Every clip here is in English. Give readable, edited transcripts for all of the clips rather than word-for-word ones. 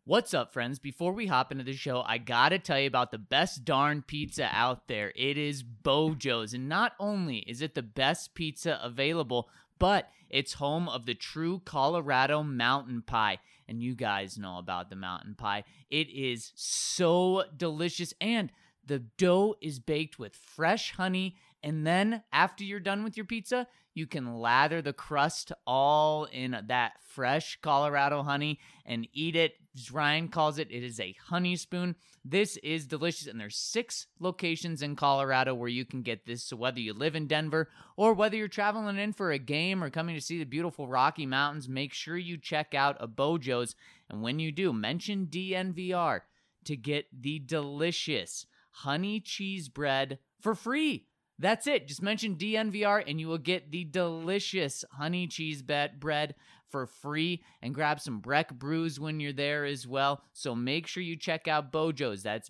What's up, friends? Before we hop into the show, I gotta tell you about the best darn pizza out there. It is Bojo's, and not only is it the best pizza available, but it's home of the true Colorado mountain pie. And you guys know about the mountain pie. It is so delicious, and the dough is baked with fresh honey. And then after you're done with your pizza, you can lather the crust all in that fresh Colorado honey and eat it. As Ryan calls it, it is a honey spoon. This is delicious, and there's 6 locations in Colorado where you can get this. So whether you live in Denver or whether you're traveling in for a game or coming to see the beautiful Rocky Mountains, make sure you check out a Bojo's. And when you do, mention DNVR to get the delicious honey cheese bread for free. That's it. Just mention DNVR and you will get the delicious honey cheese bread for free, and grab some Breck brews when you're there as well. So make sure you check out Bojo's. That's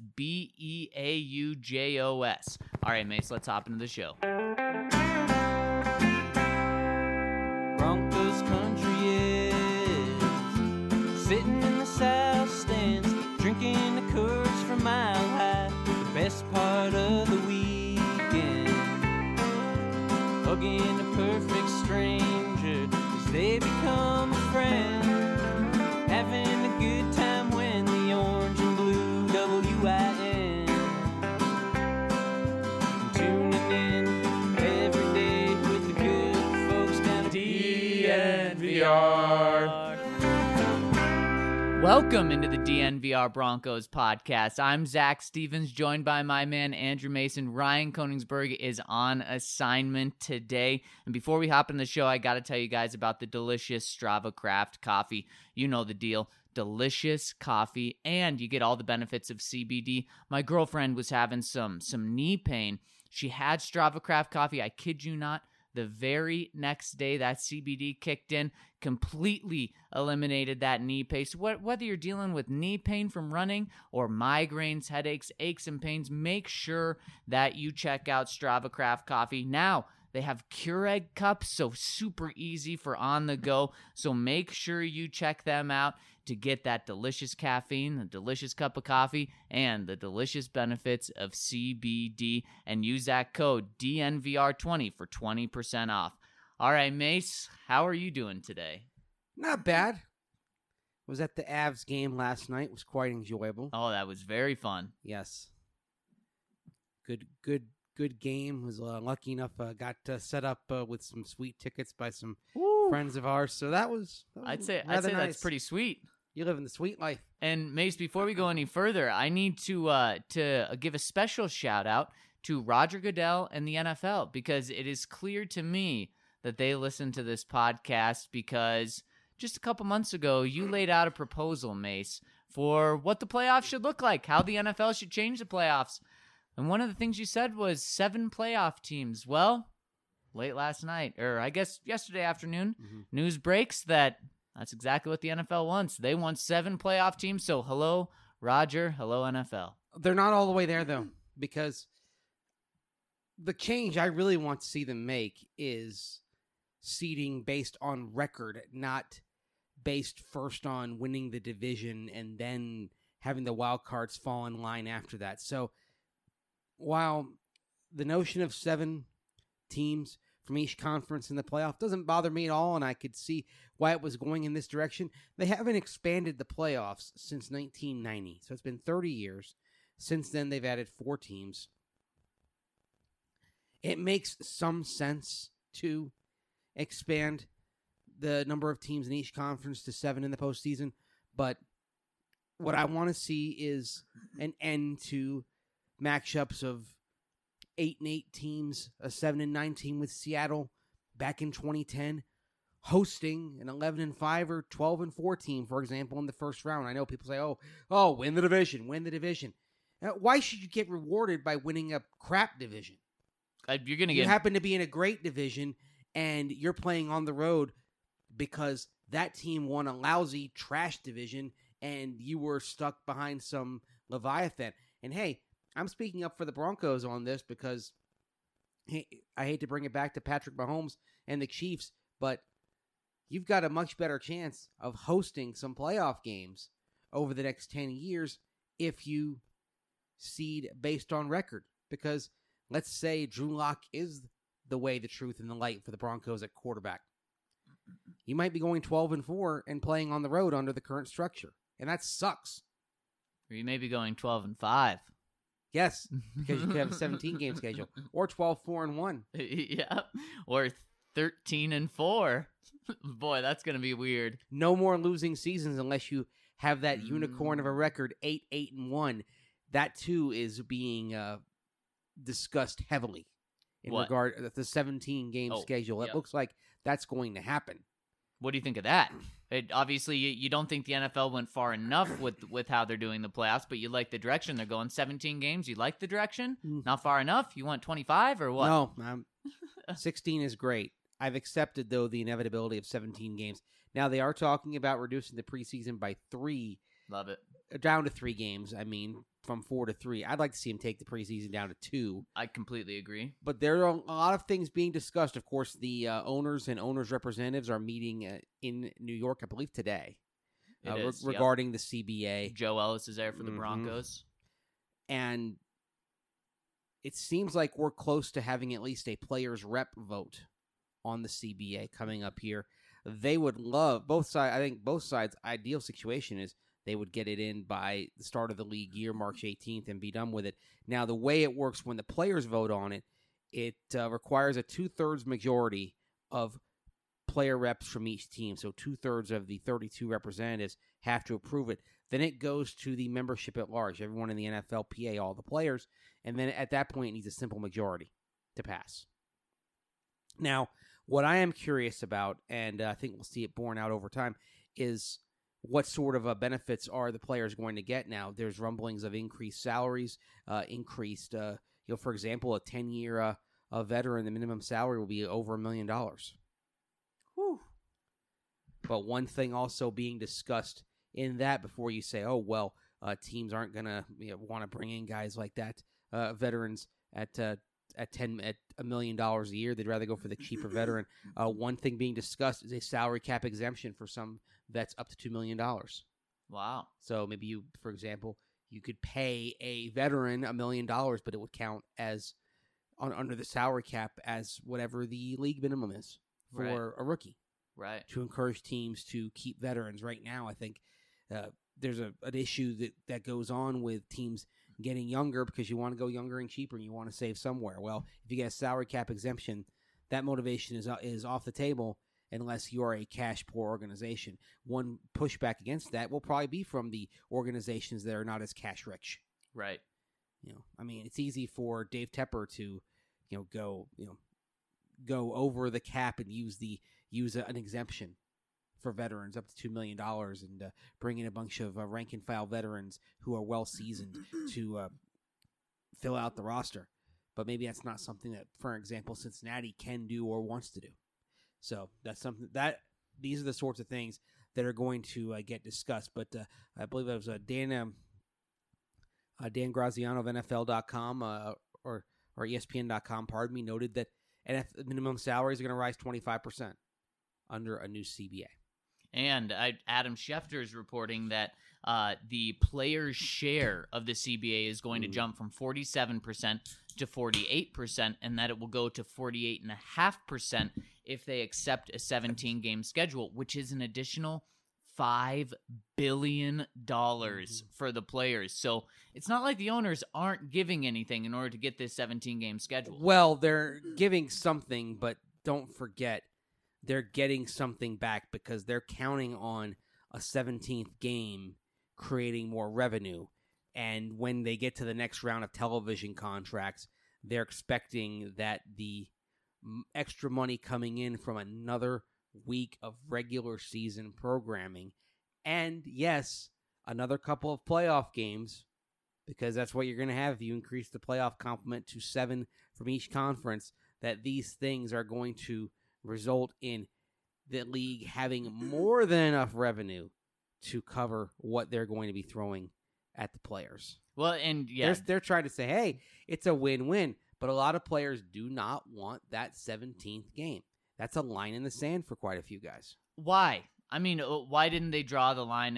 Beaujos. All right, Mace, let's hop into the show. Broncos country is sitting in the south stands, drinking the Coors from Mile High. The best part of the weekend, hugging a perfect stranger as they become a friend, having a good time when the orange and blue WIN, tuning in every day with the good folks down at DNVR. Welcome into the DNVR Broncos podcast. I'm Zach Stevens, joined by my man Andrew Mason. Ryan Koenigsberg is on assignment today. And before we hop in the show, I got to tell you guys about the delicious Strava Craft coffee. You know the deal. Delicious coffee, and you get all the benefits of CBD. My girlfriend was having some knee pain. She had Strava Craft coffee. I kid you not. The very next day that CBD kicked in, completely eliminated that knee pain. So whether you're dealing with knee pain from running or migraines, headaches, aches, and pains, make sure that you check out Strava Craft Coffee. Now, they have Keurig cups, so super easy for on the go. So make sure you check them out to get that delicious caffeine, the delicious cup of coffee, and the delicious benefits of CBD. And use that code DNVR20 for 20% off. All right, Mace, how are you doing today? Not bad. Was at the Avs game last night. It was quite enjoyable. Oh, that was very fun. Yes. Good game. Was lucky enough. Got set up with some sweet tickets by some friends of ours. So that was I'd say nice. That's pretty sweet. You live in the sweet life. And Mace, before we go any further, I need to give a special shout out to Roger Goodell and the NFL, because it is clear to me that they listen to this podcast, because just a couple months ago, you laid out a proposal, Mace, for what the playoffs should look like, how the NFL should change the playoffs. And one of the things you said was 7 playoff teams. Well, late last night, or I guess yesterday afternoon, news breaks that's exactly what the NFL wants. They want 7 playoff teams. So hello, Roger. Hello, NFL. They're not all the way there, though, because the change I really want to see them make is seeding based on record, not based first on winning the division and then having the wild cards fall in line after that. So while the notion of 7 teams from each conference in the playoff doesn't bother me at all, and I could see why it was going in this direction, they haven't expanded the playoffs since 1990. So it's been 30 years. Since then, they've added 4 teams. It makes some sense to expand the number of teams in each conference to 7 in the postseason, but what I want to see is an end to matchups of 8-8 teams, a 7-9 team with Seattle back in 2010, hosting an 11-5 or 12-4 team, for example, in the first round. I know people say, "Oh, win the division, win the division." Why should you get rewarded by winning a crap division? You happen to be in a great division, and you're playing on the road because that team won a lousy trash division, and you were stuck behind some Leviathan. And hey, I'm speaking up for the Broncos on this because I hate to bring it back to Patrick Mahomes and the Chiefs, but you've got a much better chance of hosting some playoff games over the next 10 years if you seed based on record. Because let's say Drew Lock is the way, the truth, and the light for the Broncos at quarterback. You might be going 12-4 and playing on the road under the current structure. And that sucks. Or you may be going 12-5. Yes, because you could have a 17-game schedule. Or 12-4-1. Yeah. Or 13-4. Boy, that's going to be weird. No more losing seasons unless you have that unicorn of a record, 8-8-1. That, too, is being discussed heavily in regard to the 17-game schedule. It looks like that's going to happen. What do you think of that? Obviously, you don't think the NFL went far enough with how they're doing the playoffs, but you like the direction they're going. 17 games, you like the direction? Not far enough? You want 25 or what? No, 16 is great. I've accepted, though, the inevitability of 17 games. Now, they are talking about reducing the preseason by 3. Love it. Down to 3 games, from 4 to 3. I'd like to see him take the preseason down to 2. I completely agree. But there are a lot of things being discussed. Of course, the owners and owners' representatives are meeting in New York, I believe, today. Regarding the CBA. Joe Ellis is there for the Broncos. And it seems like we're close to having at least a players' rep vote on the CBA coming up here. They would love both sides. I think both sides' ideal situation is they would get it in by the start of the league year, March 18th, and be done with it. Now, the way it works when the players vote on it, it requires a 2/3 majority of player reps from each team. So 2/3 of the 32 representatives have to approve it. Then it goes to the membership at large, everyone in the NFLPA, all the players. And then at that point, it needs a simple majority to pass. Now, what I am curious about, and I think we'll see it borne out over time, is what sort of benefits are the players going to get now? There's rumblings of increased salaries, increased, for example, a 10-year veteran, the minimum salary will be over $1 million. Whew. But one thing also being discussed in that before you say, teams aren't going to want to bring in guys like that, veterans at $1 million a year. They'd rather go for the cheaper veteran. One thing being discussed is a salary cap exemption for some vets up to $2 million. Wow. So maybe you, for example, you could pay a veteran $1 million, but it would count as under the salary cap as whatever the league minimum is for a rookie. Right. To encourage teams to keep veterans. Right now, I think there's an issue that goes on with teams getting younger because you want to go younger and cheaper and you want to save somewhere. Well, if you get a salary cap exemption, that motivation is off the table unless you're a cash poor organization. One pushback against that will probably be from the organizations that are not as cash rich. Right. It's easy for Dave Tepper to, go over the cap and use an exemption for veterans up to $2 million and bring in a bunch of rank and file veterans who are well seasoned to fill out the roster. But maybe that's not something that, for example, Cincinnati can do or wants to do. So that's something that these are the sorts of things that are going to get discussed. But I believe it was Dan Graziano of NFL.com or ESPN.com, noted that minimum salaries are going to rise 25% under a new CBA. And Adam Schefter is reporting that the players' share of the CBA is going to jump from 47% to 48%, and that it will go to 48.5% if they accept a 17-game schedule, which is an additional $5 billion for the players. So it's not like the owners aren't giving anything in order to get this 17-game schedule. Well, they're giving something, but don't forget, they're getting something back because they're counting on a 17th game creating more revenue. And when they get to the next round of television contracts, they're expecting that the extra money coming in from another week of regular season programming, and yes, another couple of playoff games, because that's what you're going to have if you increase the playoff complement to 7 from each conference, that these things are going to result in the league having more than enough revenue to cover what they're going to be throwing at the players. Well, and yeah, they're trying to say, hey, it's a win-win, but a lot of players do not want that 17th game. That's a line in the sand for quite a few guys. Why? Why didn't they draw the line at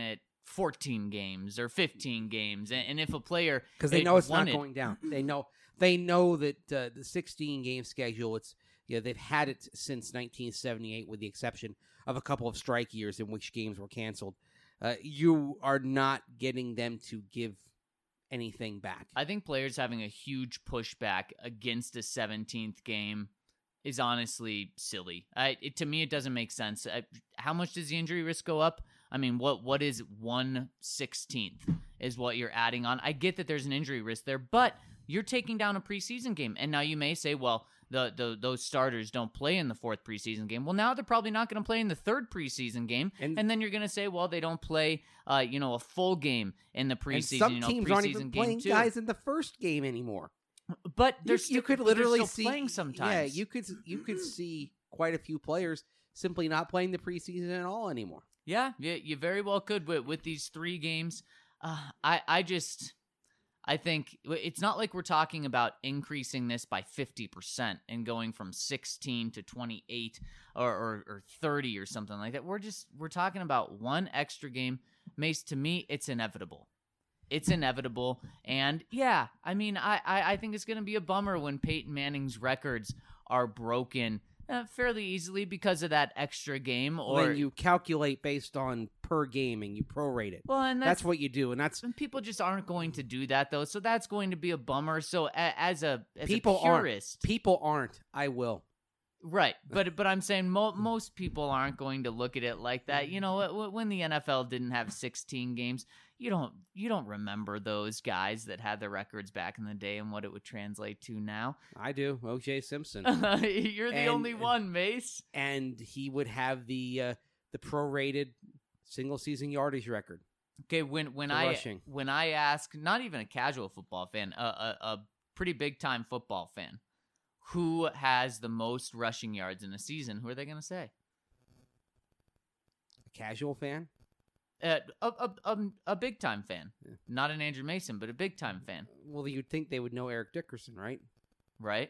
14 games or 15 games. And if a player because they know it's won not going down. They know that the 16-game schedule. It's they've had it since 1978, with the exception of a couple of strike years in which games were canceled. You are not getting them to give anything back. I think players having a huge pushback against a 17th game is honestly silly. To me, it doesn't make sense. How much does the injury risk go up? I mean, what is 1/16 is what you're adding on. I get that there's an injury risk there, but you're taking down a preseason game. And now you may say, well, those starters don't play in the fourth preseason game. Well, now they're probably not going to play in the third preseason game. And then you're going to say, well, they don't play, a full game in the preseason. And some teams aren't even playing guys in the first game anymore. But you could literally see playing sometimes. Yeah, you could see quite a few players simply not playing the preseason at all anymore. Yeah, you very well could with these 3 games. I think it's not like we're talking about increasing this by 50% and going from 16 to 28 or 30 or something like that. We're talking about one extra game. Mace, to me, it's inevitable. It's inevitable. And yeah, I mean, I think it's going to be a bummer when Peyton Manning's records are broken fairly easily because of that extra game. Or when you calculate based on per game and you prorate it. Well, and that's what you do, and people just aren't going to do that though. So that's going to be a bummer. So as a purist, I will. Right, but I'm saying most people aren't going to look at it like that. You know, when the NFL didn't have 16 games, you don't remember those guys that had their records back in the day and what it would translate to now. I do. O.J. Simpson. You're the only one, Mace. And he would have the prorated single season yardage record. Okay, when I ask, not even a casual football fan, a pretty big time football fan, who has the most rushing yards in a season, who are they going to say? A casual fan? A big time fan. Yeah. Not an Andrew Mason, but a big time fan. Well, you'd think they would know Eric Dickerson, right? Right.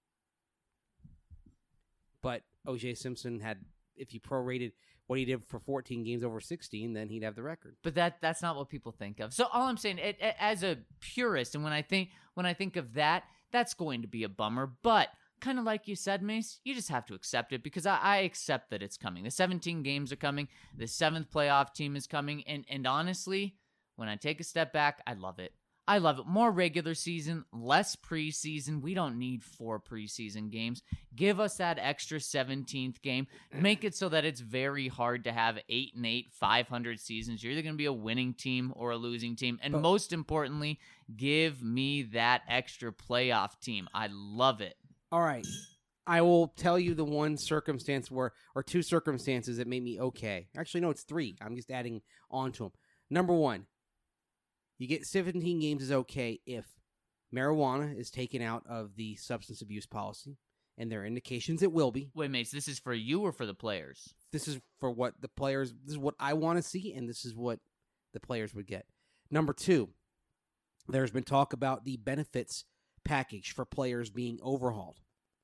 But O.J. Simpson had, if you prorated what he did for 14 games over 16, then he'd have the record. But that's not what people think of. So all I'm saying, as a purist, and when I think of that, that's going to be a bummer. But kind of like you said, Mace, you just have to accept it, because I accept that it's coming. The 17 games are coming. The 7th playoff team is coming. And honestly, when I take a step back, I love it. I love it. More regular season, less preseason. We don't need 4 preseason games. Give us that extra 17th game. Make it so that it's very hard to have 8-8, 500 seasons. You're either going to be a winning team or a losing team. And most importantly, give me that extra playoff team. I love it. All right. I will tell you the one circumstance or 2 circumstances that made me okay. Actually, no, it's 3. I'm just adding on to them. Number 1. You get 17 games is okay if marijuana is taken out of the substance abuse policy, and there are indications it will be. Wait, Mace, this is for you or for the players? This is for what the players, this is what I want to see, and this is what the players would get. Number 2, there's been talk about the benefits package for players being overhauled.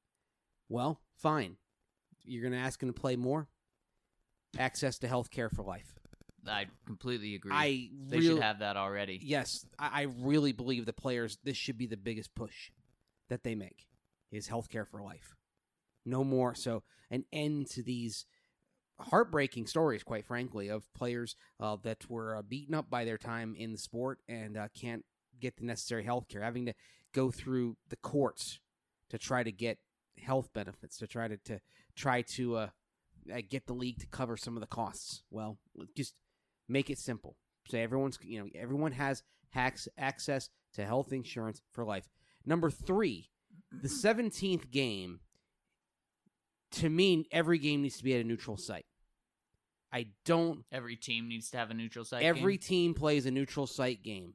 Well, fine. You're going to ask them to play more? Access to health care for life. I completely agree. They should have that already. Yes, I really believe the players, this should be the biggest push that they make, is healthcare for life. No more. So an end to these heartbreaking stories, quite frankly, of players that were beaten up by their time in the sport and can't get the necessary healthcare, having to go through the courts to try to get health benefits, to try to get the league to cover some of the costs. Well, just make it simple. So everyone has access to health insurance for life. Number 3, the 17th game, to me, every game needs to be at a neutral site. Every team needs to have a neutral site Every team plays a neutral site game.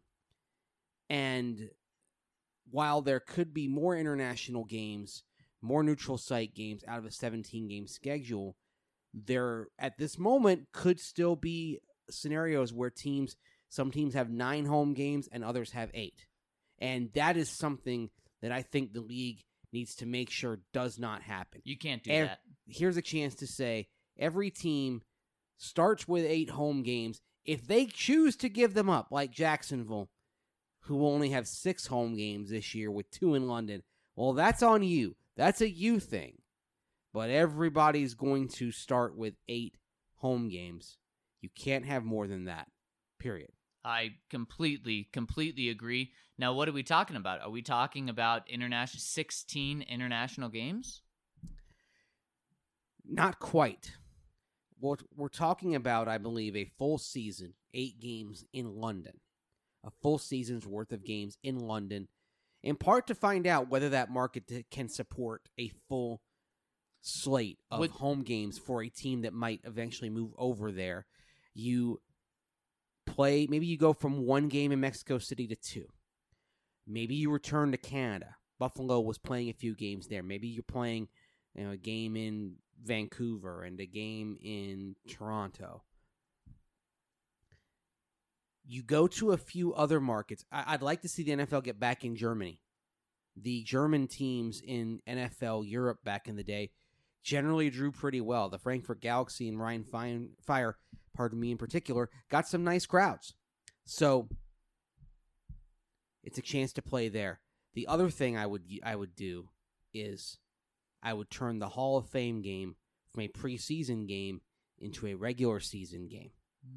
And while there could be more international games, more neutral site games out of a 17-game schedule, there, at this moment, could still be scenarios where some teams have 9 home games and others have 8. And that is something that I think the league needs to make sure does not happen. You can't do that. Here's a chance to say every team starts with 8 home games. If they choose to give them up, like Jacksonville, who will only have 6 home games this year with 2 in London, well, that's on you. That's a you thing. But everybody's going to start with 8 home games. You can't have more than that, period. I completely agree. Now, what are we talking about? Are we talking about 16 international games? Not quite. What we're talking about, I believe, a full season, 8 games in London. A full season's worth of games in London, in part to find out whether that market can support a full slate of home games for a team that might eventually move over there. You play, maybe you go from 1 game in Mexico City to 2. Maybe you return to Canada. Buffalo was playing a few games there. Maybe you're playing a game in Vancouver and a game in Toronto. You go to a few other markets. I'd like to see the NFL get back in Germany. The German teams in NFL Europe back in the day generally drew pretty well. The Frankfurt Galaxy and Rhein Fire, in particular, got some nice crowds. So it's a chance to play there. The other thing I would do is I would turn the Hall of Fame game from a preseason game into a regular season game.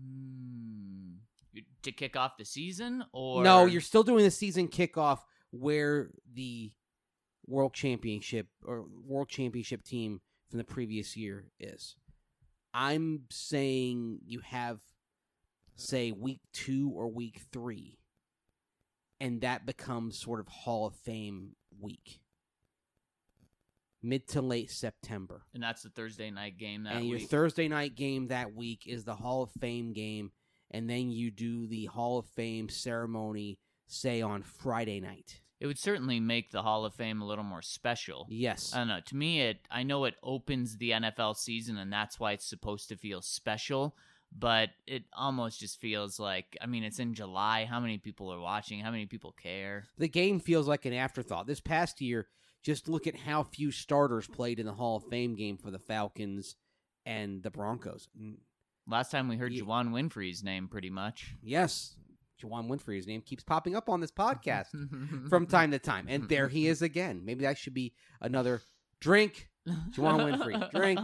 To kick off the season? Or no, you're still doing the season kickoff where the world championship team from the previous year is. I'm saying you have, say, week 2 or week 3, and that becomes sort of Hall of Fame week. Mid to late September. And that's the Thursday night game that week. And your Thursday night game that week is the Hall of Fame game, and then you do the Hall of Fame ceremony, say, on Friday night. It would certainly make the Hall of Fame a little more special. Yes. I don't know. To me, I know it opens the NFL season, and that's why it's supposed to feel special, but it almost just feels like, it's in July. How many people are watching? How many people care? The game feels like an afterthought. This past year, just look at how few starters played in the Hall of Fame game for the Falcons and the Broncos. Last time we heard Juwan Winfrey's name, pretty much. Yes. Juwan Winfrey's name keeps popping up on this podcast from time to time. And there he is again. Maybe that should be another drink. Juwan Winfrey, drink.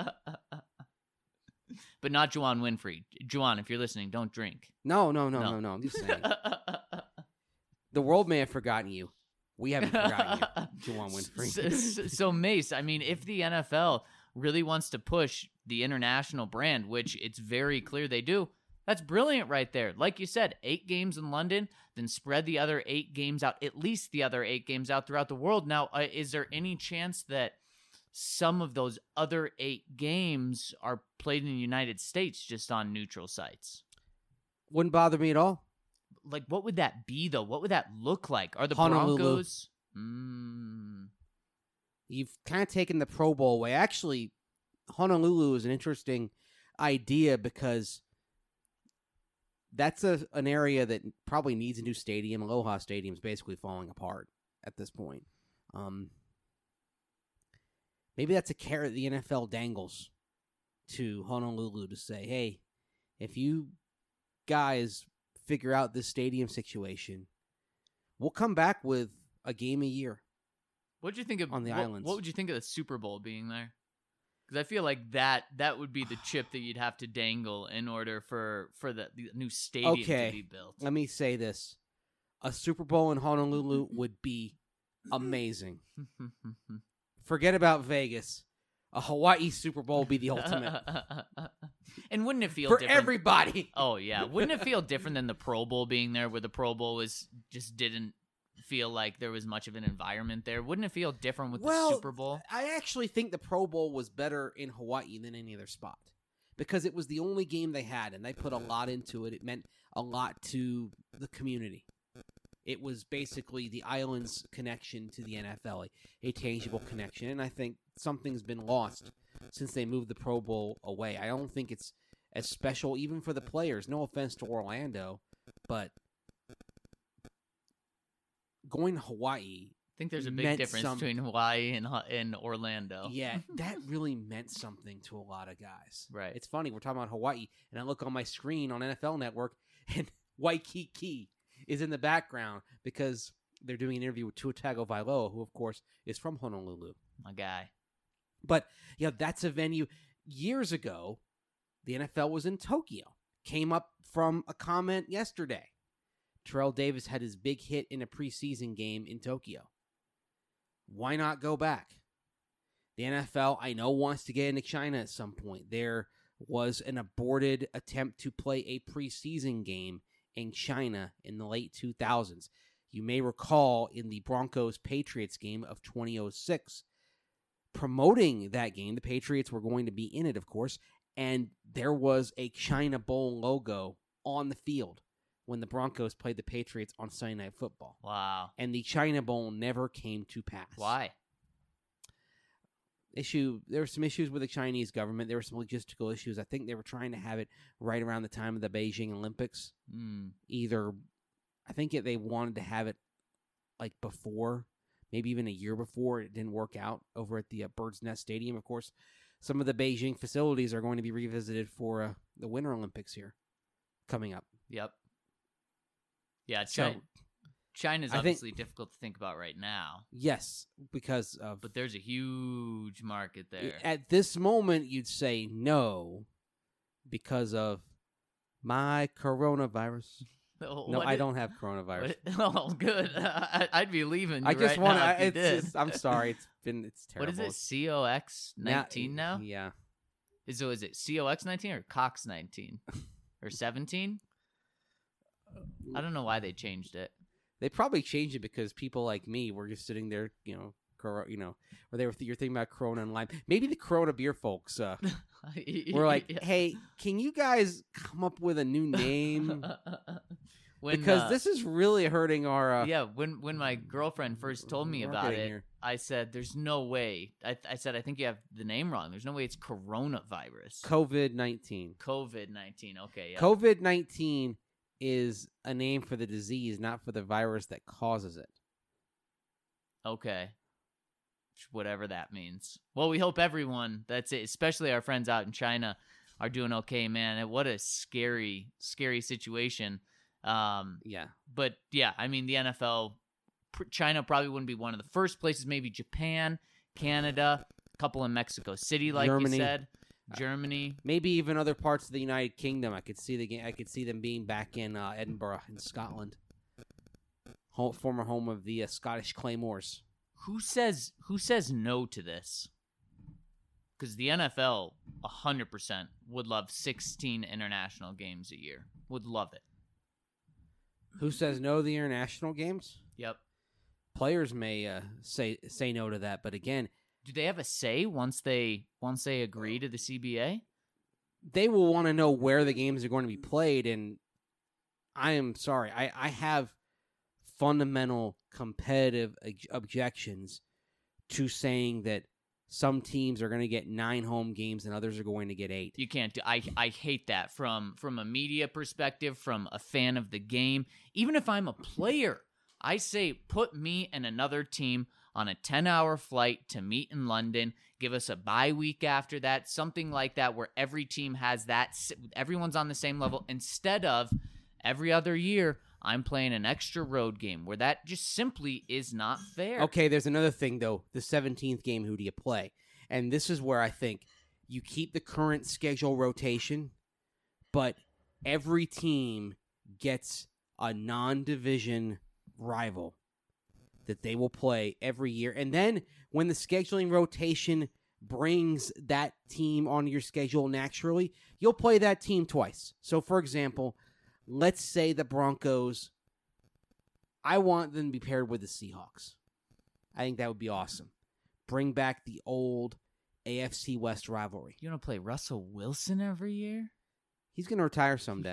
But not Juwan Winfrey. Juwan, if you're listening, don't drink. No. I'm just saying. The world may have forgotten you. We haven't forgotten you, Juwan Winfrey. So, Mace, if the NFL really wants to push the international brand, which it's very clear they do, that's brilliant right there. Like you said, 8 games in London, then spread the other 8 games out, at least the other 8 games out throughout the world. Now, is there any chance that some of those other 8 games are played in the United States just on neutral sites? Wouldn't bother me at all. Like, what would that be, though? What would that look like? Are the Honolulu. Broncos... You've kind of taken the Pro Bowl away. Actually, Honolulu is an interesting idea because that's an area that probably needs a new stadium. Aloha Stadium is basically falling apart at this point. Maybe that's a carrot the NFL dangles to Honolulu to say, hey, if you guys figure out this stadium situation, we'll come back with a game a year. What'd you think of on the islands? What would you think of the Super Bowl being there? Because I feel like that would be the chip that you'd have to dangle in order for the new stadium to be built. Let me say this. A Super Bowl in Honolulu would be amazing. Forget about Vegas. A Hawaii Super Bowl would be the ultimate. And wouldn't it feel for different? Everybody? Oh, yeah. Wouldn't it feel different than the Pro Bowl being there, where the Pro Bowl just didn't feel like there was much of an environment there? Wouldn't it feel different with the Super Bowl? I actually think the Pro Bowl was better in Hawaii than any other spot because it was the only game they had, and they put a lot into it. It meant a lot to the community. It was basically the island's connection to the NFL, a tangible connection, and I think something's been lost since they moved the Pro Bowl away. I don't think it's as special even for the players. No offense to Orlando, but going to Hawaii think there's a big meant difference some- between Hawaii and Orlando. Yeah, that really meant something to a lot of guys. Right. It's funny, we're talking about Hawaii, and I look on my screen on NFL Network, and Waikiki is in the background because they're doing an interview with Tua Tagovailoa, who, of course, is from Honolulu. My guy. But, yeah, that's a venue. Years ago, the NFL was in Tokyo. Came up from a comment yesterday. Terrell Davis had his big hit in a preseason game in Tokyo. Why not go back? The NFL, I know, wants to get into China at some point. There was an aborted attempt to play a preseason game in China in the late 2000s. You may recall in the Broncos-Patriots game of 2006, promoting that game, the Patriots were going to be in it, of course, and there was a China Bowl logo on the field when the Broncos played the Patriots on Sunday Night Football. Wow. And the China Bowl never came to pass. Why? There were some issues with the Chinese government. There were some logistical issues. I think they were trying to have it right around the time of the Beijing Olympics. They wanted to have it like before, maybe even a year before. It didn't work out over at the Bird's Nest Stadium. Of course, some of the Beijing facilities are going to be revisited for the Winter Olympics here coming up. Yep. Yeah, So, China's I think- obviously difficult to think about right now, Yes, because of but there's a huge market there. at this moment you'd say no because of my coronavirus. No, I don't have coronavirus. Oh, good. I'd be leaving. I just want to. to. I'm sorry. It's terrible. What is it? COX 19 now? Yeah. Is it COX 19 or Cox 19 or 17? I don't know why they changed it. They probably changed it because people like me were just sitting there, or you're thinking about Corona and lime. Maybe the Corona beer folks were like, "Hey, can you guys come up with a new name?" Because this is really hurting our. When my girlfriend first told me about marketing it, here. I said, "There's no way." I said, "I think you have the name wrong. There's no way it's coronavirus." COVID-19. COVID-19. Okay. Yeah. COVID-19 is a name for the disease, not for the virus that causes it. Okay. Whatever that means. Well, we hope everyone, that's it, especially our friends out in China, are doing okay, man. What a scary, scary situation. Yeah. But yeah, I mean, the NFL, China probably wouldn't be one of the first places. Maybe Japan, Canada, a couple in Mexico City, like Germany. you said. Germany. Maybe even other parts of the United Kingdom. I could see them being back in Edinburgh in Scotland, former home of the Scottish Claymores. Who says no to this? Because the NFL 100% would love 16 international games a year. Would love it. Who says no to the international games? Yep. Players may say no to that, but again, Do they have a say once they agree to the CBA? they will want to know where the games are going to be played, and I am sorry, I have fundamental competitive objections to saying that some teams are going to get 9 home games and others are going to get 8. You can't do. I hate that from a media perspective, from a fan of the game. Even if I'm a player, I say put me and another team on a 10-hour flight to meet in London. Give us a bye week after that, something like that, where every team has that. Everyone's on the same level instead of every other year. I'm playing an extra road game where that just simply is not fair. Okay, there's another thing, though. The 17th game, who do you play? And this is where I think you keep the current schedule rotation, but every team gets a non-division rival that they will play every year. And then when the scheduling rotation brings that team on your schedule naturally, you'll play that team twice. So, for example, let's say the Broncos, I want them to be paired with the Seahawks. I think that would be awesome. Bring back the old AFC West rivalry. You want to play Russell Wilson every year? He's going to retire someday.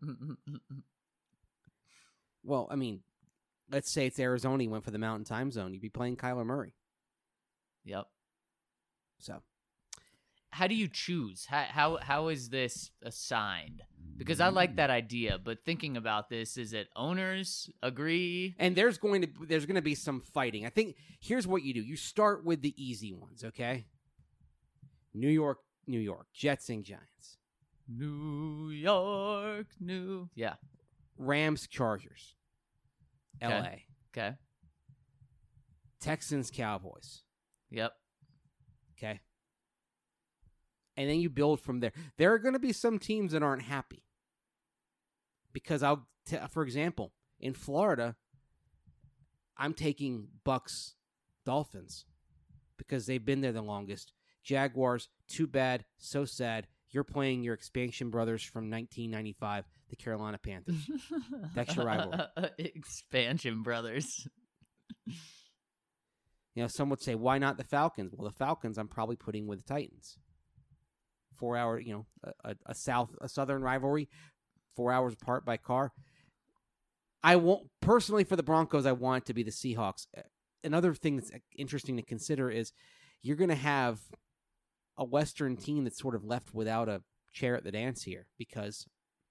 Well, I mean, let's say it's Arizona. He went for the Mountain Time Zone. You'd be playing Kyler Murray. Yep. So, How do you choose? How is this assigned? Because I like that idea, but thinking about this, is it owners agree? And there's going to be some fighting. I think here's what you do. You start with the easy ones, okay? New York, Jets and Giants. New York, yeah. Rams, Chargers. Okay. LA. Okay. Texans, Cowboys. Yep. Okay. And then you build from there. There are going to be some teams that aren't happy. Because for example, in Florida, I'm taking Bucks, Dolphins because they've been there the longest. Jaguars, too bad, so sad. You're playing your expansion brothers from 1995, the Carolina Panthers. That's your rivalry. Expansion brothers. Some would say, why not the Falcons? Well, the Falcons I'm probably putting with the Titans. 4 hour, a southern rivalry, 4 hours apart by car. I won't personally for the Broncos. I want it to be the Seahawks. Another thing that's interesting to consider is you're going to have a Western team that's sort of left without a chair at the dance here because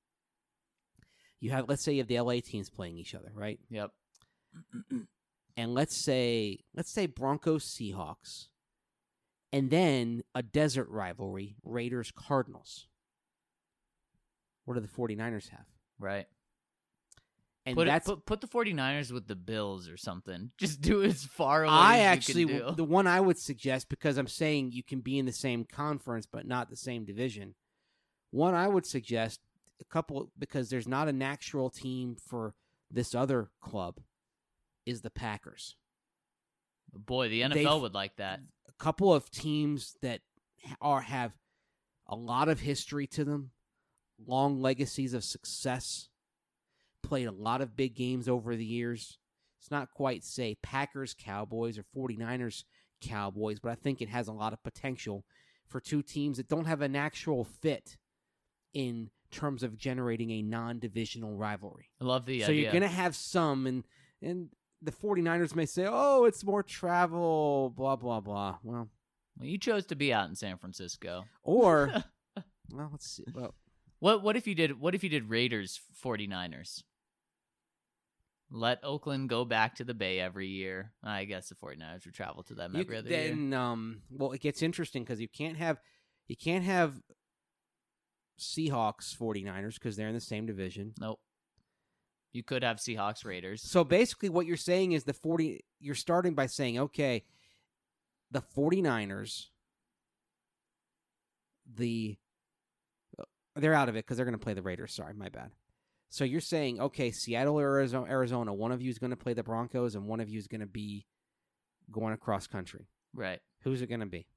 let's say you have the LA teams playing each other, right? Yep. And let's say Broncos Seahawks, and then a desert rivalry, Raiders Cardinals. What do the 49ers have? Right. And put the 49ers with the Bills or something. Just do it as far away as you can do. The one I would suggest, because I'm saying you can be in the same conference but not the same division, one I would suggest, because there's not a natural team for this other club, is the Packers. Boy, the NFL would like that. A couple of teams that have a lot of history to them, long legacies of success, played a lot of big games over the years. It's not quite, say, Packers, Cowboys, or 49ers, Cowboys, but I think it has a lot of potential for two teams that don't have a natural fit in terms of generating a non-divisional rivalry. I love the idea. So you're going to have some, and the 49ers may say, oh, it's more travel, blah, blah, blah. Well, you chose to be out in San Francisco. Or, well, let's see. Well, what if you did Raiders 49ers? Let Oakland go back to the Bay every year. I guess the 49ers would travel to them every other year. Well, it gets interesting because you can't have Seahawks 49ers because they're in the same division. Nope. You could have Seahawks Raiders. So basically what you're saying is you're starting by saying, okay, the 49ers, they're out of it because they're going to play the Raiders. Sorry, my bad. So you're saying, okay, Seattle or Arizona, one of you is going to play the Broncos and one of you is going to be going across country. Right. Who's it going to be?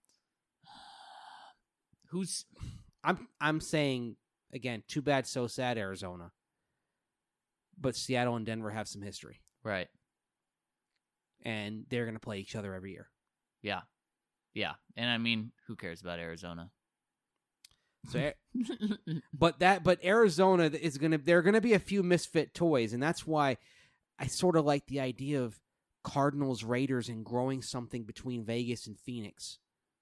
Who's? I'm saying, again, too bad, so sad, Arizona. But Seattle and Denver have some history. Right. And they're going to play each other every year. Yeah. Yeah. And I mean, who cares about Arizona? So, but Arizona there are going to be a few misfit toys, and that's why I sort of like the idea of Cardinals, Raiders, and growing something between Vegas and Phoenix.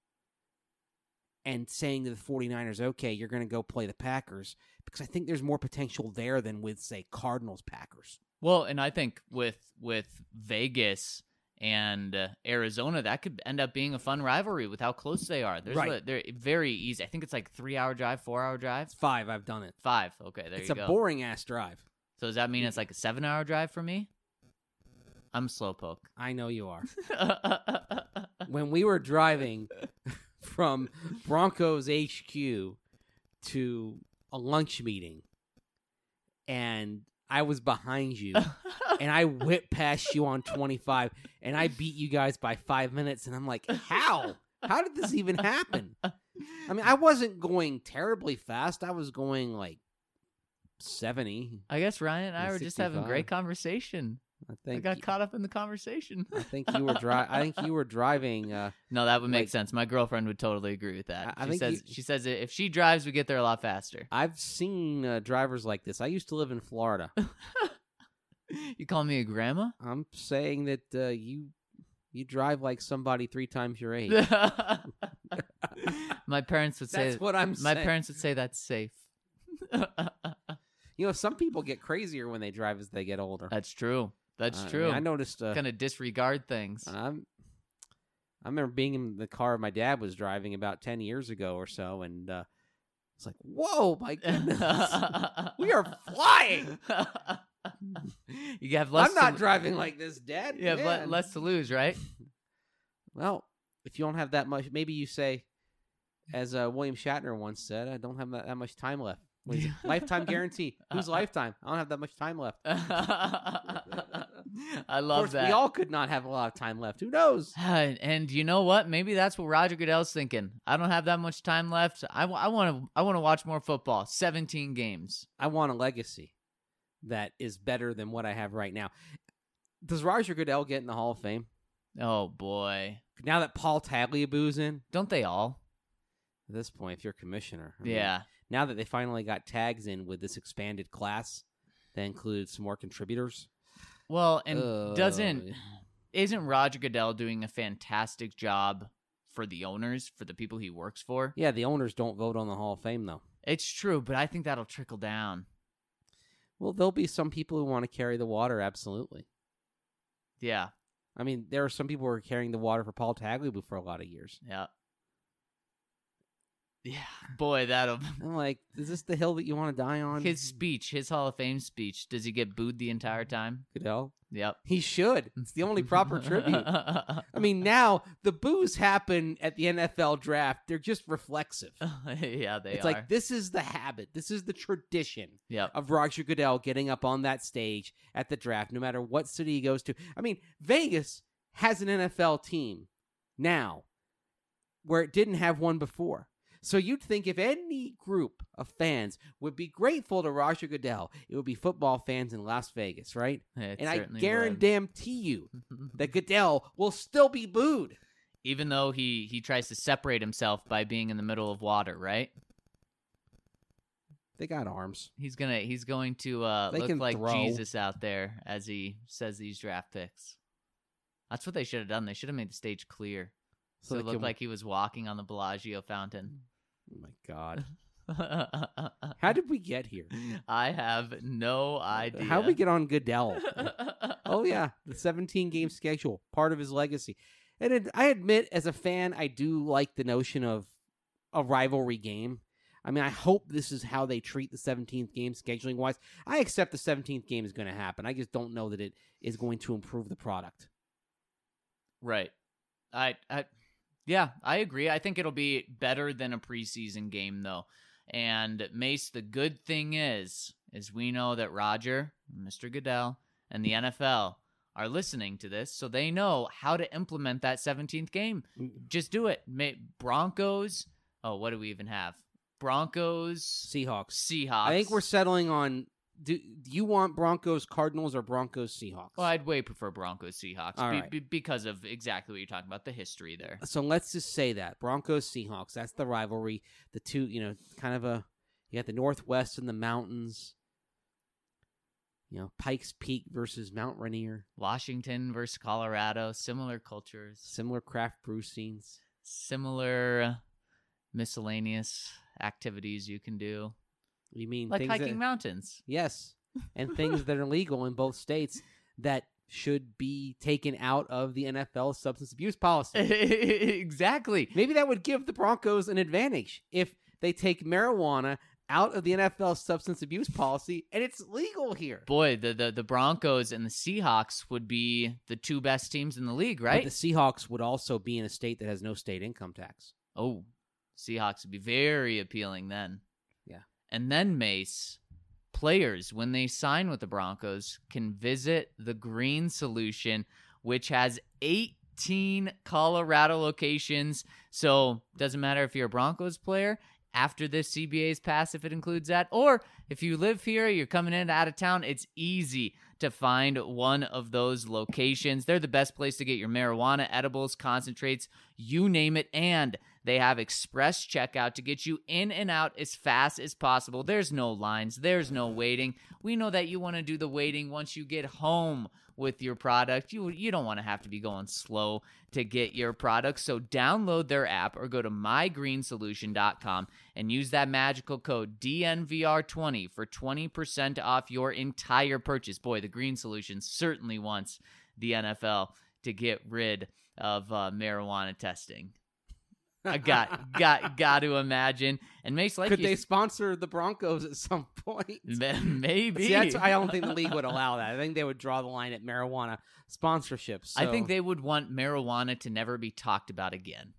And saying to the 49ers, okay, you're going to go play the Packers, because I think there's more potential there than with, say, Cardinals, Packers. Well, and I think with Vegas and Arizona, that could end up being a fun rivalry with how close they are. Right. They're very easy. I think it's like 3-hour drive, 4-hour drive. It's 5. I've done it. 5. Okay, there you go. It's a boring-ass drive. So does that mean it's like a 7-hour drive for me? I'm slowpoke. I know you are. When we were driving from Broncos HQ to a lunch meeting, and I was behind you, and I whipped past you on 25, and I beat you guys by 5 minutes, and I'm like, how? How did this even happen? I mean, I wasn't going terribly fast. I was going like 70. I guess Ryan and I were just having 65. great conversation. I got caught up in the conversation. I think you were driving. No, that would make sense. My girlfriend would totally agree with that. She says if she drives, we get there a lot faster. I've seen drivers like this. I used to live in Florida. You call me a grandma? I'm saying that you drive like somebody 3 times your age. My parents would say that's what I'm saying. My parents would say that's safe. You know, some people get crazier when they drive as they get older. That's true. That's I true. mean, I noticed. Kind of disregard things. I remember being in the car my dad was driving about 10 years ago or so, and it's like, whoa, my goodness, we are flying. You have less. I'm not driving like this, Dad. You have Man. less to lose, right? Well, if you don't have that much, maybe you say, as William Shatner once said, I don't have that much time left. What is it? Lifetime guarantee. Whose lifetime? I don't have that much time left. I Of love course, that. we all could not have a lot of time left. Who knows? And you know what? Maybe that's what Roger Goodell's thinking. I don't have that much time left. I want to watch more football. 17 games. I want a legacy that is better than what I have right now. Does Roger Goodell get in the Hall of Fame? Oh boy. Now that Paul Tagliabue's in? Don't they all? At this point, if you're commissioner. I mean, Yeah. now that they finally got tags in with this expanded class that includes some more contributors. Well, and Uh, isn't Roger Goodell doing a fantastic job for the owners, for the people he works for? Yeah, the owners don't vote on the Hall of Fame, though. It's true, but I think that'll trickle down. Well, there'll be some people who want to carry the water, absolutely. Yeah. I mean, there are some people who are carrying the water for Paul Tagliabue for a lot of years. Yeah. Yeah. Boy, that'll... I'm like, is this the hill that you want to die on? His speech, his Hall of Fame speech, does he get booed the entire time? Goodell? Yep. He should. It's the only proper tribute. I mean, now the boos happen at the NFL draft. They're just reflexive. Yeah, they It's are. like, this is the habit. This is the tradition Yep. of Roger Goodell getting up on that stage at the draft, no matter what city he goes to. I mean, Vegas has an NFL team now where it didn't have one before. So you'd think if any group of fans would be grateful to Roger Goodell, it would be football fans in Las Vegas, right? It And I certainly guarantee you would. that Goodell will still be booed. Even though he tries to separate himself by being in the middle of water, right? They got arms. He's going to They look can like throw. Jesus out there as he says these draft picks. That's what they should have done. They should have made the stage clear. So they it looked can- like he was walking on the Bellagio fountain. Oh my God. How did we get here? I have no idea. How did we get on Goodell? Oh, yeah. The 17-game schedule, part of his legacy. And I admit, as a fan, I do like the notion of a rivalry game. I mean, I hope this is how they treat the 17th game scheduling-wise. I accept the 17th game is going to happen. I just don't know that it is going to improve the product. Right. Yeah, I agree. I think it'll be better than a preseason game, though. And Mace, the good thing is we know that Roger, Mr. Goodell, and the NFL are listening to this, so they know how to implement that 17th game. Just do it. Broncos. Oh, what do we even have? Broncos. Seahawks. I I think we're settling on, do you want Broncos Cardinals or Broncos Seahawks? Well, I'd way prefer Broncos Seahawks All right. because of exactly what you're talking about, the history there. So let's just say that. Broncos Seahawks, that's the rivalry. The two, kind of you got the Northwest and the mountains. Pikes Peak versus Mount Rainier. Washington versus Colorado, similar cultures, Similar craft brew scenes. similar miscellaneous activities you can do, You mean like things hiking that, mountains. Yes, and things that are legal in both states that should be taken out of the NFL substance abuse policy. Exactly. Maybe that would give the Broncos an advantage if they take marijuana out of the NFL substance abuse policy and it's legal here. Boy, the Broncos and the Seahawks would be the two best teams in the league, right? But the Seahawks would also be in a state that has no state income tax. Oh, Seahawks would be very appealing then. Yeah. And then, Mace, players, when they sign with the Broncos, can visit the Green Solution, which has 18 Colorado locations. So doesn't matter if you're a Broncos player, after this CBA is passed, if it includes that, or if you live here, you're coming in out of town, it's easy to find one of those locations. They're the best place to get your marijuana, edibles, concentrates, you name it, and They have express checkout to get you in and out as fast as possible. There's no lines. There's no waiting. We know that you want to do the waiting once you get home with your product. You don't want to have to be going slow to get your product. So download their app or go to mygreensolution.com and use that magical code DNVR20 for 20% off your entire purchase. Boy, the Green Solution certainly wants the NFL to get rid of marijuana testing. I got to imagine. And Mace, like could they sponsor the Broncos at some point? Maybe. See, I don't think the league would allow that. I think they would draw the line at marijuana sponsorships. So. I think they would want marijuana to never be talked about again.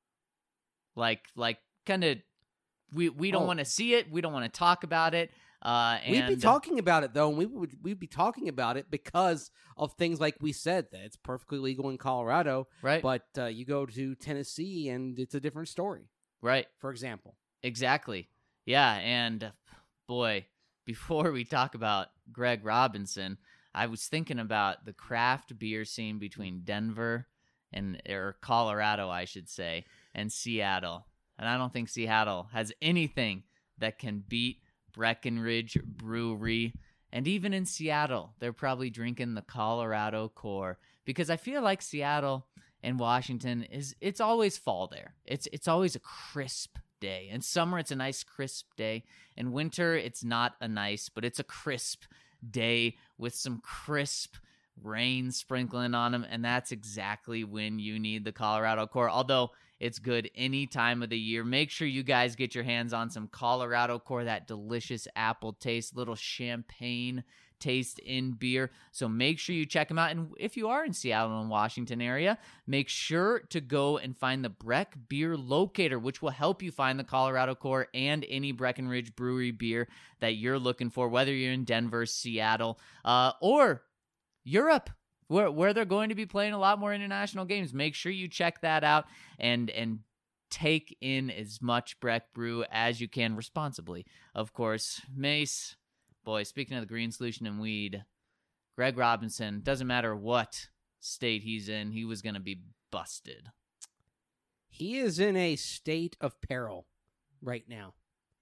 Like kind of, we don't want to see it. We don't want to talk about it. And we'd be talking about it though, and we'd be talking about it because of things like we said that it's perfectly legal in Colorado, right? But you go to Tennessee and it's a different story, right? For example, exactly, yeah. And boy, before we talk about Greg Robinson, I was thinking about the craft beer scene between Denver or Colorado, I should say, and Seattle, and I don't think Seattle has anything that can beat Breckenridge Brewery. And even in Seattle, they're probably drinking the Colorado Core, because I feel like Seattle and Washington it's always fall there. It's always a crisp day. In summer, it's a nice crisp day. In winter, it's not a nice, but it's a crisp day with some crisp rain sprinkling on them, and that's exactly when you need the Colorado Core. Although it's good any time of the year. Make sure you guys get your hands on some Colorado Core, that delicious apple taste, little champagne taste in beer. So make sure you check them out. And if you are in Seattle and Washington area, make sure to go and find the Breck Beer Locator, which will help you find the Colorado Core and any Breckenridge Brewery beer that you're looking for, whether you're in Denver, Seattle, or Europe, where they're going to be playing a lot more international games. Make sure you check that out and take in as much Breck Brew as you can responsibly. Of course, Mace, boy, speaking of the Green Solution and weed, Greg Robinson, doesn't matter what state he's in, he was going to be busted. He is in a state of peril right now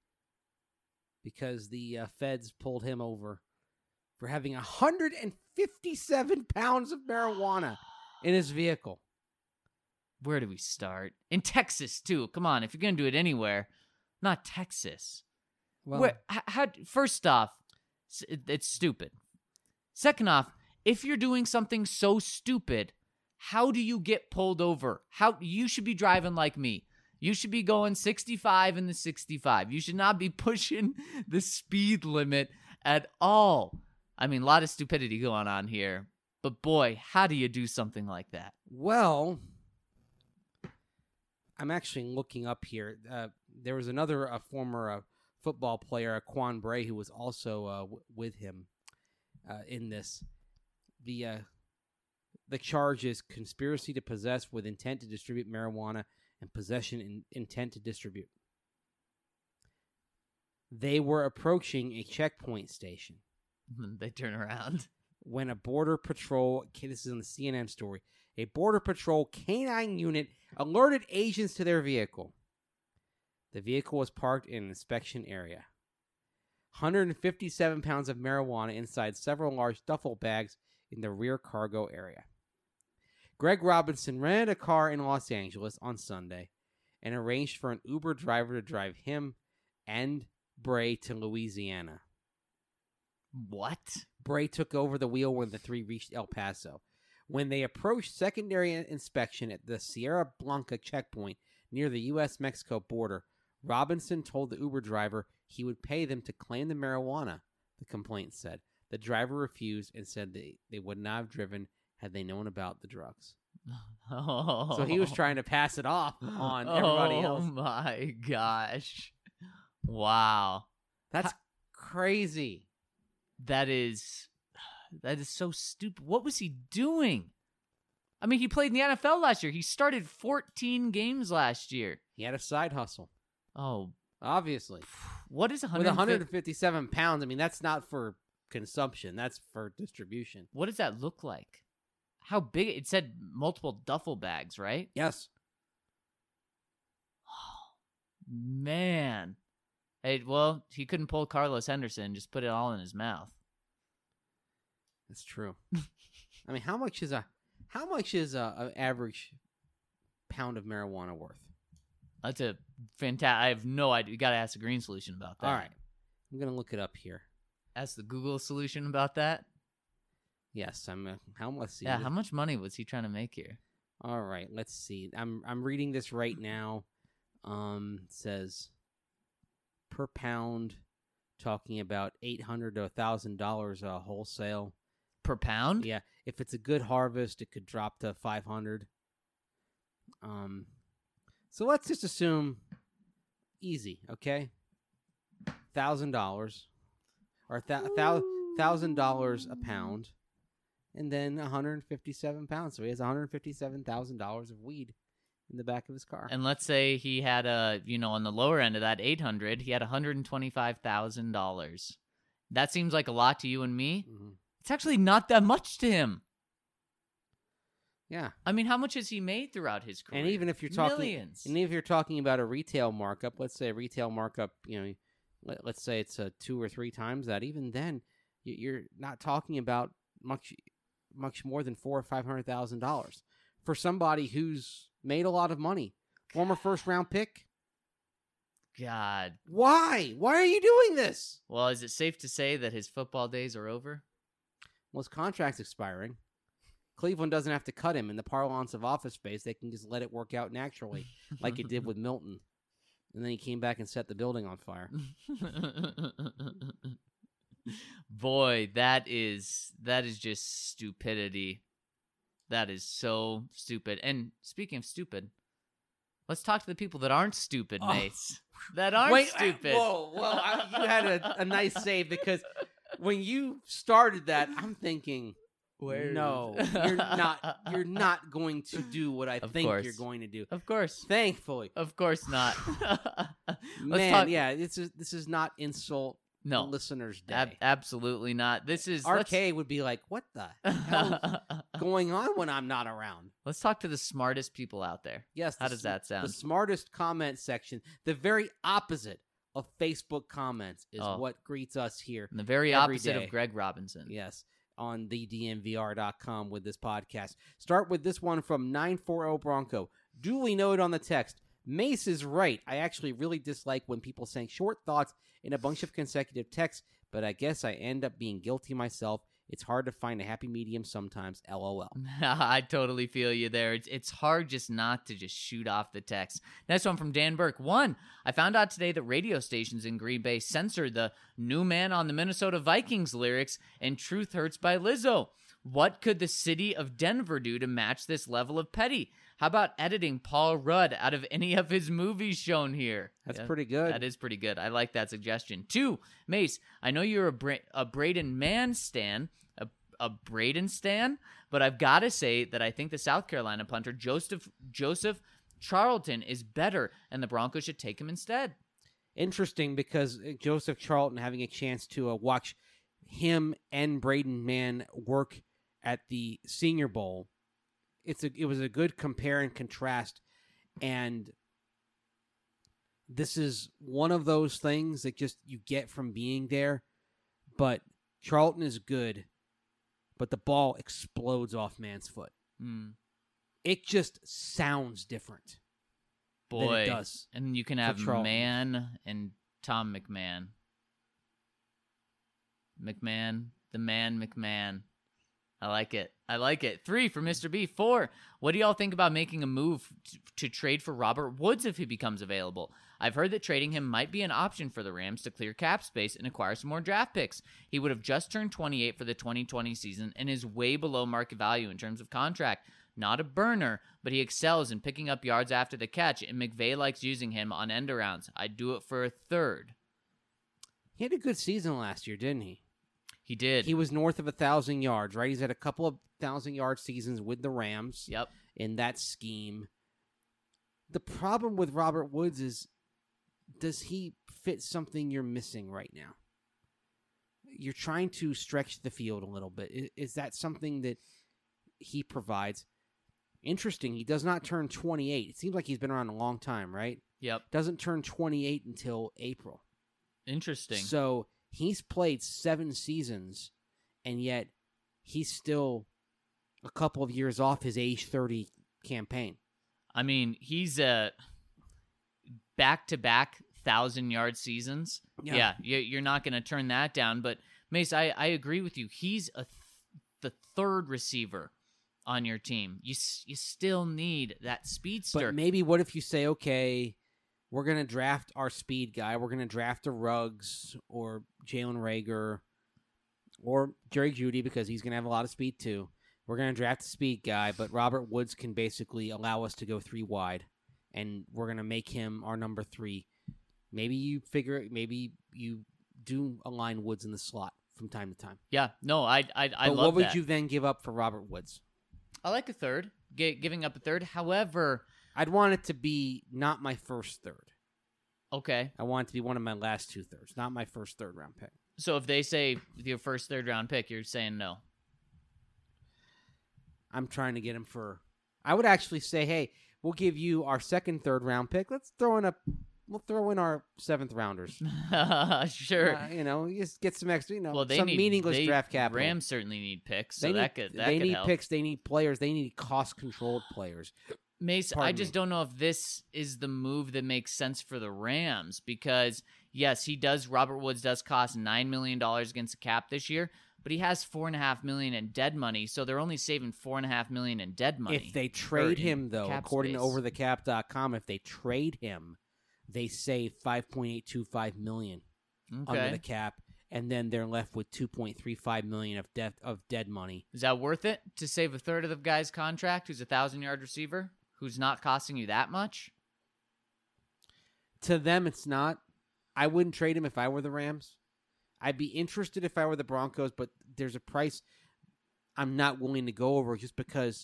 because the feds pulled him over for having 157 pounds of marijuana in his vehicle. Where do we start? In Texas, too. Come on, if you're going to do it anywhere, not Texas. Well, first off, it's stupid. Second off, if you're doing something so stupid, how do you get pulled over? You should be driving like me. You should be going 65 in the 65. You should not be pushing the speed limit at all. I mean, a lot of stupidity going on here. But boy, how do you do something like that? Well, I'm actually looking up here. There was another former football player, Quan Bray, who was also with him in this. The charge is conspiracy to possess with intent to distribute marijuana and possession in intent to distribute. They were approaching a checkpoint station. They turn around. When a Border Patrol, this is in the CNN story, a Border Patrol canine unit alerted agents to their vehicle. The vehicle was parked in an inspection area. 157 pounds of marijuana inside several large duffel bags in the rear cargo area. Greg Robinson rented a car in Los Angeles on Sunday and arranged for an Uber driver to drive him and Bray to Louisiana. What? Bray took over the wheel when the three reached El Paso. When they approached secondary inspection at the Sierra Blanca checkpoint near the U.S.-Mexico border, Robinson told the Uber driver he would pay them to claim the marijuana, the complaint said. The driver refused and said they would not have driven had they known about the drugs. Oh. So he was trying to pass it off on everybody else. Oh my gosh. Wow. That's crazy. That is so stupid. What was he doing? I mean, he played in the NFL last year. He started 14 games last year. He had a side hustle. Oh. Obviously. What is 157 pounds? I mean, that's not for consumption. That's for distribution. What does that look like? How big? It said multiple duffel bags, right? Yes. Man. Hey, well, he couldn't pull Carlos Henderson, just put it all in his mouth. That's true. I mean, how much is a average pound of marijuana worth? That's a fantastic. I have no idea. You got to ask the Green Solution about that. All right. I'm going to look it up here. Ask the Google Solution about that. Yes, how much? Yeah, how much money was he trying to make here? All right, let's see. I'm reading this right now. It says per pound, talking about $800 to $1,000 wholesale per pound. Yeah, if it's a good harvest, it could drop to $500. So let's just assume easy, okay? $1,000 or $1,000 a pound, and then 157 pounds. So he has $157,000 of weed in the back of his car. And let's say he had on the lower end of that 800, he had $125,000. That seems like a lot to you and me. Mm-hmm. It's actually not that much to him. Yeah. I mean, how much has he made throughout his career? And even if you're talking millions. And if you're talking about a retail markup, let's say a retail markup, let's say it's 2 or 3 times that. Even then, you're not talking about much more than $400,000 or $500,000 for somebody who's made a lot of money. Former first-round pick. God. Why? Why are you doing this? Well, is it safe to say that his football days are over? Well, his contract's expiring. Cleveland doesn't have to cut him. In the parlance of Office Space, they can just let it work out naturally, like it did with Milton. And then he came back and set the building on fire. Boy, that is just stupidity. That is so stupid. And speaking of stupid, let's talk to the people that aren't stupid, Mace. That aren't stupid. You had a nice save, because when you started that, I'm thinking, no, you're not going to do what I think you're going to do. Of course. Thankfully. Of course not. Yeah, this is not insult no. listeners' day. Absolutely not. This is RK would be like, what the hell is going on when I'm not around? Let's talk to the smartest people out there. Yes. How does that sound? The smartest comment section, the very opposite of Facebook comments, is what greets us here. And the very opposite of Greg Robinson. Yes. On thednvr.com with this podcast. Start with this one from 940 Bronco. Duly noted on the text, Mace is right. I actually really dislike when people saying short thoughts in a bunch of consecutive texts, but I guess I end up being guilty myself. It's hard to find a happy medium sometimes, LOL. I totally feel you there. It's hard just not to just shoot off the text. Next one from Dan Burke. 1, I found out today that radio stations in Green Bay censored the New Man on the Minnesota Vikings lyrics and Truth Hurts by Lizzo. What could the city of Denver do to match this level of petty? How about editing Paul Rudd out of any of his movies shown here? That's pretty good. That is pretty good. I like that suggestion. 2, Mace, I know you're a Braden Mann stan, a Braden stan, but I've got to say that I think the South Carolina punter Joseph Charlton is better, and the Broncos should take him instead. Interesting, because Joseph Charlton, having a chance to watch him and Braden Mann work at the Senior Bowl, it was a good compare and contrast, and this is one of those things that just you get from being there. But Charlton is good, but the ball explodes off Mann's foot. It just sounds different. Boy, than it does. And you can have Mann and Tom McMahon. The man McMahon. I like it. 3 for Mr. B. 4, what do y'all think about making a move to trade for Robert Woods if he becomes available? I've heard that trading him might be an option for the Rams to clear cap space and acquire some more draft picks. He would have just turned 28 for the 2020 season and is way below market value in terms of contract. Not a burner, but he excels in picking up yards after the catch, and McVay likes using him on end arounds. I'd do it for a 3rd. He had a good season last year, didn't he? He did. He was north of 1,000 yards, right? He's had a couple of 1,000-yard seasons with the Rams. Yep. In that scheme. The problem with Robert Woods is, does he fit something you're missing right now? You're trying to stretch the field a little bit. Is that something that he provides? Interesting. He does not turn 28. It seems like he's been around a long time, right? Yep. Doesn't turn 28 until April. Interesting. So he's played 7 seasons, and yet he's still a couple of years off his age 30 campaign. I mean, he's a back-to-back 1,000-yard seasons. Yeah, you're not going to turn that down. But, Mace, I agree with you. He's the third receiver on your team. You still need that speedster. But maybe what if you say, okay, we're going to draft our speed guy. We're going to draft a Ruggs or Jalen Reagor or Jerry Jeudy because he's going to have a lot of speed too. We're going to draft a speed guy, but Robert Woods can basically allow us to go 3 wide, and we're going to make him our number 3. Maybe you do align Woods in the slot from time to time. Yeah, no, I But love what would that. you then give up for Robert Woods? I like a third, giving up a third. However, I'd want it to be not my first third. okay. I want it to be one of my last 2 thirds, not my first third round pick. So if they say your first third round pick, you're saying no. I'm trying to get him for. I would actually say, hey, we'll give you our second third round pick. We'll throw in our 7th rounders. Sure. You just get some extra. Well, they some need meaningless draft capital. Rams certainly need picks, so they could need help. picks. They need players. They need cost-controlled players. Mace, Pardon I just me. don't know if this is the move that makes sense for the Rams because, yes, Robert Woods does cost $9 million against the cap this year, but he has $4.5 million in dead money, so they're only saving $4.5 million in dead money. If they trade in him, though, cap according space. to overthecap.com, if they trade him, they save $5.825 million under the cap, and then they're left with $2.35 million of dead money. Is that worth it to save a third of the guy's contract who's a 1,000-yard receiver who's not costing you that much? To them, it's not. I wouldn't trade him if I were the Rams. I'd be interested if I were the Broncos, but there's a price I'm not willing to go over just because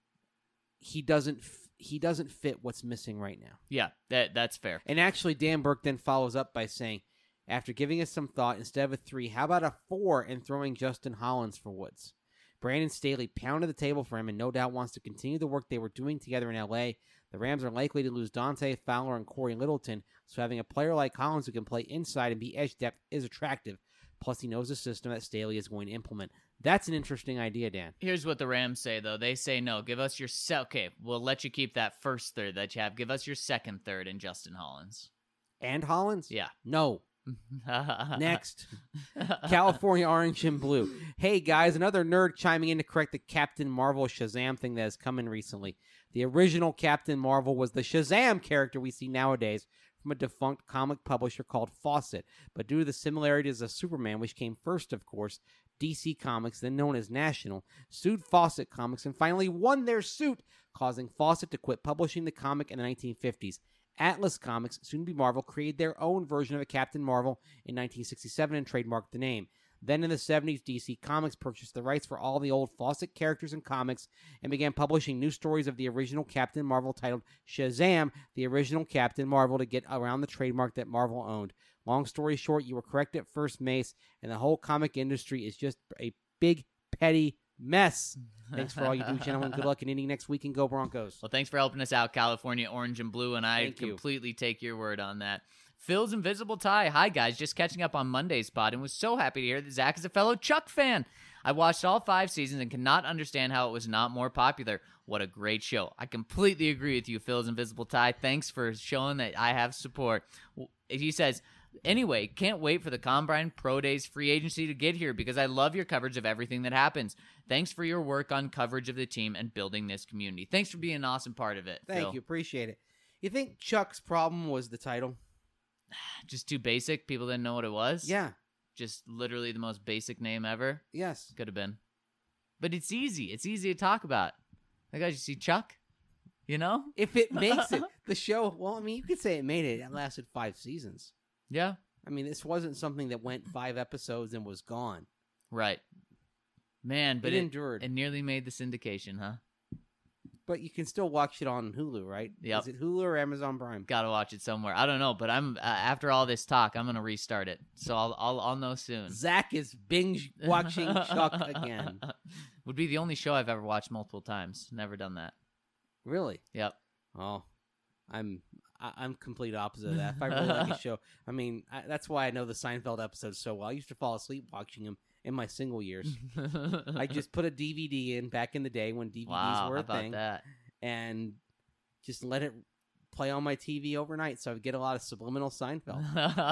he doesn't fit what's missing right now. Yeah, that's fair. And actually, Dan Burke then follows up by saying, after giving us some thought, instead of a 3, how about a 4 and throwing Justin Hollins for Woods? Brandon Staley pounded the table for him and no doubt wants to continue the work they were doing together in L.A. The Rams are likely to lose Dante Fowler and Corey Littleton, so having a player like Hollins who can play inside and be edge depth is attractive. Plus, he knows the system that Staley is going to implement. That's an interesting idea, Dan. Here's what the Rams say, though. They say, no, give us your okay, we'll let you keep that first third that you have. Give us your second third in Justin Hollins. And Hollins? Yeah. No. Next. California Orange and Blue. Hey, guys, another nerd chiming in to correct the Captain Marvel Shazam thing that has come in recently. The original Captain Marvel was the Shazam character we see nowadays from a defunct comic publisher called Fawcett. But due to the similarities of Superman, which came first, of course, DC Comics, then known as National, sued Fawcett Comics and finally won their suit, causing Fawcett to quit publishing the comic in the 1950s. Atlas Comics, soon to be Marvel, created their own version of a Captain Marvel in 1967 and trademarked the name. Then in the 70s, DC Comics purchased the rights for all the old Fawcett characters and comics and began publishing new stories of the original Captain Marvel titled Shazam, the original Captain Marvel, to get around the trademark that Marvel owned. Long story short, you were correct at first, Mace, and the whole comic industry is just a big, petty mess. Thanks for all you do, gentlemen. Good luck in ending next week, and go Broncos. Well, thanks for helping us out, California Orange and Blue, and I Thank you. completely take your word on that. Phil's Invisible Tie. Hi, guys. Just catching up on Monday's pod and was so happy to hear that Zach is a fellow Chuck fan. I watched all 5 seasons and cannot understand how it was not more popular. What a great show. I completely agree with you, Phil's Invisible Tie. Thanks for showing that I have support. He says, anyway, can't wait for the Combine, Pro Days, free agency to get here because I love your coverage of everything that happens. Thanks for your work on coverage of the team and building this community. Thanks for being an awesome part of it, Thank Phil. you. Appreciate it. You think Chuck's problem was the title? Just too basic? People didn't know what it was? Yeah. Just literally the most basic name ever? Yes. Could have been. But it's easy. It's easy to talk about. Like, guys, you see Chuck? You know? If it makes it, the show, well, I mean, you could say it made it. It lasted 5 seasons. Yeah. I mean, this wasn't something that went 5 episodes and was gone. Right. Man, but it endured. It nearly made the syndication, huh? But you can still watch it on Hulu, right? Yep. Is it Hulu or Amazon Prime? Gotta watch it somewhere. I don't know, but I'm after all this talk, I'm gonna restart it. So I'll know soon. Zach is binge watching Chuck again. Would be the only show I've ever watched multiple times. Never done that. Really? Yep. Oh, I'm complete opposite of that. If I really like a show, I mean, that's why I know the Seinfeld episodes so well. I used to fall asleep watching them in my single years. I just put a DVD in back in the day when DVDs were a thing, that? and just let it play on my TV overnight, so I would get a lot of subliminal Seinfeld.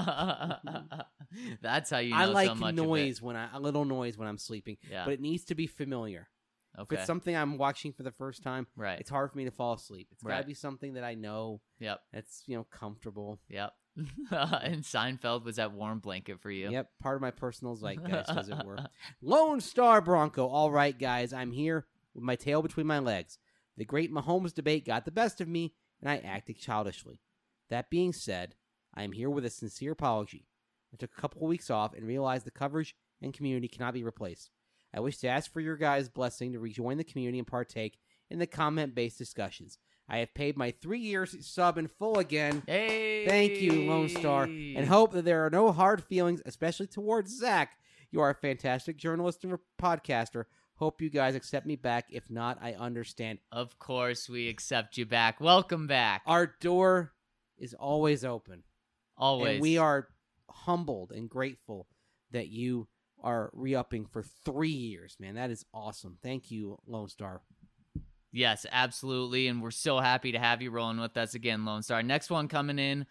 That's how you know I like so much noise a little noise when I'm sleeping, Yeah. but it needs to be familiar. Okay. If it's something I'm watching for the first time, Right. it's hard for me to fall asleep. It's got to Right. be something that I know. Yep. That's comfortable. Yep. And Seinfeld was that warm blanket for you. Yep, part of my personal zeitgeist, as it were. Lone Star Bronco. All right, guys, I'm here with my tail between my legs. The great Mahomes debate got the best of me, and I acted childishly. That being said, I am here with a sincere apology. I took a couple of weeks off and realized the coverage and community cannot be replaced. I wish to ask for your guys' blessing to rejoin the community and partake in the comment-based discussions. I have paid my 3 years sub in full again. Hey! Thank you, Lone Star, and hope that there are no hard feelings, especially towards Zach. You are a fantastic journalist and podcaster. Hope you guys accept me back. If not, I understand. Of course we accept you back. Welcome back. Our door is always open. Always. And we are humbled and grateful that you are re-upping for 3 years, man. That is awesome. Thank you, Lone Star. Yes, absolutely. And we're so happy to have you rolling with us again, Lone Star. Next one coming in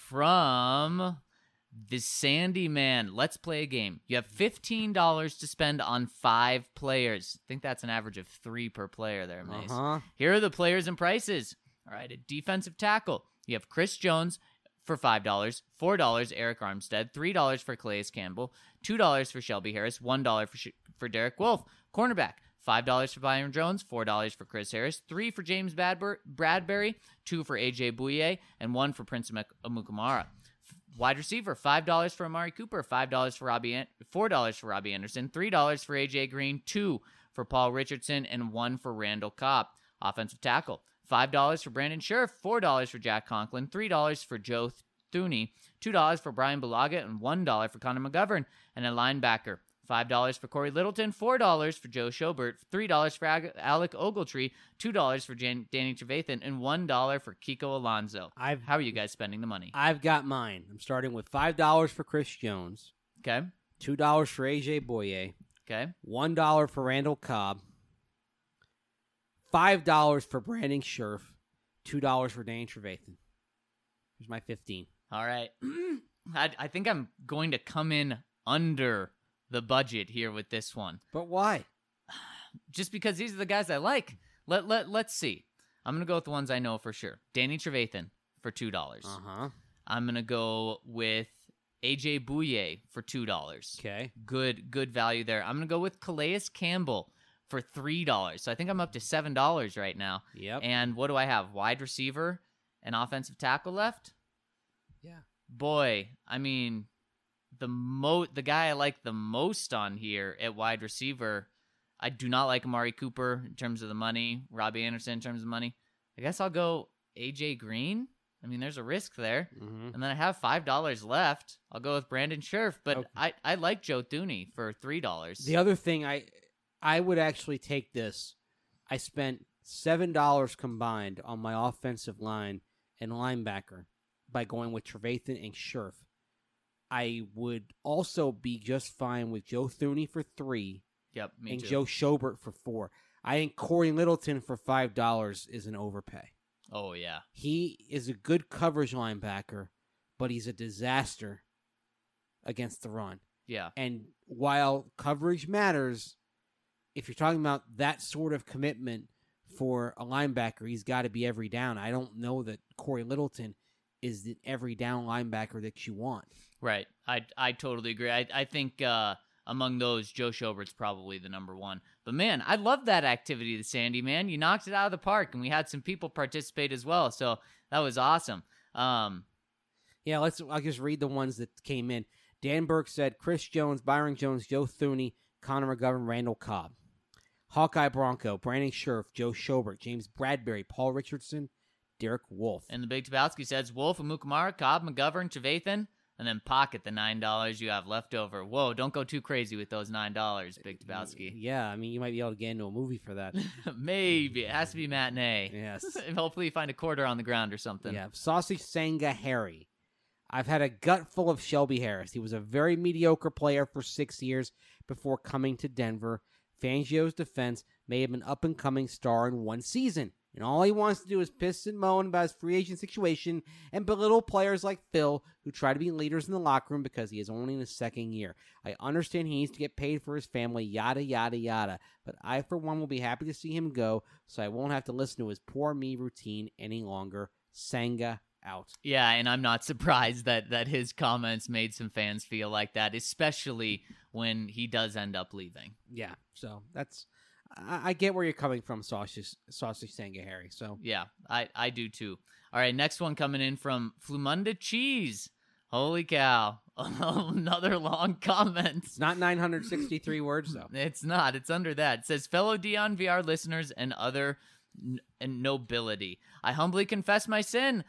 from the Sandy Man. Let's play a game. You have $15 to spend on 5 players. I think that's an average of 3 per player there, Mace. Here are the players and prices. All right, a defensive tackle. You have Chris Jones for $5, $4 Eric Armstead, $3 for Calais Campbell, $2 for Shelby Harris, $1 for Derek Wolfe. Cornerback, $5 for Byron Jones, $4 for Chris Harris, $3 for James Bradbury, $2 for AJ Bouye, and $1 for Prince Amukamara. Wide receiver, $5 for Amari Cooper, $4 for Robbie Anderson, $3 for AJ Green, $2 for Paul Richardson, and $1 for Randall Cobb. Offensive tackle, $5 for Brandon Scherf, $4 for Jack Conklin, $3 for Joe Thuney, $2 for Brian Bulaga, and $1 for Connor McGovern. And a linebacker, $5 for Corey Littleton, $4 for Joe Schobert, $3 for Alec Ogletree, $2 for Danny Trevathan, and $1 for Kiko Alonso. How are you guys spending the money? I've got mine. I'm starting with $5 for Chris Jones. Okay. $2 for AJ Bouye. Okay. $1 for Randall Cobb. $5 for Brandon Scherf. $2 for Danny Trevathan. Here's my 15. All right. I think I'm going to come in under the budget here with this one. But why? Just because these are the guys I like. Let's see. I'm going to go with the ones I know for sure. Danny Trevathan for $2. Uh-huh. I'm going to go with AJ Bouye for $2. Okay. Good value there. I'm going to go with Calais Campbell for $3. So I think I'm up to $7 right now. Yep. And what do I have? Wide receiver and offensive tackle left? Yeah. Boy, I mean, the guy I like the most on here at wide receiver, I do not like Amari Cooper in terms of the money, Robbie Anderson in terms of money. I guess I'll go AJ Green. I mean, there's a risk there. Mm-hmm. And then I have $5 left. I'll go with Brandon Scherf, but Okay. I like Joe Thuney for $3. The other thing, I would actually take this. I spent $7 combined on my offensive line and linebacker by going with Trevathan and Scherf. I would also be just fine with Joe Thuney for $3 Yep, me and too. Joe Schobert for $4. I think Corey Littleton for $5 is an overpay. Oh, yeah. He is a good coverage linebacker, but he's a disaster against the run. Yeah. And while coverage matters, if you're talking about that sort of commitment for a linebacker, he's got to be every down. I don't know that Corey Littleton is the every down linebacker that you want. Right. I totally agree. I think among those, Joe Schobert's probably the number one. But, man, I love that activity, the Sandy, man. You knocked it out of the park, and we had some people participate as well, so that was awesome. Yeah, I'll just read the ones that came in. Dan Burke said Chris Jones, Byron Jones, Joe Thuney, Connor McGovern, Randall Cobb. Hawkeye Bronco, Brandon Scherf, Joe Schobert, James Bradbury, Paul Richardson, Derek Wolfe. And the Big Tabowski says Wolf, Amukamara, Cobb, McGovern, Trevathan. and then pocket the $9 you have left over. Whoa, don't go too crazy with those $9, Big Tabowski. Yeah, I mean, you might be able to get into a movie for that. Maybe. It has to be matinee. Yes. And hopefully you find a quarter on the ground or something. Yeah, Sausage Sanga Harry. I've had a gut full of Shelby Harris. He was a very mediocre player for 6 years before coming to Denver. Fangio's defense may have been up-and-coming star in one season, and all he wants to do is piss and moan about his free agent situation and belittle players like Phil, who try to be leaders in the locker room because he is only in his second year. I understand he needs to get paid for his family, yada, yada, yada, but I, for one, will be happy to see him go, so I won't have to listen to his poor me routine any longer. Sanga out. Yeah, and I'm not surprised that his comments made some fans feel like that, especially when he does end up leaving. Yeah, so that's... I get where you're coming from, Sausage Sanga Harry. So yeah, I do too. All right, next one coming in from Flumunda Cheese. Holy cow. Another long comment. It's not 963 words, though. It's not. It's under that. It says, fellow Dion VR listeners and other nobility, I humbly confess my sin.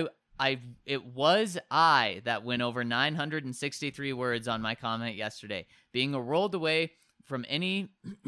It was I that went over 963 words on my comment yesterday. Being rolled away from any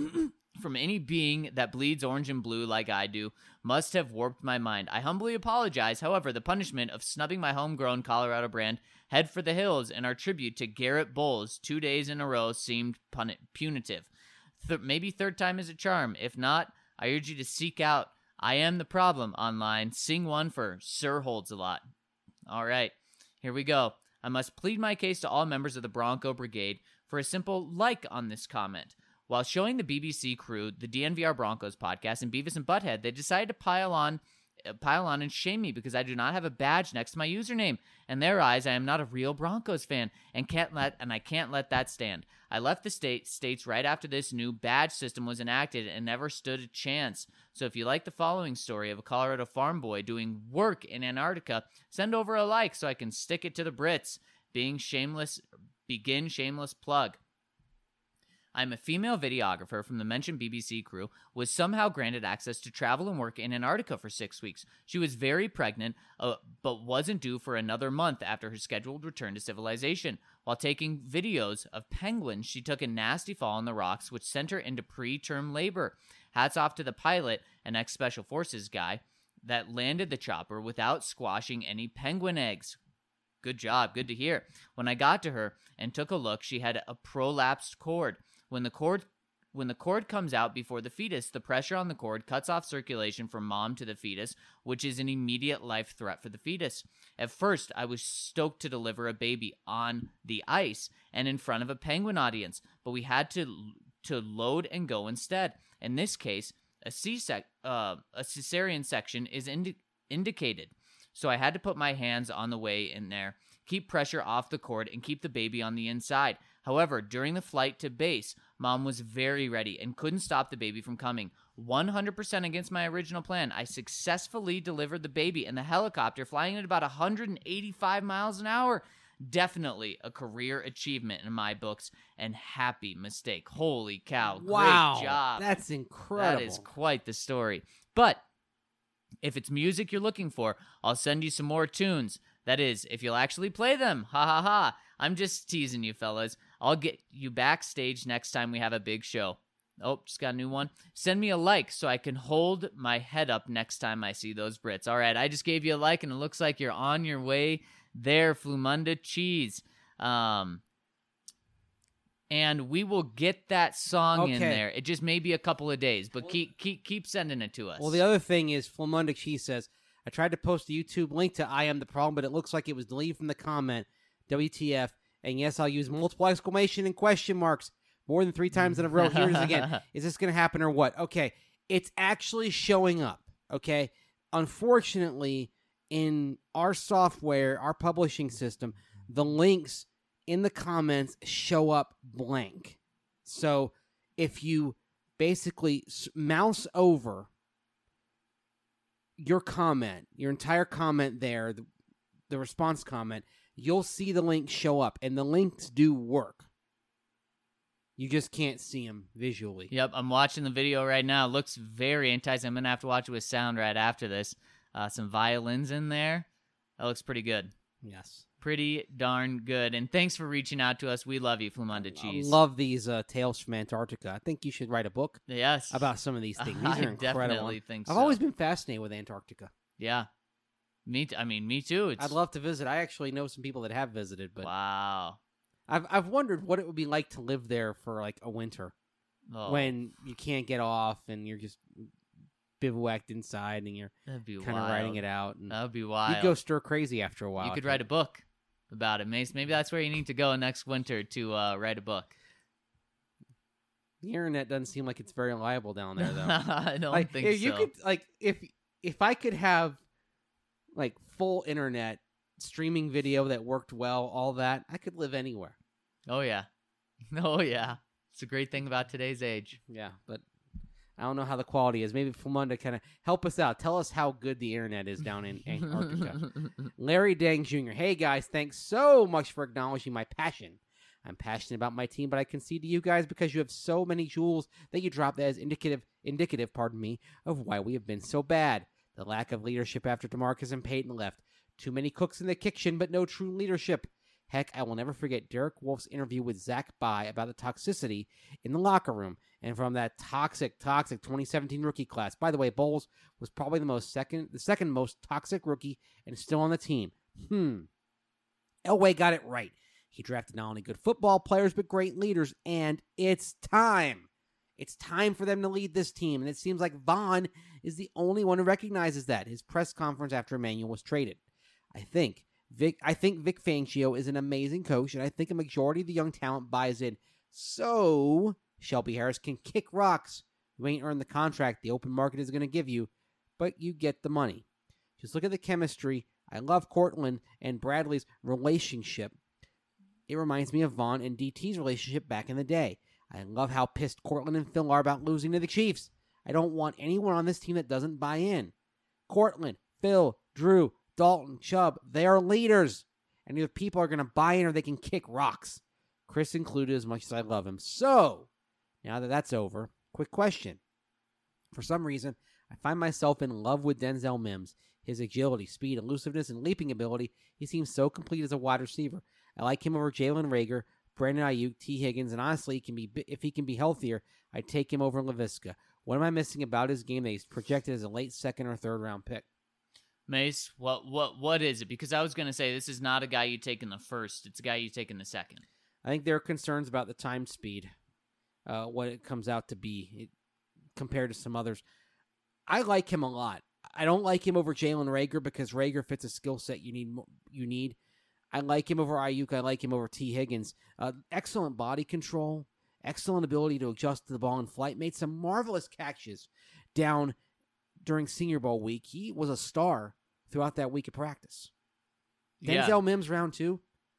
being that bleeds orange and blue like I do must have warped my mind. I humbly apologize. However, the punishment of snubbing my homegrown Colorado brand Head for the Hills and our tribute to Garrett Bowles 2 days in a row seemed punitive. Maybe third time is a charm. If not, I urge you to seek out I Am the Problem online. Sing one for Sir Holds a Lot. All right, here we go. I must plead my case to all members of the Bronco Brigade for a simple like on this comment. While showing the BBC crew the DNVR Broncos podcast and Beavis and Butthead, they decided to pile on and shame me because I do not have a badge next to my username. In their eyes, I am not a real Broncos fan and I can't let that stand. I left the states right after this new badge system was enacted and never stood a chance. So if you like the following story of a Colorado farm boy doing work in Antarctica, send over a like so I can stick it to the Brits. Begin shameless plug. I'm a female videographer from the mentioned BBC crew, was somehow granted access to travel and work in Antarctica for 6 weeks. She was very pregnant, but wasn't due for another month after her scheduled return to civilization. While taking videos of penguins, she took a nasty fall on the rocks, which sent her into preterm labor. Hats off to the pilot, an ex-Special Forces guy, that landed the chopper without squashing any penguin eggs. Good job, good to hear. When I got to her and took a look, she had a prolapsed cord. When the cord comes out before the fetus, the pressure on the cord cuts off circulation from mom to the fetus, which is an immediate life threat for the fetus. At first, I was stoked to deliver a baby on the ice and in front of a penguin audience, but we had to load and go instead. In this case, a cesarean section is indicated, so I had to put my hands on the way in there, keep pressure off the cord, and keep the baby on the inside. However, during the flight to base, Mom was very ready and couldn't stop the baby from coming. 100% against my original plan, I successfully delivered the baby in the helicopter flying at about 185 miles an hour. Definitely a career achievement in my books, and happy mistake. Holy cow. Wow. Great job. That's incredible. That is quite the story. But if it's music you're looking for, I'll send you some more tunes. That is, if you'll actually play them. Ha ha ha. I'm just teasing you, fellas. I'll get you backstage next time we have a big show. Oh, just got a new one. Send me a like so I can hold my head up next time I see those Brits. All right, I just gave you a like, and it looks like you're on your way there, Flumunda Cheese. And we will get that song in there. It just may be a couple of days, but keep sending it to us. Well, the other thing is, Flumunda Cheese says, I tried to post a YouTube link to I Am the Problem, but it looks like it was deleted from the comment. WTF. And yes, I'll use multiple exclamation and question marks more than 3 times in a row. Here it is again. Is this going to happen or what? Okay. It's actually showing up. Okay. Unfortunately, in our software, our publishing system, the links in the comments show up blank. So if you basically mouse over your comment, your entire comment there, the response comment, you'll see the links show up, and the links do work. You just can't see them visually. Yep, I'm watching the video right now. It looks very enticing. I'm going to have to watch it with sound right after this. Some violins in there. That looks pretty good. Yes. pretty darn good. And thanks for reaching out to us. We love you, Flumunda I Cheese. love these tales from Antarctica. I think you should write a book Yes. about some of these things. These I are incredible. definitely think I've so. always been fascinated with Antarctica. Yeah. Me too. It's I'd love to visit. I actually know some people that have visited, but wow. I've wondered what it would be like to live there for like a winter Oh, when you can't get off and you're just bivouacked inside and you're that'd be kind of wild. writing it out. And That would be wild. you'd go stir crazy after a while. You I could think. write a book about it, Mace. Maybe that's where you need to go next winter to write a book. The internet doesn't seem like it's very reliable down there, though. I don't Like, think if so. you could, like, if I could have like full internet streaming video that worked well, all that, I could live anywhere. Oh yeah. Oh yeah. It's a great thing about today's age. Yeah, but I don't know how the quality is. Maybe Flumunda kind of help us out. Tell us how good the internet is down in Antarctica. Larry Dang Jr. Hey guys, thanks so much for acknowledging my passion. I'm passionate about my team, but I concede to you guys because you have so many jewels that you drop that is indicative, of why we have been so bad. The lack of leadership after DeMarcus and Peyton left. Too many cooks in the kitchen, but no true leadership. Heck, I will never forget Derek Wolf's interview with Zach Bye about the toxicity in the locker room and from that toxic 2017 rookie class. By the way, Bowles was probably the second most toxic rookie and still on the team. Elway got it right. He drafted not only good football players, but great leaders, and it's time. It's time for them to lead this team, and it seems like Vaughn is the only one who recognizes that. His press conference after Emmanuel was traded. I think Vic Fangio is an amazing coach, and I think a majority of the young talent buys in. So Shelby Harris can kick rocks. You ain't earned the contract the open market is going to give you, but you get the money. Just look at the chemistry. I love Cortland and Bradley's relationship. It reminds me of Vaughn and DT's relationship back in the day. I love how pissed Cortland and Phil are about losing to the Chiefs. I don't want anyone on this team that doesn't buy in. Cortland, Phil, Drew, Dalton, Chubb, they are leaders. And either people are going to buy in or they can kick rocks. Chris included, as much as I love him. So, now that that's over, quick question. For some reason, I find myself in love with Denzel Mims. His agility, speed, elusiveness, and leaping ability, he seems so complete as a wide receiver. I like him over Jalen Reagor, Brandon Ayuk, T. Higgins, and honestly, if he can be healthier, I'd take him over LaVisca. What am I missing about his game that he's projected as a late second or third round pick? Mace, what is it? Because I was going to say this is not a guy you take in the first. It's a guy you take in the second. I think there are concerns about the time speed, what it comes out to be compared to some others. I like him a lot. I don't like him over Jalen Reagor because Reagor fits a skill set you need. I like him over Ayuk. I like him over T. Higgins. Excellent body control. Excellent ability to adjust to the ball in flight. Made some marvelous catches down during Senior Bowl week. He was a star throughout that week of practice. Denzel Mims, round 2.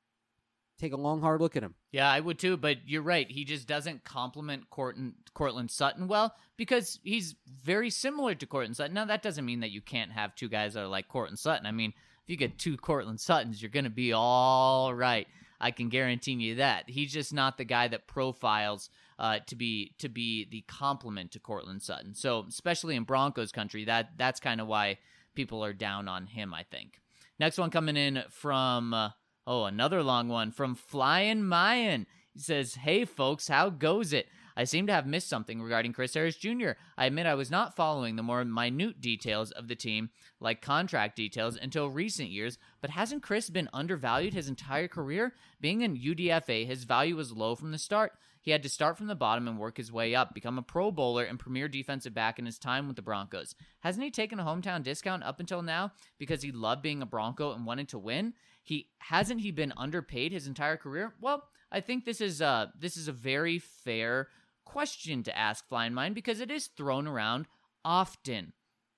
Take a long, hard look at him. Yeah, I would too, but you're right. He just doesn't complement Cortland Sutton well because he's very similar to Cortland Sutton. Now, that doesn't mean that you can't have two guys that are like Cortland Sutton. I mean, if you get two Cortland Suttons, you're going to be all right. I can guarantee you that. He's just not the guy that profiles to be the complement to Cortland Sutton. So, especially in Broncos country, that's kind of why people are down on him, I think. Next one coming in from... another long one from Flyin' Mayan. He says, "Hey folks, how goes it? I seem to have missed something regarding Chris Harris Jr. I admit I was not following the more minute details of the team, like contract details, until recent years, but hasn't Chris been undervalued his entire career? Being in UDFA, his value was low from the start. He had to start from the bottom and work his way up, become a Pro Bowler and premier defensive back in his time with the Broncos. Hasn't he taken a hometown discount up until now because he loved being a Bronco and wanted to win? Hasn't he been underpaid his entire career? Well, I think this is a very fair question to ask, Flying Mind, because it is thrown around often.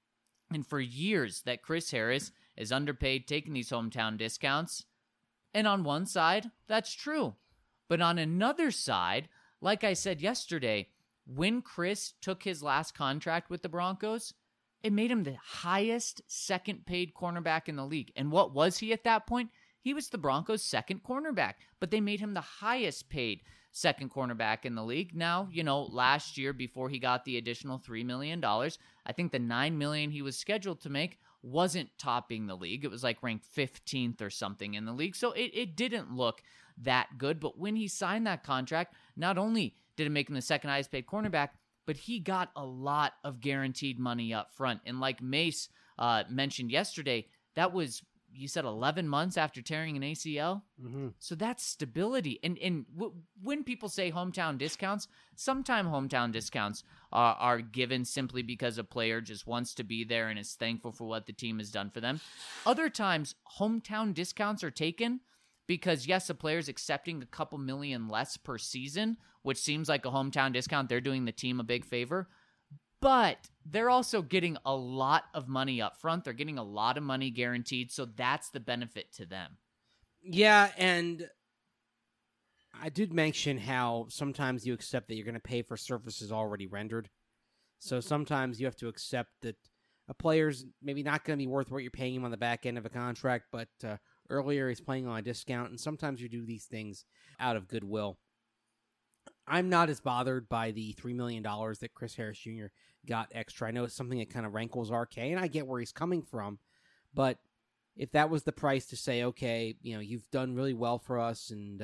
And for years that Chris Harris is underpaid, taking these hometown discounts. And on one side, that's true. But on another side, like I said yesterday, when Chris took his last contract with the Broncos, it made him the highest second paid cornerback in the league. And what was he at that point? He was the Broncos' second cornerback, but they made him the highest paid. second cornerback in the league. Now, last year before he got the additional $3 million, I think the $9 million he was scheduled to make wasn't topping the league. It was like ranked 15th or something in the league. So it didn't look that good. But when he signed that contract, not only did it make him the second highest paid cornerback, but he got a lot of guaranteed money up front. And like Mace mentioned yesterday, that was, you said 11 months after tearing an ACL. Mm-hmm. So that's stability. And when people say hometown discounts, sometimes hometown discounts are given simply because a player just wants to be there and is thankful for what the team has done for them. Other times, hometown discounts are taken because, yes, a player's accepting a couple million less per season, which seems like a hometown discount. They're doing the team a big favor. But they're also getting a lot of money up front. They're getting a lot of money guaranteed, so that's the benefit to them. Yeah, and I did mention how sometimes you accept that you're going to pay for services already rendered. So sometimes you have to accept that a player's maybe not going to be worth what you're paying him on the back end of a contract, but earlier he's playing on a discount, and sometimes you do these things out of goodwill. I'm not as bothered by the $3 million that Chris Harris Jr. got extra. I know it's something that kind of rankles RK, and I get where he's coming from. But if that was the price to say, okay, you've done really well for us, and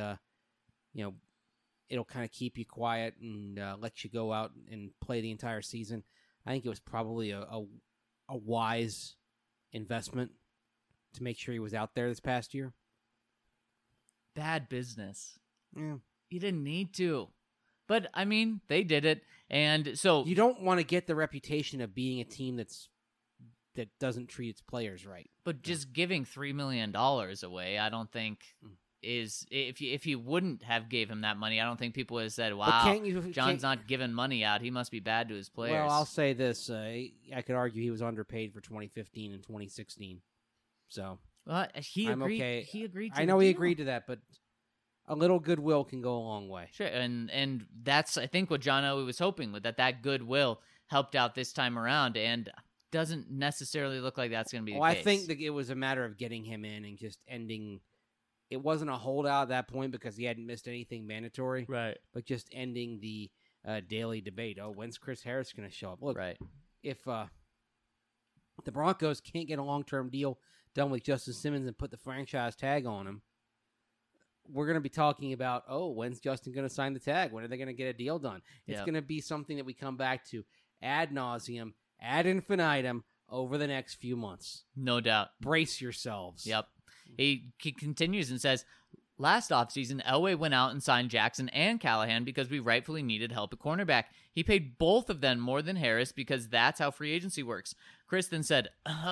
it'll kind of keep you quiet and let you go out and play the entire season, I think it was probably a wise investment to make sure he was out there this past year. Bad business. Yeah. You didn't need to. But, I mean, they did it, and so... You don't want to get the reputation of being a team that doesn't treat its players right. But just giving $3 million away, I don't think is... If you wouldn't have gave him that money, I don't think people would have said, wow, John's not giving money out. He must be bad to his players. Well, I'll say this. I could argue he was underpaid for 2015 and 2016. So... he I'm agreed. okay. He agreed to I know the he deal. agreed to that, but... A little goodwill can go a long way. Sure, and that's, I think, what John Elway was hoping with, that goodwill helped out this time around, and doesn't necessarily look like that's going to be the case. I think that it was a matter of getting him in and just ending. It wasn't a holdout at that point because he hadn't missed anything mandatory. Right. But just ending the daily debate. Oh, when's Chris Harris going to show up? Look, right. If the Broncos can't get a long-term deal done with Justin Simmons and put the franchise tag on him, we're going to be talking about, when's Justin going to sign the tag? When are they going to get a deal done? It's going to be something that we come back to ad nauseum, ad infinitum over the next few months. No doubt. Brace yourselves. Yep. He continues and says, last offseason, Elway went out and signed Jackson and Callahan because we rightfully needed help at cornerback. He paid both of them more than Harris because that's how free agency works. Chris then said,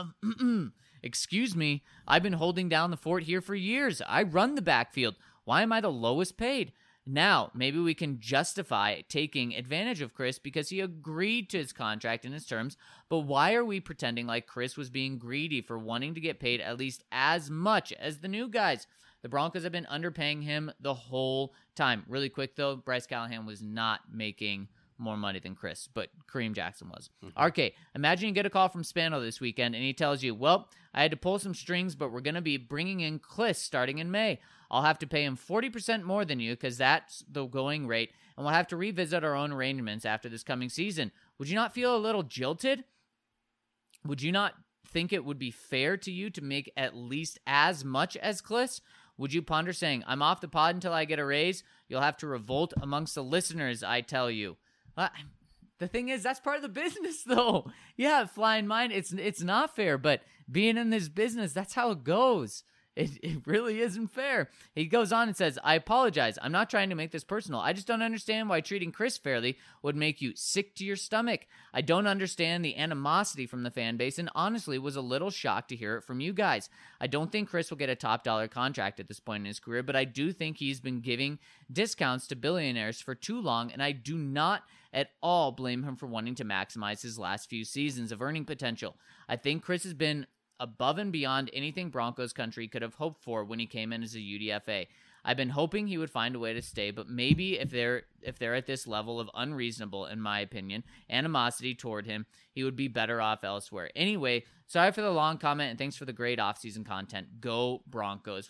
excuse me, I've been holding down the fort here for years. I run the backfield. Why am I the lowest paid? Now, maybe we can justify taking advantage of Chris because he agreed to his contract and his terms, but why are we pretending like Chris was being greedy for wanting to get paid at least as much as the new guys? The Broncos have been underpaying him the whole time. Really quick, though, Bryce Callahan was not making more money than Chris, but Kareem Jackson was. RK, imagine you get a call from Spano this weekend, and he tells you, well, I had to pull some strings, but we're going to be bringing in Kliss starting in May. I'll have to pay him 40% more than you because that's the going rate, and we'll have to revisit our own arrangements after this coming season. Would you not feel a little jilted? Would you not think it would be fair to you to make at least as much as Kliss? Would you ponder saying, I'm off the pod until I get a raise? You'll have to revolt amongst the listeners, I tell you. The thing is, that's part of the business, though. Yeah, flying mine, it's not fair, but being in this business, that's how it goes. It really isn't fair. He goes on and says, I apologize. I'm not trying to make this personal. I just don't understand why treating Chris fairly would make you sick to your stomach. I don't understand the animosity from the fan base and honestly was a little shocked to hear it from you guys. I don't think Chris will get a top dollar contract at this point in his career, but I do think he's been giving discounts to billionaires for too long, and I do not at all blame him for wanting to maximize his last few seasons of earning potential. I think Chris has been above and beyond anything Broncos country could have hoped for when he came in as a UDFA. I've been hoping he would find a way to stay, but maybe if they're at this level of unreasonable, in my opinion, animosity toward him, he would be better off elsewhere. Anyway, sorry for the long comment, and thanks for the great offseason content. Go Broncos. Well,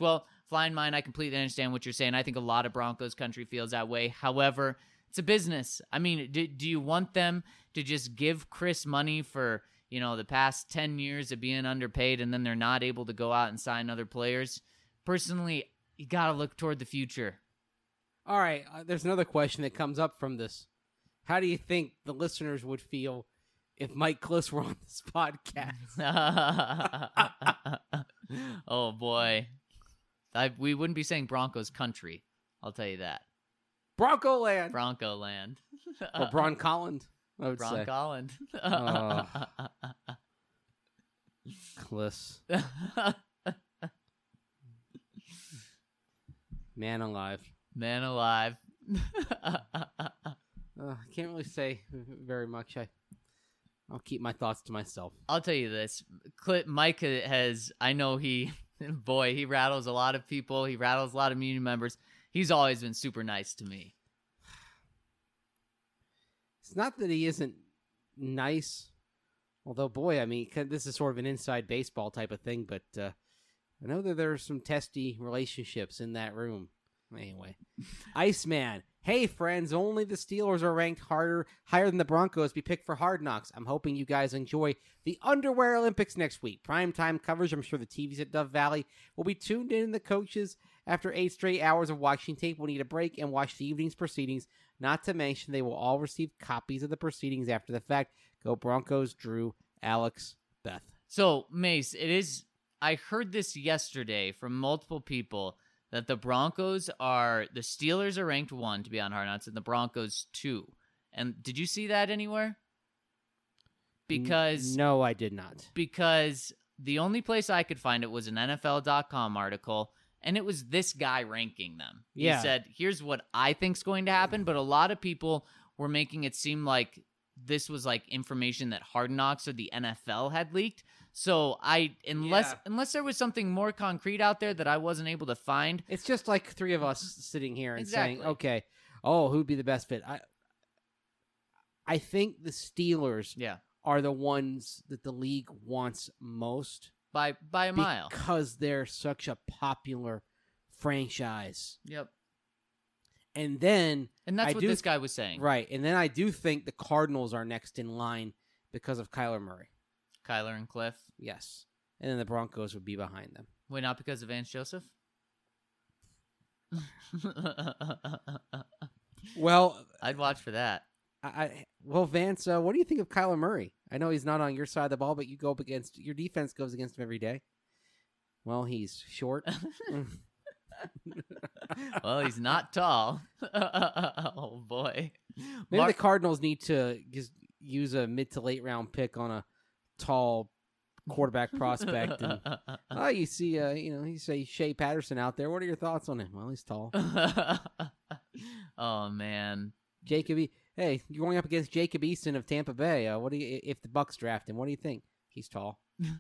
flying mine. I completely understand what you're saying. I think a lot of Broncos country feels that way. However, it's a business. I mean, do you want them to just give Chris money for, the past 10 years of being underpaid and then they're not able to go out and sign other players? Personally, you got to look toward the future. All right, there's another question that comes up from this. How do you think the listeners would feel if Mike Klis were on this podcast? Oh, boy. We wouldn't be saying Broncos country. I'll tell you that. Bronco land. Bronco land. Or Bron Colland, I would say. Holland. Klis. Man alive. Man alive. I can't really say very much. I'll keep my thoughts to myself. I'll tell you this. Mike has, I know he rattles a lot of people. He rattles a lot of union members. He's always been super nice to me. It's not that he isn't nice. Although, boy, I mean, this is sort of an inside baseball type of thing, but I know that there's some testy relationships in that room. Anyway, Iceman. Hey, friends, only the Steelers are ranked higher than the Broncos be picked for Hard Knocks. I'm hoping you guys enjoy the Underwear Olympics next week. Primetime coverage. I'm sure the TVs at Dove Valley will be tuned in. The coaches, after 8 straight hours of watching tape, will need a break and watch the evening's proceedings. Not to mention, they will all receive copies of the proceedings after the fact. Go Broncos, Drew, Alex, Beth. So, Mace, I heard this yesterday from multiple people that the Steelers are ranked 1 to be on Hard Knocks and the Broncos 2. And did you see that anywhere? Because no, I did not. Because the only place I could find it was an NFL.com article, and it was this guy ranking them. He said, here's what I think's going to happen, but a lot of people were making it seem like this was like information that Hard Knocks or the NFL had leaked. So unless there was something more concrete out there that I wasn't able to find. It's just like 3 of us sitting here and Exactly. saying, okay, who'd be the best fit? I think the Steelers are the ones that the league wants most. By a mile. Because they're such a popular franchise. Yep. And that's what this guy was saying. Right. And then I do think the Cardinals are next in line because of Kyler Murray. Kyler and Cliff. Yes. And then the Broncos would be behind them. Wait, not because of Vance Joseph? Well, I'd watch for that. Vance, what do you think of Kyler Murray? I know he's not on your side of the ball, but your defense goes against him every day. Well, he's short. Well, he's not tall. Oh, boy. Maybe the Cardinals need to just use a mid to late round pick on a tall quarterback prospect. And, you see, you say Shea Patterson out there. What are your thoughts on him? Well, he's tall. Oh, man. Hey, you're going up against Jacob Eason of Tampa Bay. What do you, if the Bucks draft him? What do you think? He's tall.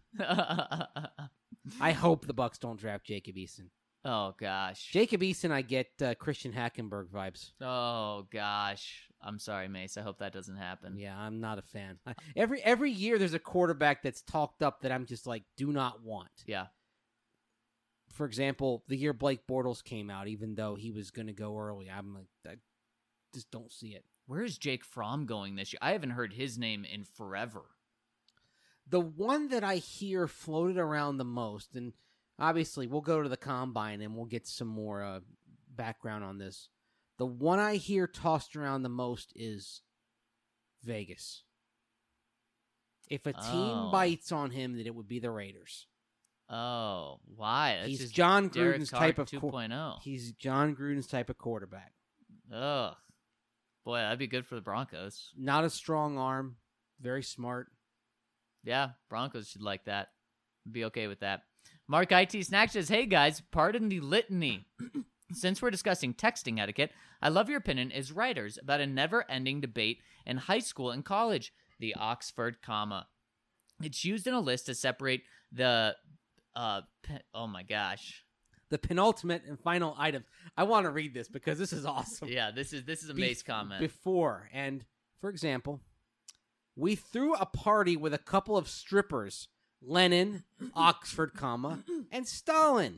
I hope the Bucks don't draft Jacob Eason. Oh, gosh. Jacob Eason, I get Christian Hackenberg vibes. Oh, gosh. I'm sorry, Mace. I hope that doesn't happen. Yeah, I'm not a fan. Every year there's a quarterback that's talked up that I'm just like, do not want. Yeah. For example, the year Blake Bortles came out, even though he was going to go early, I'm like, I just don't see it. Where is Jake Fromm going this year? I haven't heard his name in forever. The one that I hear floated around the most, and obviously we'll go to the Combine and we'll get some more background on this. The one I hear tossed around the most is Vegas. If a team bites on him, that it would be the Raiders. Oh, why? That's He's just John Derek Gruden's Carr type of 2.0. He's John Gruden's type of quarterback. Ugh. Boy, that'd be good for the Broncos. Not a strong arm, very smart. Yeah, Broncos should like that. Be okay with that. Mark IT Snack says, hey guys, pardon the litany. Since we're discussing texting etiquette, I love your opinion as writers about a never-ending debate in high school and college, the Oxford comma. It's used in a list to separate the, oh my gosh. The penultimate and final item. I want to read this because this is awesome. Yeah, this is a Mace comment. Before, and for example, we threw a party with a couple of strippers, Lenin, Oxford, comma, and Stalin.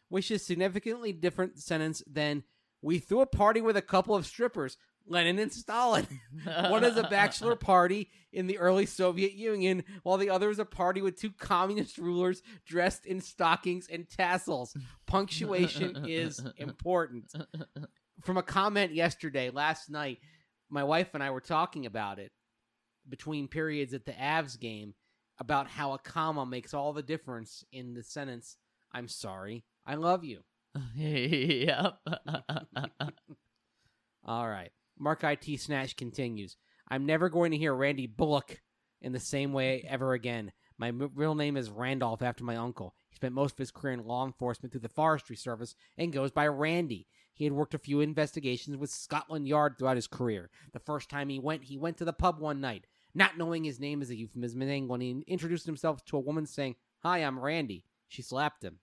which is significantly different sentence than we threw a party with a couple of strippers, Lenin and Stalin. One is a bachelor party in the early Soviet Union, while the other is a party with two communist rulers dressed in stockings and tassels. Punctuation is important. From a comment last night, my wife and I were talking about it between periods at the Avs game about how a comma makes all the difference in the sentence, I'm sorry, I love you. Yep. All right. Mark IT Snatch continues. I'm never going to hear Randy Bullock in the same way ever again. My real name is Randolph after my uncle. He spent most of his career in law enforcement through the Forestry Service and goes by Randy. He had worked a few investigations with Scotland Yard throughout his career. The first time he went to the pub one night, not knowing his name is a euphemism, and when he introduced himself to a woman saying, "Hi, I'm Randy," she slapped him.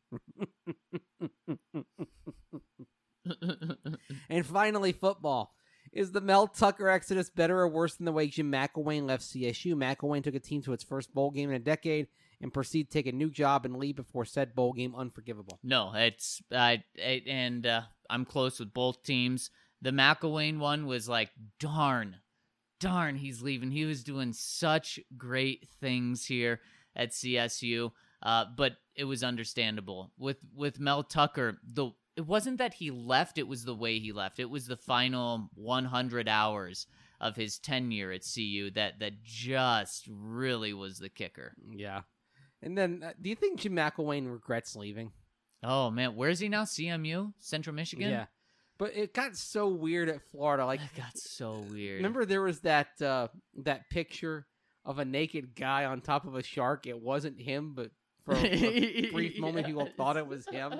And finally, football. Is the Mel Tucker exodus better or worse than the way Jim McElwain left CSU? McElwain took a team to its first bowl game in a decade and proceeded to take a new job and leave before said bowl game unforgivable. No, it's I'm close with both teams. The McElwain one was like, darn, he's leaving. He was doing such great things here at CSU, but it was understandable. With Mel Tucker, it wasn't that he left, it was the way he left. It was the final 100 hours of his tenure at CU that just really was the kicker. Yeah. And then, do you think Jim McElwain regrets leaving? Oh, man. Where is he now? CMU? Central Michigan? Yeah. But it got so weird at Florida. Like, It got so weird. Remember there was that picture of a naked guy on top of a shark? It wasn't him, but for a brief moment people thought it was him.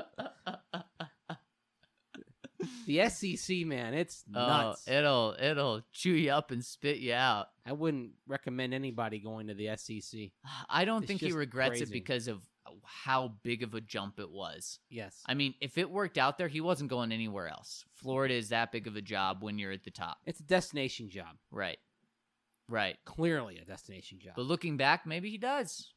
The SEC, man, it's nuts. Oh, it'll chew you up and spit you out. I wouldn't recommend anybody going to the SEC. I don't think he just regrets it crazy. because of how big of a jump it was. Yes. I mean, if it worked out there, he wasn't going anywhere else. Florida is that big of a job when you're at the top. It's a destination job. Right. Clearly a destination job. But looking back, maybe he does.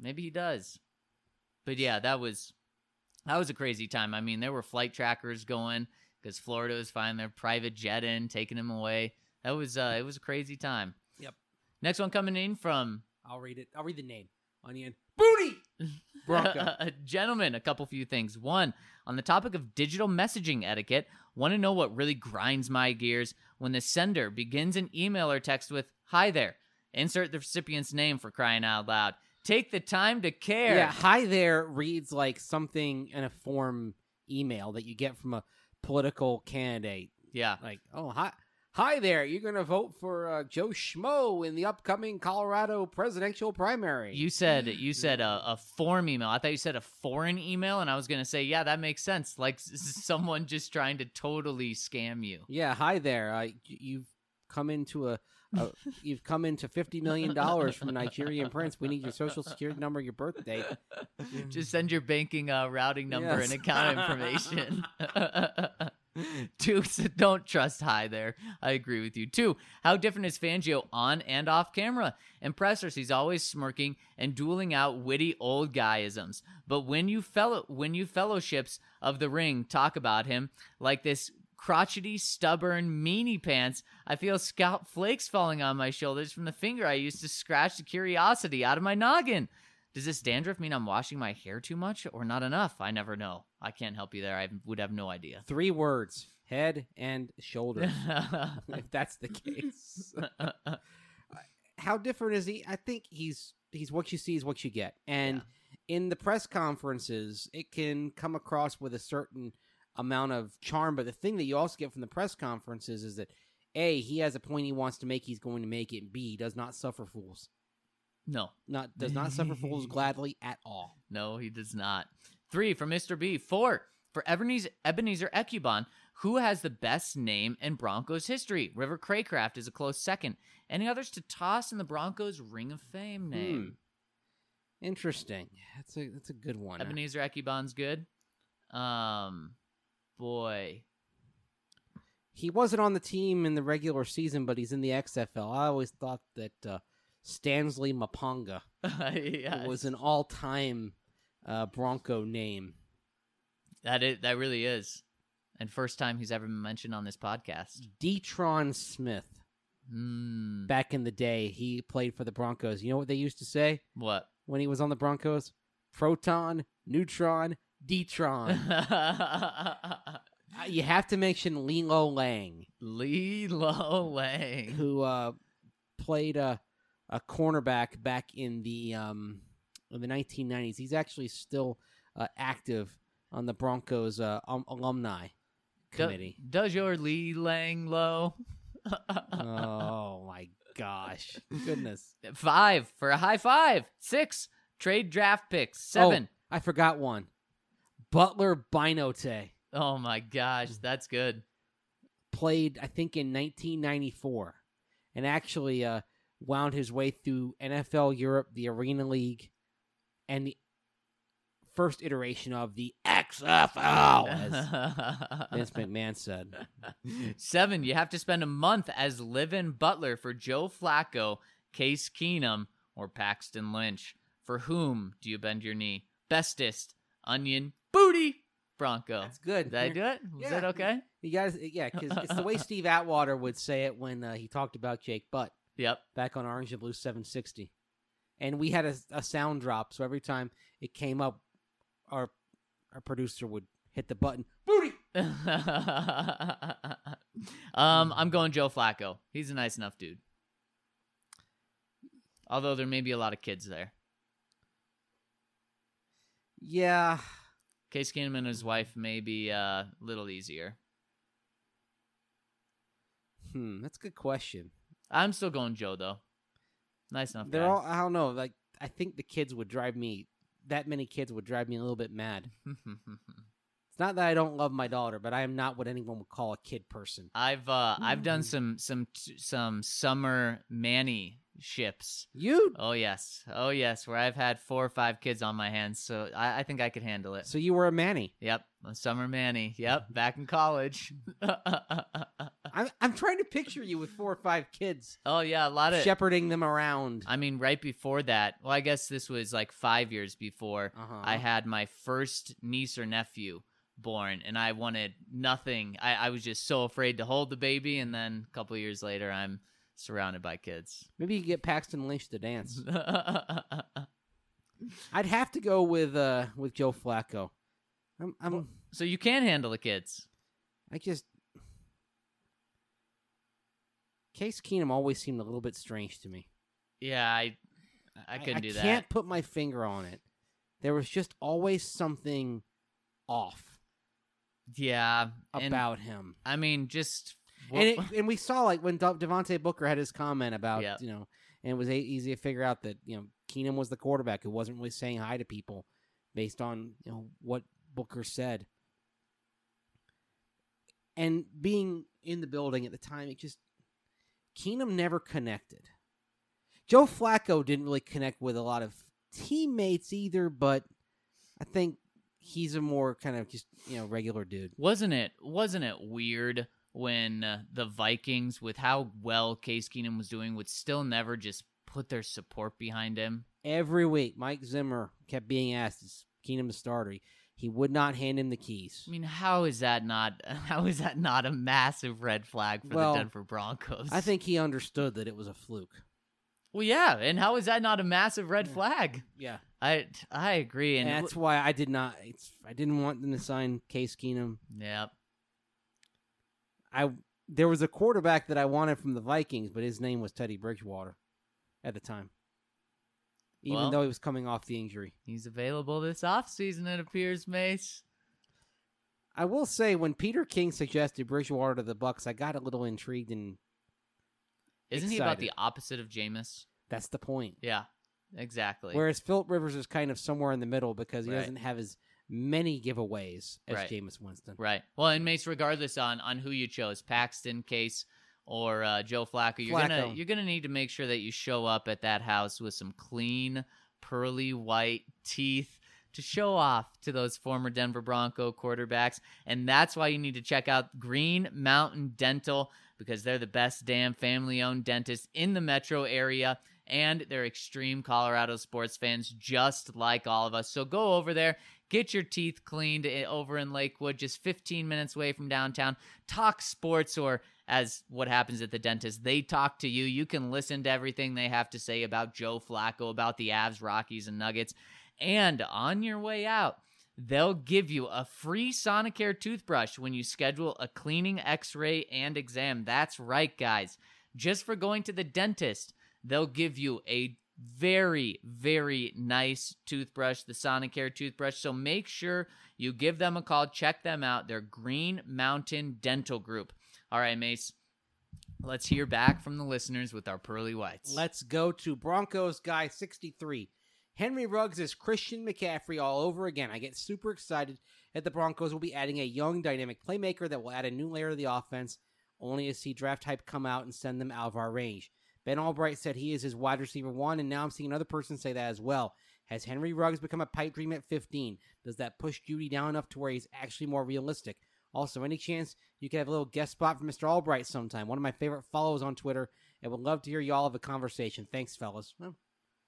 But yeah, that was a crazy time. I mean, there were flight trackers going because Florida was flying their private jet in, taking him away. It was a crazy time. Yep. Next one coming in from... I'll read it. I'll read the name. Onion. Booty! Bronco. Gentlemen, a few things. One, on the topic of digital messaging etiquette, want to know what really grinds my gears? When the sender begins an email or text with, "Hi there." Insert the recipient's name, for crying out loud. Take the time to care. Yeah, hi there reads like something in a form email that you get from a political candidate. Yeah. Like, oh, hi there. You're going to vote for Joe Schmo in the upcoming Colorado presidential primary. You said a form email. I thought you said a foreign email, and I was going to say, yeah, that makes sense. Like someone just trying to totally scam you. Yeah, hi there. You've come into you've come into $50 million from a Nigerian prince. We need your social security number, your birth date. Just send your banking routing number Yes. and account information. 2, so don't trust hi there. I agree with you. 2, how different is Fangio on and off camera? In pressers, he's always smirking and dueling out witty old guyisms. But when you fellowships of the ring talk about him like this crotchety, stubborn, meanie pants, I feel scalp flakes falling on my shoulders from the finger I used to scratch the curiosity out of my noggin. Does this dandruff mean I'm washing my hair too much or not enough? I never know. I can't help you there. I would have no idea. 3 words: head and shoulders. If that's the case. How different is he? I think he's what you see is what you get. And in the press conferences, it can come across with a certain amount of charm. But the thing that you also get from the press conferences is that A, he has a point he wants to make, he's going to make it. And B, does not suffer fools. No. Does not suffer fools gladly at all. No, he does not. 3, for Mr. B. 4, for Ebenezer Ecubon, who has the best name in Broncos history? River Craycraft is a close second. Any others to toss in the Broncos Ring of Fame name? Interesting. That's a good one. Ebenezer Ecubon's good. Boy. He wasn't on the team in the regular season, but he's in the XFL. I always thought that Stanley Mapanga Yes. was an all-time Bronco name. That really is. And first time he's ever been mentioned on this podcast. Detron Smith. Back in the day, he played for the Broncos. You know what they used to say What? when he was on the Broncos? Proton, neutron, Detron. You have to mention Lilo Lang. Lilo Lang. Who played a cornerback back in the 1990s. He's actually still active on the Broncos alumni committee. Does your Lee Lang low? Oh my gosh. Goodness. 5 for a high 5. 6 trade draft picks. 7. Oh, I forgot one. Butler Binote. Oh my gosh, that's good. Played, I think, in 1994, and actually wound his way through NFL Europe, the Arena League, and the first iteration of the XFL, as Vince McMahon said. 7, you have to spend a month as live-in butler for Joe Flacco, Case Keenum, or Paxton Lynch. For whom do you bend your knee? Bestest, Onion, Booty, Bronco. That's good. Did I do it? Was that okay? You guys, yeah, because it's the way Steve Atwater would say it when he talked about Jake Butt. Yep. Back on Orange and Blue 760. And we had a sound drop, so every time it came up, our producer would hit the button. Booty! I'm going Joe Flacco. He's a nice enough dude. Although there may be a lot of kids there. Yeah. Case Keenum and his wife may be a little easier. That's a good question. I'm still going Joe, though. Nice enough They're guy. all, I don't know, like, I think the kids would drive me, that many kids would drive me a little bit mad. It's not that I don't love my daughter, but I am not what anyone would call a kid person. I've done some summer Manny ships. You? Oh yes, where I've had 4 or 5 kids on my hands, so I think I could handle it. So you were a Manny. Yep, a summer Manny. Yep, back in college. I'm trying to picture you with 4 or 5 kids. Oh yeah, a lot of shepherding them around. I mean, right before that, well, I guess this was like 5 years before I had my first niece or nephew born, and I wanted nothing. I was just so afraid to hold the baby, and then a couple of years later, I'm surrounded by kids. Maybe you could get Paxton Lynch to dance. I'd have to go with Joe Flacco. So you can handle the kids. Case Keenum always seemed a little bit strange to me. Yeah, I couldn't do that. I can't put my finger on it. There was just always something off. Yeah, about him. I mean, just and we saw like when Devontae Booker had his comment about and it was easy to figure out that Keenum was the quarterback who wasn't really saying hi to people based on what Booker said. And being in the building at the time, Keenum never connected. Joe Flacco didn't really connect with a lot of teammates either, but I think he's a more kind of just regular dude. Wasn't it weird when the Vikings, with how well Case Keenum was doing, would still never just put their support behind him? Every week, Mike Zimmer kept being asked, "Is Keenum the starter?" He would not hand him the keys. I mean, how is that not a massive red flag for the Denver Broncos? I think he understood that it was a fluke. Well, yeah, and how is that not a massive red flag? Yeah, I agree, and that's why I didn't want them to sign Case Keenum. Yep. There was a quarterback that I wanted from the Vikings, but his name was Teddy Bridgewater at the time. Even though he was coming off the injury. He's available this offseason, it appears, Mace. I will say, when Peter King suggested Bridgewater to the Bucs, I got a little intrigued and Isn't he about the opposite of Jameis? That's the point. Yeah, exactly. Whereas Phillip Rivers is kind of somewhere in the middle because he doesn't have as many giveaways as Jameis Winston. Right. Well, and Mace, regardless on who you chose, Paxton, Case, or Joe Flacco, you're gonna need to make sure that you show up at that house with some clean, pearly white teeth to show off to those former Denver Bronco quarterbacks. And that's why you need to check out Green Mountain Dental, because they're the best damn family-owned dentist in the metro area. and they're extreme Colorado sports fans just like all of us. So go over there, get your teeth cleaned over in Lakewood, just 15 minutes away from downtown. Talk sports, or as what happens at the dentist, they talk to you. You can listen to everything they have to say about Joe Flacco, about the Avs, Rockies, and Nuggets. And on your way out, they'll give you a free Sonicare toothbrush when you schedule a cleaning, x-ray, and exam. That's right, guys. Just for going to the dentist, they'll give you a very, very nice toothbrush, the Sonicare toothbrush. So make sure you give them a call. Check them out. They're Green Mountain Dental Group. All right, Mace, let's hear back from the listeners with our Pearly Whites. Let's go to Broncos guy 63. Henry Ruggs is Christian McCaffrey all over again. I get super excited that the Broncos will be adding a young, dynamic playmaker that will add a new layer to the offense, only to see draft hype come out and send them out of our range. Ben Albright said he is his wide receiver 1, and now I'm seeing another person say that as well. Has Henry Ruggs become a pipe dream at 15? Does that push Judy down enough to where he's actually more realistic? Also, any chance you could have a little guest spot for Mr. Albright sometime? One of my favorite follows on Twitter, and would love to hear y'all have a conversation. Thanks, fellas. Well,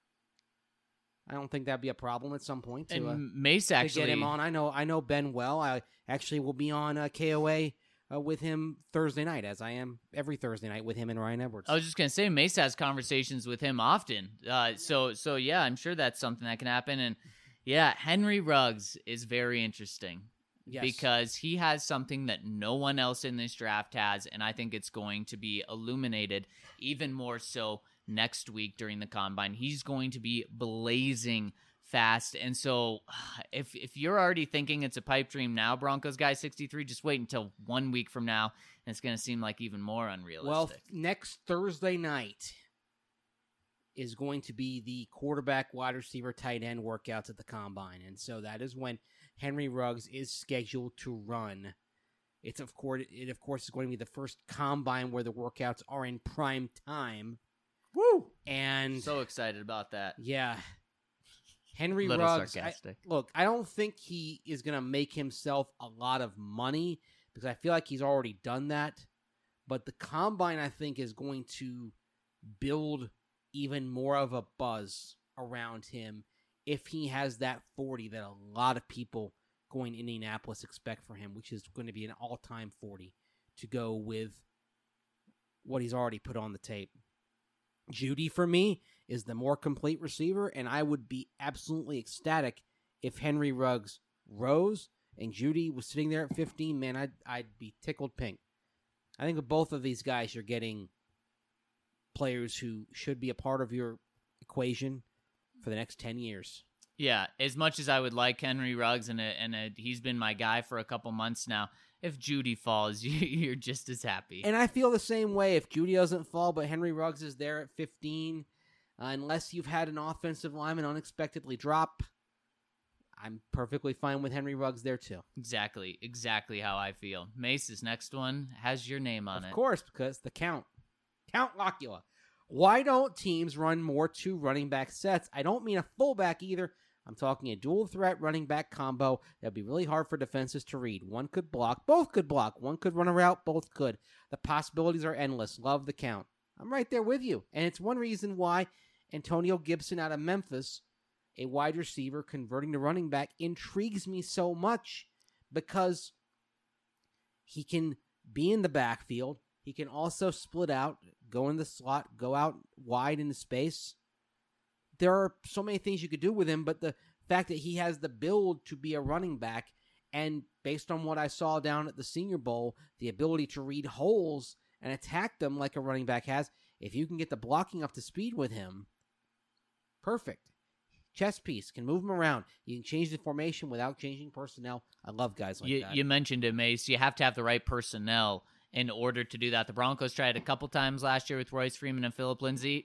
I don't think that'd be a problem at some point and Mace actually to get him on. I know Ben well. I actually will be on KOA with him Thursday night, as I am every Thursday night with him and Ryan Edwards. I was just gonna say Mace has conversations with him often. So yeah, I'm sure that's something that can happen. And yeah, Henry Ruggs is very interesting. Yes. Because he has something that no one else in this draft has, and I think it's going to be illuminated even more so next week during the Combine. He's going to be blazing fast, and so if you're already thinking it's a pipe dream now, Broncos guy 63, just wait until 1 week from now, and it's going to seem like even more unrealistic. Well, next Thursday night is going to be the quarterback, wide receiver, tight end workouts at the Combine, and so that is when Henry Ruggs is scheduled to run. It of course is going to be the first Combine where the workouts are in prime time. Woo! And so excited about that. Yeah. Henry Little Ruggs, sarcastic. I don't think he is going to make himself a lot of money because I feel like he's already done that. But the Combine, I think, is going to build even more of a buzz around him if he has that 40 that a lot of people going to Indianapolis expect for him, which is going to be an all-time 40 to go with what he's already put on the tape. Judy, for me, is the more complete receiver, and I would be absolutely ecstatic if Henry Ruggs rose and Judy was sitting there at 15. Man, I'd be tickled pink. I think with both of these guys, you're getting players who should be a part of your equation for the next 10 years. Yeah, as much as I would like Henry Ruggs, and he's been my guy for a couple months now, if Judy falls, you're just as happy. And I feel the same way. If Judy doesn't fall, but Henry Ruggs is there at 15, unless you've had an offensive lineman unexpectedly drop, I'm perfectly fine with Henry Ruggs there too. Exactly how I feel. Mace's next one has your name on it. Of course, because the Count Locula. Why don't teams run more 2 running back sets? I don't mean a fullback either. I'm talking a dual threat running back combo that'd be really hard for defenses to read. One could block, both could block. One could run a route, both could. The possibilities are endless. Love the Count. I'm right there with you. And it's one reason why Antonio Gibson out of Memphis, a wide receiver converting to running back, intrigues me so much because he can be in the backfield. He can also split out, go in the slot, go out wide into space. There are so many things you could do with him, but the fact that he has the build to be a running back, and based on what I saw down at the Senior Bowl, the ability to read holes and attack them like a running back has, if you can get the blocking up to speed with him, perfect. Chess piece, can move him around. You can change the formation without changing personnel. I love guys like that. You mentioned it, Mace. You have to have the right personnel in order to do that. The Broncos tried a couple times last year with Royce Freeman and Phillip Lindsay.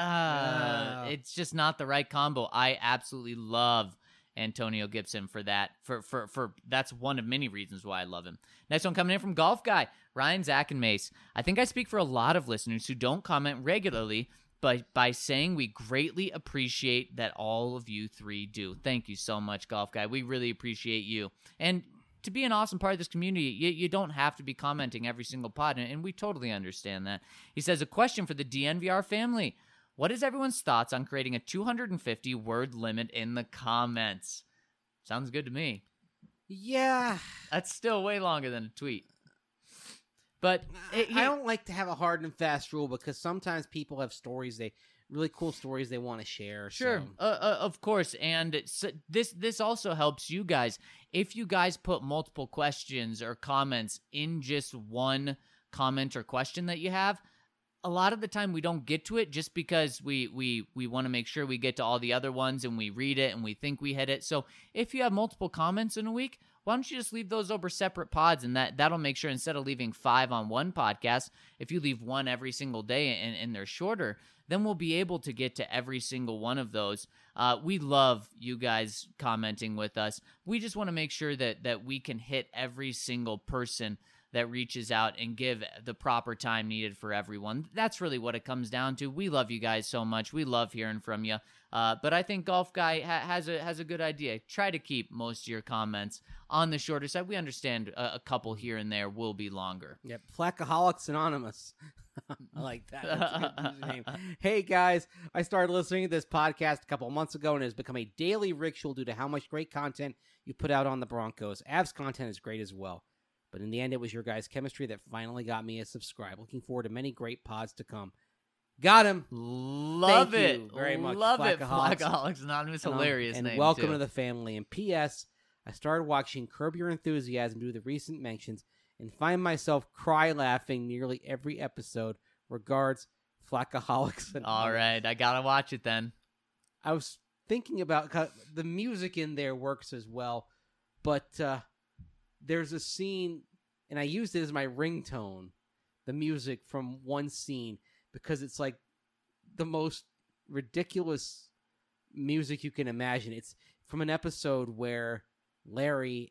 It's just not the right combo. I absolutely love Antonio Gibson for that. For that's one of many reasons why I love him. Next one coming in from Golf Guy, Ryan, Zach, and Mace. I think I speak for a lot of listeners who don't comment regularly, but by saying we greatly appreciate that all of you 3 do. Thank you so much, Golf Guy. We really appreciate you. And to be an awesome part of this community, you don't have to be commenting every single pod, and we totally understand that. He says, a question for the DNVR family. What is everyone's thoughts on creating a 250-word limit in the comments? Sounds good to me. Yeah. That's still way longer than a tweet. But I don't like to have a hard and fast rule because sometimes people have stories, really cool stories they want to share. Sure, So. of course, and this also helps you guys. If you guys put multiple questions or comments in just one comment or question that you have, a lot of the time we don't get to it just because we want to make sure we get to all the other ones and we read it and we think we hit it. So if you have multiple comments in a week, why don't you just leave those over separate pods, and that'll make sure instead of leaving 5 on one podcast, if you leave 1 every single day and they're shorter, then we'll be able to get to every single one of those. We love you guys commenting with us. We just want to make sure that we can hit every single person that reaches out and give the proper time needed for everyone. That's really what it comes down to. We love you guys so much. We love hearing from you. But I think Golf Guy has a good idea. Try to keep most of your comments on the shorter side. We understand a couple here and there will be longer. Yep, Flackaholics Anonymous. I like that. That's a good username. Hey guys, I started listening to this podcast a couple of months ago and it has become a daily ritual due to how much great content you put out on the Broncos. Avs content is great as well. But in the end, it was your guys' chemistry that finally got me a subscribe. Looking forward to many great pods to come. Got him. Love Thank it. you very much. Love it. Flackaholics. Flackaholics Anonymous. Hilarious and name. welcome too. to the family. And P.S. I started watching Curb Your Enthusiasm due to the recent mentions and find myself cry laughing nearly every episode. Regards, Flackaholics. All right. I got to watch it then. I was thinking about the music in there works as well, but there's a scene, and I used it as my ringtone, the music from one scene, because it's like the most ridiculous music you can imagine. It's from an episode where Larry,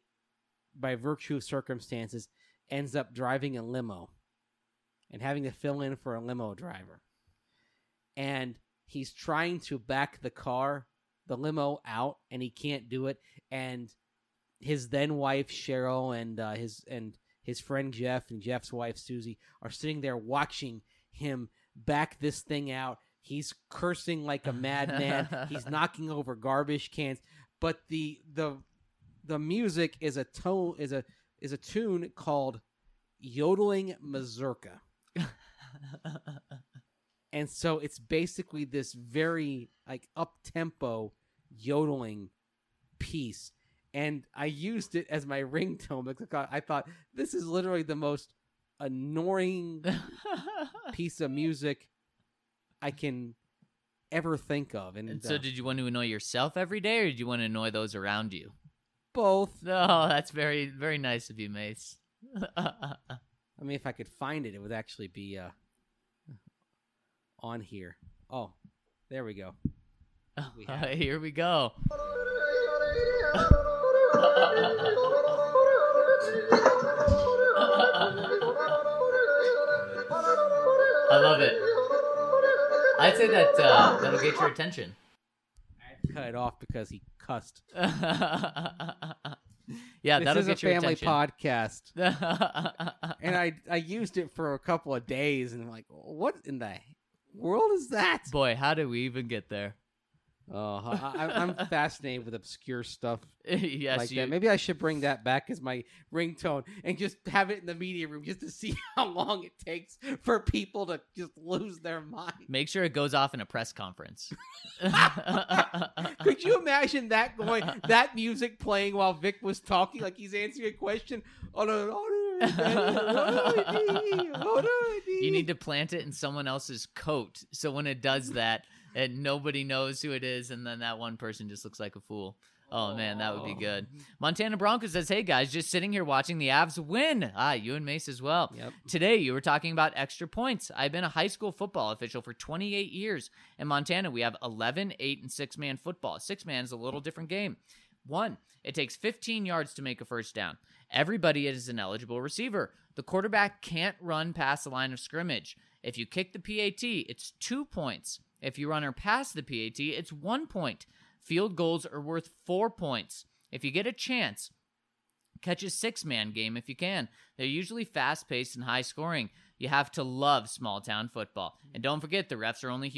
by virtue of circumstances, ends up driving a limo and having to fill in for a limo driver. And he's trying to back the limo out, and he can't do it. And his then wife Cheryl and his friend Jeff and Jeff's wife Susie are sitting there watching him back this thing out. He's cursing like a madman. He's knocking over garbage cans. But the music is a tune called Yodeling Mazurka. And so it's basically this very like up-tempo yodeling piece. And I used it as my ringtone because I thought this is literally the most annoying piece of music I can ever think of. And so did you want to annoy yourself every day, or did you want to annoy those around you? Both. Oh, that's very, very nice of you, Mace. I mean, if I could find it, it would actually be on here. Oh, there we go. Here we go. I love it. I'd say that that'll get your attention. I had to cut it off because he cussed. Yeah, this that'll is get a your family attention. podcast. And I used it for a couple of days, and I'm like, what in the world is that? Boy, how did we even get there? Oh, I'm fascinated with obscure stuff Yes, like you. that. Maybe I should bring that back as my ringtone and just have it in the media room just to see how long it takes for people to just lose their mind. Make sure it goes off in a press conference. Could you imagine that music playing while Vic was talking, like he's answering a question? You need to plant it in someone else's coat, so when it does that, and nobody knows who it is, and then that one person just looks like a fool. Oh, man, that would be good. Montana Broncos says, hey, guys, just sitting here watching the Avs win. You and Mace as well. Yep. Today, you were talking about extra points. I've been a high school football official for 28 years. In Montana, we have 11, 8, and 6-man football. 6-man is a little different game. 1, it takes 15 yards to make a first down. Everybody is an eligible receiver. The quarterback can't run past the line of scrimmage. If you kick the PAT, it's 2 points. If you run or pass the PAT, it's 1 point. Field goals are worth 4 points. If you get a chance, catch a 6-man game if you can. They're usually fast-paced and high-scoring. You have to love small-town football. And don't forget, the refs are only human.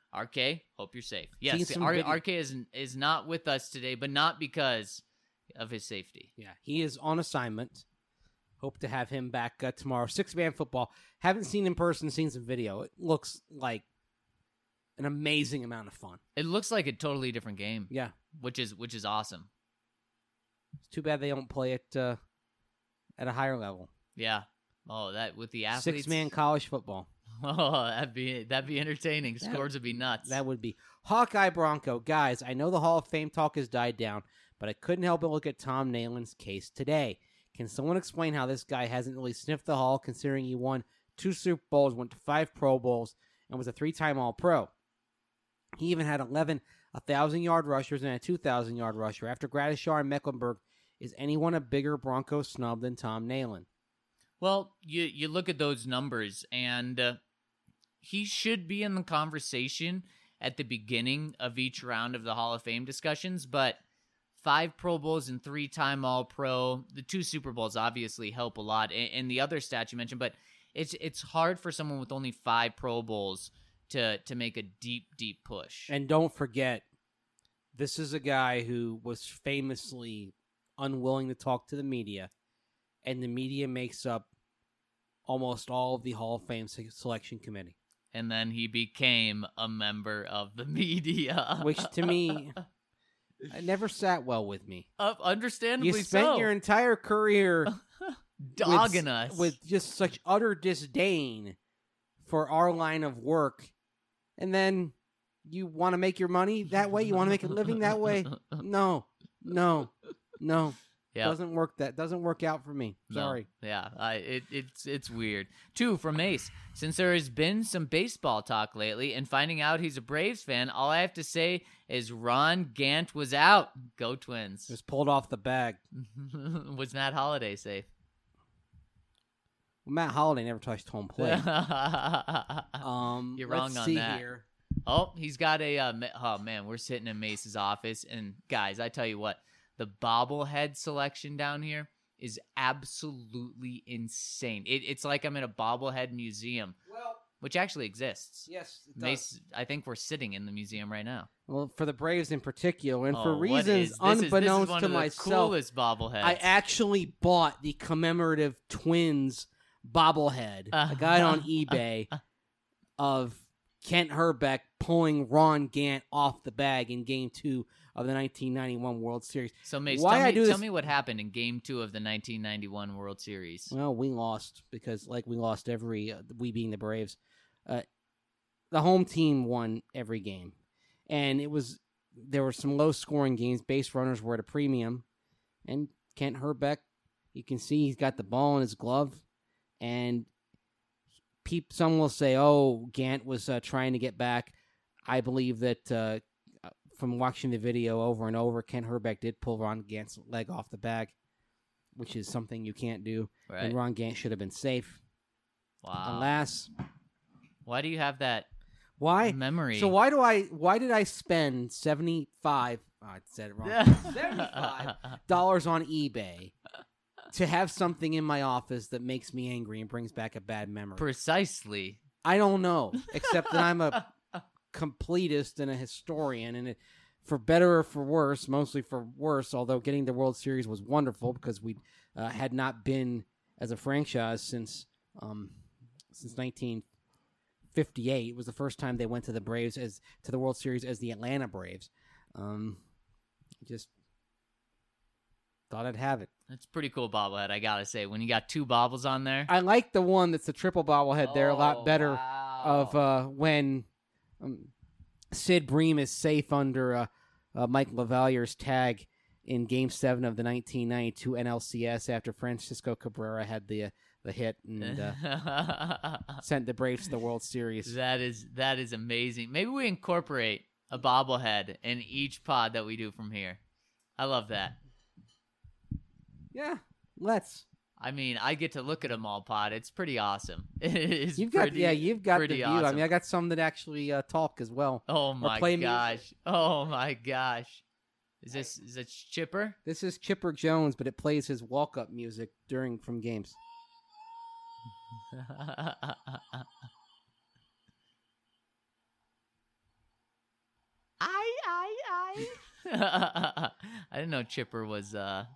RK, hope you're safe. Yes, Seen some video- RK is not with us today, but not because of his safety. Yeah, he is on assignment. Hope to have him back tomorrow. 6-man football. Haven't seen in person, seen some video. It looks like an amazing amount of fun. It looks like a totally different game, Yeah. which is awesome. It's too bad they don't play it at a higher level. Yeah. Oh, that with the athletes. 6-man college football. Oh, that'd be entertaining. Scores would be nuts. That would be. Hawkeye Bronco. Guys, I know the Hall of Fame talk has died down, but I couldn't help but look at Tom Nayland's case today. Can someone explain how this guy hasn't really sniffed the Hall, considering he won 2 Super Bowls, went to 5 Pro Bowls, and was a 3-time All-Pro? He even had 11 1,000-yard rushers and a 2,000-yard rusher. After Gradishar and Mecklenburg, is anyone a bigger Bronco snub than Tom Nayland? Well, you look at those numbers, and he should be in the conversation at the beginning of each round of the Hall of Fame discussions, but 5 Pro Bowls and 3-time All-Pro, the 2 Super Bowls obviously help a lot, and the other stats you mentioned, but it's hard for someone with only 5 Pro Bowls to make a deep push. And don't forget, this is a guy who was famously unwilling to talk to the media, and the media makes up almost all of the Hall of Fame selection committee. And then he became a member of the media. Which, to me, it never sat well with me. Understandably You spent so. your entire career dogging us. with just such utter disdain for our line of work, and then you want to make your money that way? You want to make a living that way? No. Yeah. Doesn't work out for me. Sorry. No. Yeah, it's weird. 2 from Mace. Since there has been some baseball talk lately, and finding out he's a Braves fan, all I have to say is Ron Gant was out. Go Twins. Just pulled off the bag. Was Matt Holliday safe? Well, Matt Holliday never touched home plate. You're wrong let's on see that. Here. Oh, he's got a. Oh man, we're sitting in Mace's office, and guys, I tell you what, the bobblehead selection down here is absolutely insane. It's like I'm in a bobblehead museum, Well, which actually exists. yes, it does. Mace, I think we're sitting in the museum right now. Well, for the Braves in particular, and Oh, for what reasons is- this is unbeknownst one to of the myself, coolest bobbleheads. I actually bought the commemorative Twins bobblehead. I got it on eBay of Kent Herbeck pulling Ron Gant off the bag in Game 2 of the 1991 World Series. So Mace, Why I do tell this- me what happened in Game 2 of the 1991 World Series. Well, we lost because, like, we lost every, we being the Braves. The home team won every game. And there were some low-scoring games. Base runners were at a premium. And Kent Herbeck, you can see he's got the ball in his glove. And some will say, oh, Gant was trying to get back. I believe that from watching the video over and over, Kent Herbeck did pull Ron Gant's leg off the bag, which is something you can't do. Right. And Ron Gant should have been safe. Wow. Alas. Why do you have that Why? memory? So why did I spend $75 I said it wrong. $75 on eBay to have something in my office that makes me angry and brings back a bad memory? Precisely. I don't know, except that I'm a completist and a historian, and for better or for worse, mostly for worse, although getting the World Series was wonderful because we had not been as a franchise since 1958. It was the first time they went to the World Series as the Atlanta Braves. Just thought I'd have it. That's a pretty cool bobblehead, I gotta say. When you got 2 bobbles on there. I like the one that's the triple bobblehead. They're a lot better wow. of when Sid Bream is safe under Mike Lavalier's tag in Game 7 of the 1992 NLCS after Francisco Cabrera had the hit and sent the Braves to the World Series. That is amazing. Maybe we incorporate a bobblehead in each pod that we do from here. I love that. Yeah, let's. I mean, I get to look at them all, pod. It's pretty awesome. You've got the view. Awesome. I mean, I got some that actually talk as well. Oh my play gosh! music. Oh my gosh! Is it Chipper? This is Chipper Jones, but it plays his walk-up music from games. I. I didn't know Chipper was.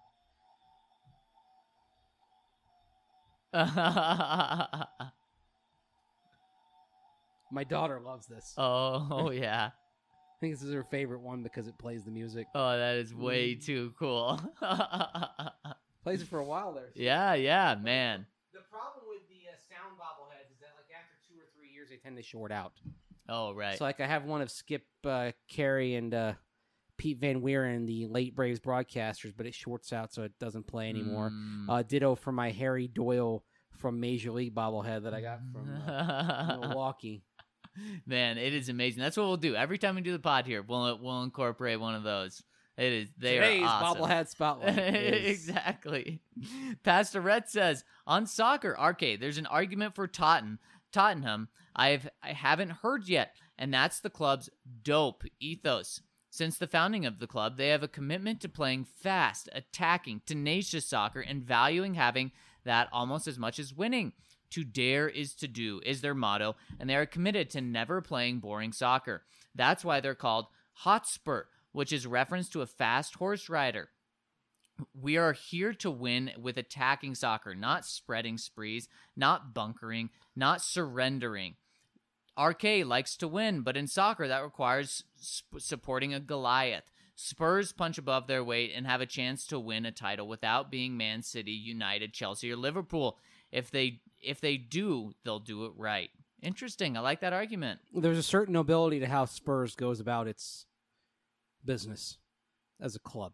My daughter loves this. Oh yeah. I think this is her favorite one because it plays the music. Oh, that is way too cool. Plays it for a while there. Yeah, man. The problem with the sound bobbleheads is that, like, after 2 or 3 years, they tend to short out. Oh, right. So, like, I have one of Skip Carey and Pete Van Wieren, the late Braves broadcasters, but it shorts out, so it doesn't play anymore. Ditto for my Harry Doyle from Major League bobblehead that I got from Milwaukee. Man, it is amazing. That's what we'll do every time we do the pod here. We'll incorporate one of those. They Today's are awesome. bobblehead spotlight. Exactly. Pastor Rhett says on soccer, RK, there's an argument for Tottenham. I haven't heard yet, and that's the club's dope ethos. Since the founding of the club, they have a commitment to playing fast, attacking, tenacious soccer, and valuing having that almost as much as winning. To dare is to do is their motto, and they are committed to never playing boring soccer. That's why they're called Hotspur, which is reference to a fast horse rider. We are here to win with attacking soccer, not spreading sprees, not bunkering, not surrendering. RK likes to win, but in soccer that requires supporting a Goliath. Spurs punch above their weight and have a chance to win a title without being Man City, United, Chelsea, or Liverpool. If they do, they'll do it right. Interesting. I like that argument. There's a certain nobility to how Spurs goes about its business as a club.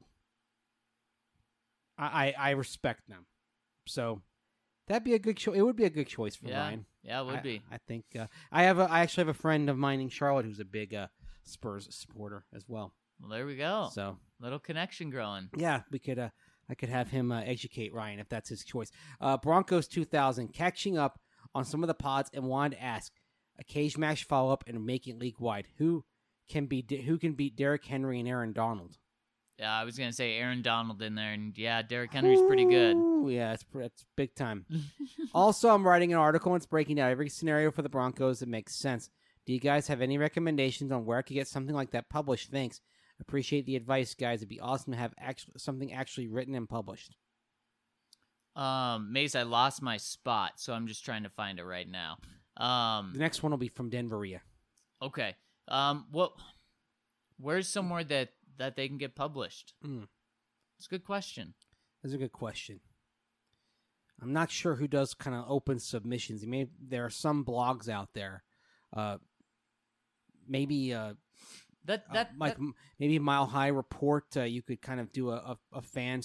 I respect them. So that'd be a good choice. It would be a good choice for Ryan. Yeah, it would be. I think I actually have a friend of mine in Charlotte who's a big Spurs supporter as well. Well, there we go. So little connection growing. Yeah, we could. I could have him educate Ryan if that's his choice. Broncos 2000 catching up on some of the pods and wanted to ask a cage match follow up and make it league wide. Who can beat Derrick Henry and Aaron Donald? Yeah, I was gonna say Aaron Donald in there, and yeah, Derrick Henry's pretty good. Yeah, it's big time. Also, I'm writing an article and it's breaking down every scenario for the Broncos that makes sense. Do you guys have any recommendations on where I could get something like that published? Thanks. Appreciate the advice, guys. It'd be awesome to have something actually written and published. Mace, I lost my spot, so I'm just trying to find it right now. The next one will be from Denveria. Okay. Where's somewhere that they can get published? It's a good question. That's a good question. I'm not sure who does kind of open submissions. There are some blogs out there. Maybe maybe Mile High Report. You could kind of do a fan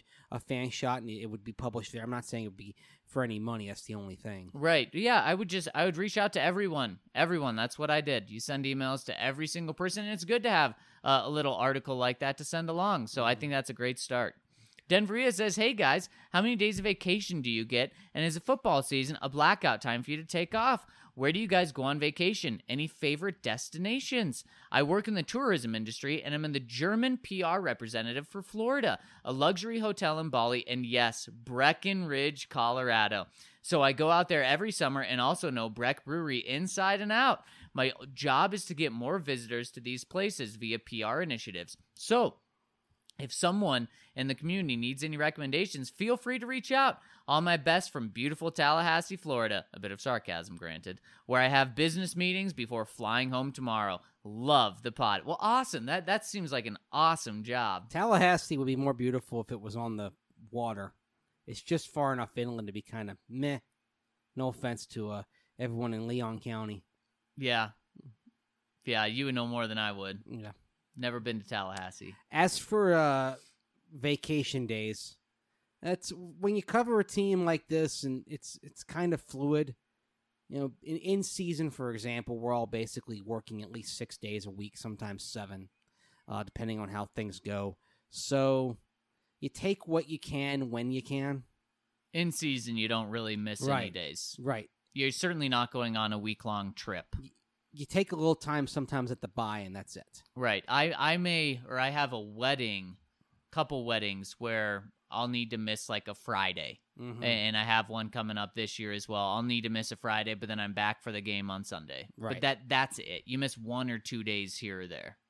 shot, and it would be published there. I'm not saying it would be for any money. That's the only thing. Right. Yeah. I would reach out to everyone. That's what I did. You send emails to every single person, and it's good to have a little article like that to send along. So I think that's a great start. Denveria says, hey guys, how many days of vacation do you get? And is the football season a blackout time for you to take off? Where do you guys go on vacation? Any favorite destinations? I work in the tourism industry, and I'm in the German PR representative for Florida, a luxury hotel in Bali, and yes, Breckenridge, Colorado. So I go out there every summer and also know Breck Brewery inside and out. My job is to get more visitors to these places via PR initiatives. So if someone in the community needs any recommendations, feel free to reach out. All my best from beautiful Tallahassee, Florida. A bit of sarcasm, granted. Where I have business meetings before flying home tomorrow. Love the pod. Well, awesome. That seems like an awesome job. Tallahassee would be more beautiful if it was on the water. It's just far enough inland to be kind of meh. No offense to everyone in Leon County. Yeah. Yeah, you would know more than I would. Yeah. Never been to Tallahassee. As for vacation days, that's when you cover a team like this, and it's kind of fluid. You know, in season, for example, we're all basically working at least 6 days a week, sometimes 7, depending on how things go. So you take what you can when you can. In season, you don't really miss any days. Right. You're certainly not going on a week-long trip. You take a little time sometimes at the bye, and that's it. Right. I have a wedding, couple weddings, where I'll need to miss like a Friday. Mm-hmm. And I have one coming up this year as well. I'll need to miss a Friday, but then I'm back for the game on Sunday. Right. But that's it. You miss 1 or 2 days here or there.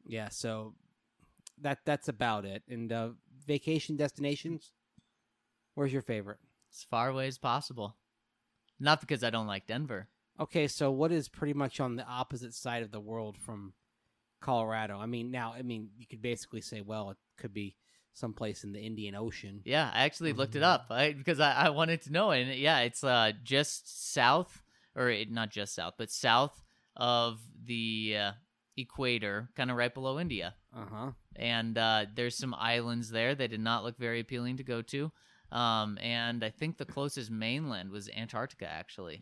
Yeah, so that's about it. And vacation destinations, where's your favorite? As far away as possible. Not because I don't like Denver. Okay, so what is pretty much on the opposite side of the world from Colorado? I mean, you could basically say, well, it could be someplace in the Indian Ocean. Yeah, I actually looked it up because I wanted to know. And yeah, it's just south, not just south, but south of the equator, kind of right below India. Uh-huh. And there's some islands there that did not look very appealing to go to. And I think the closest mainland was Antarctica, actually.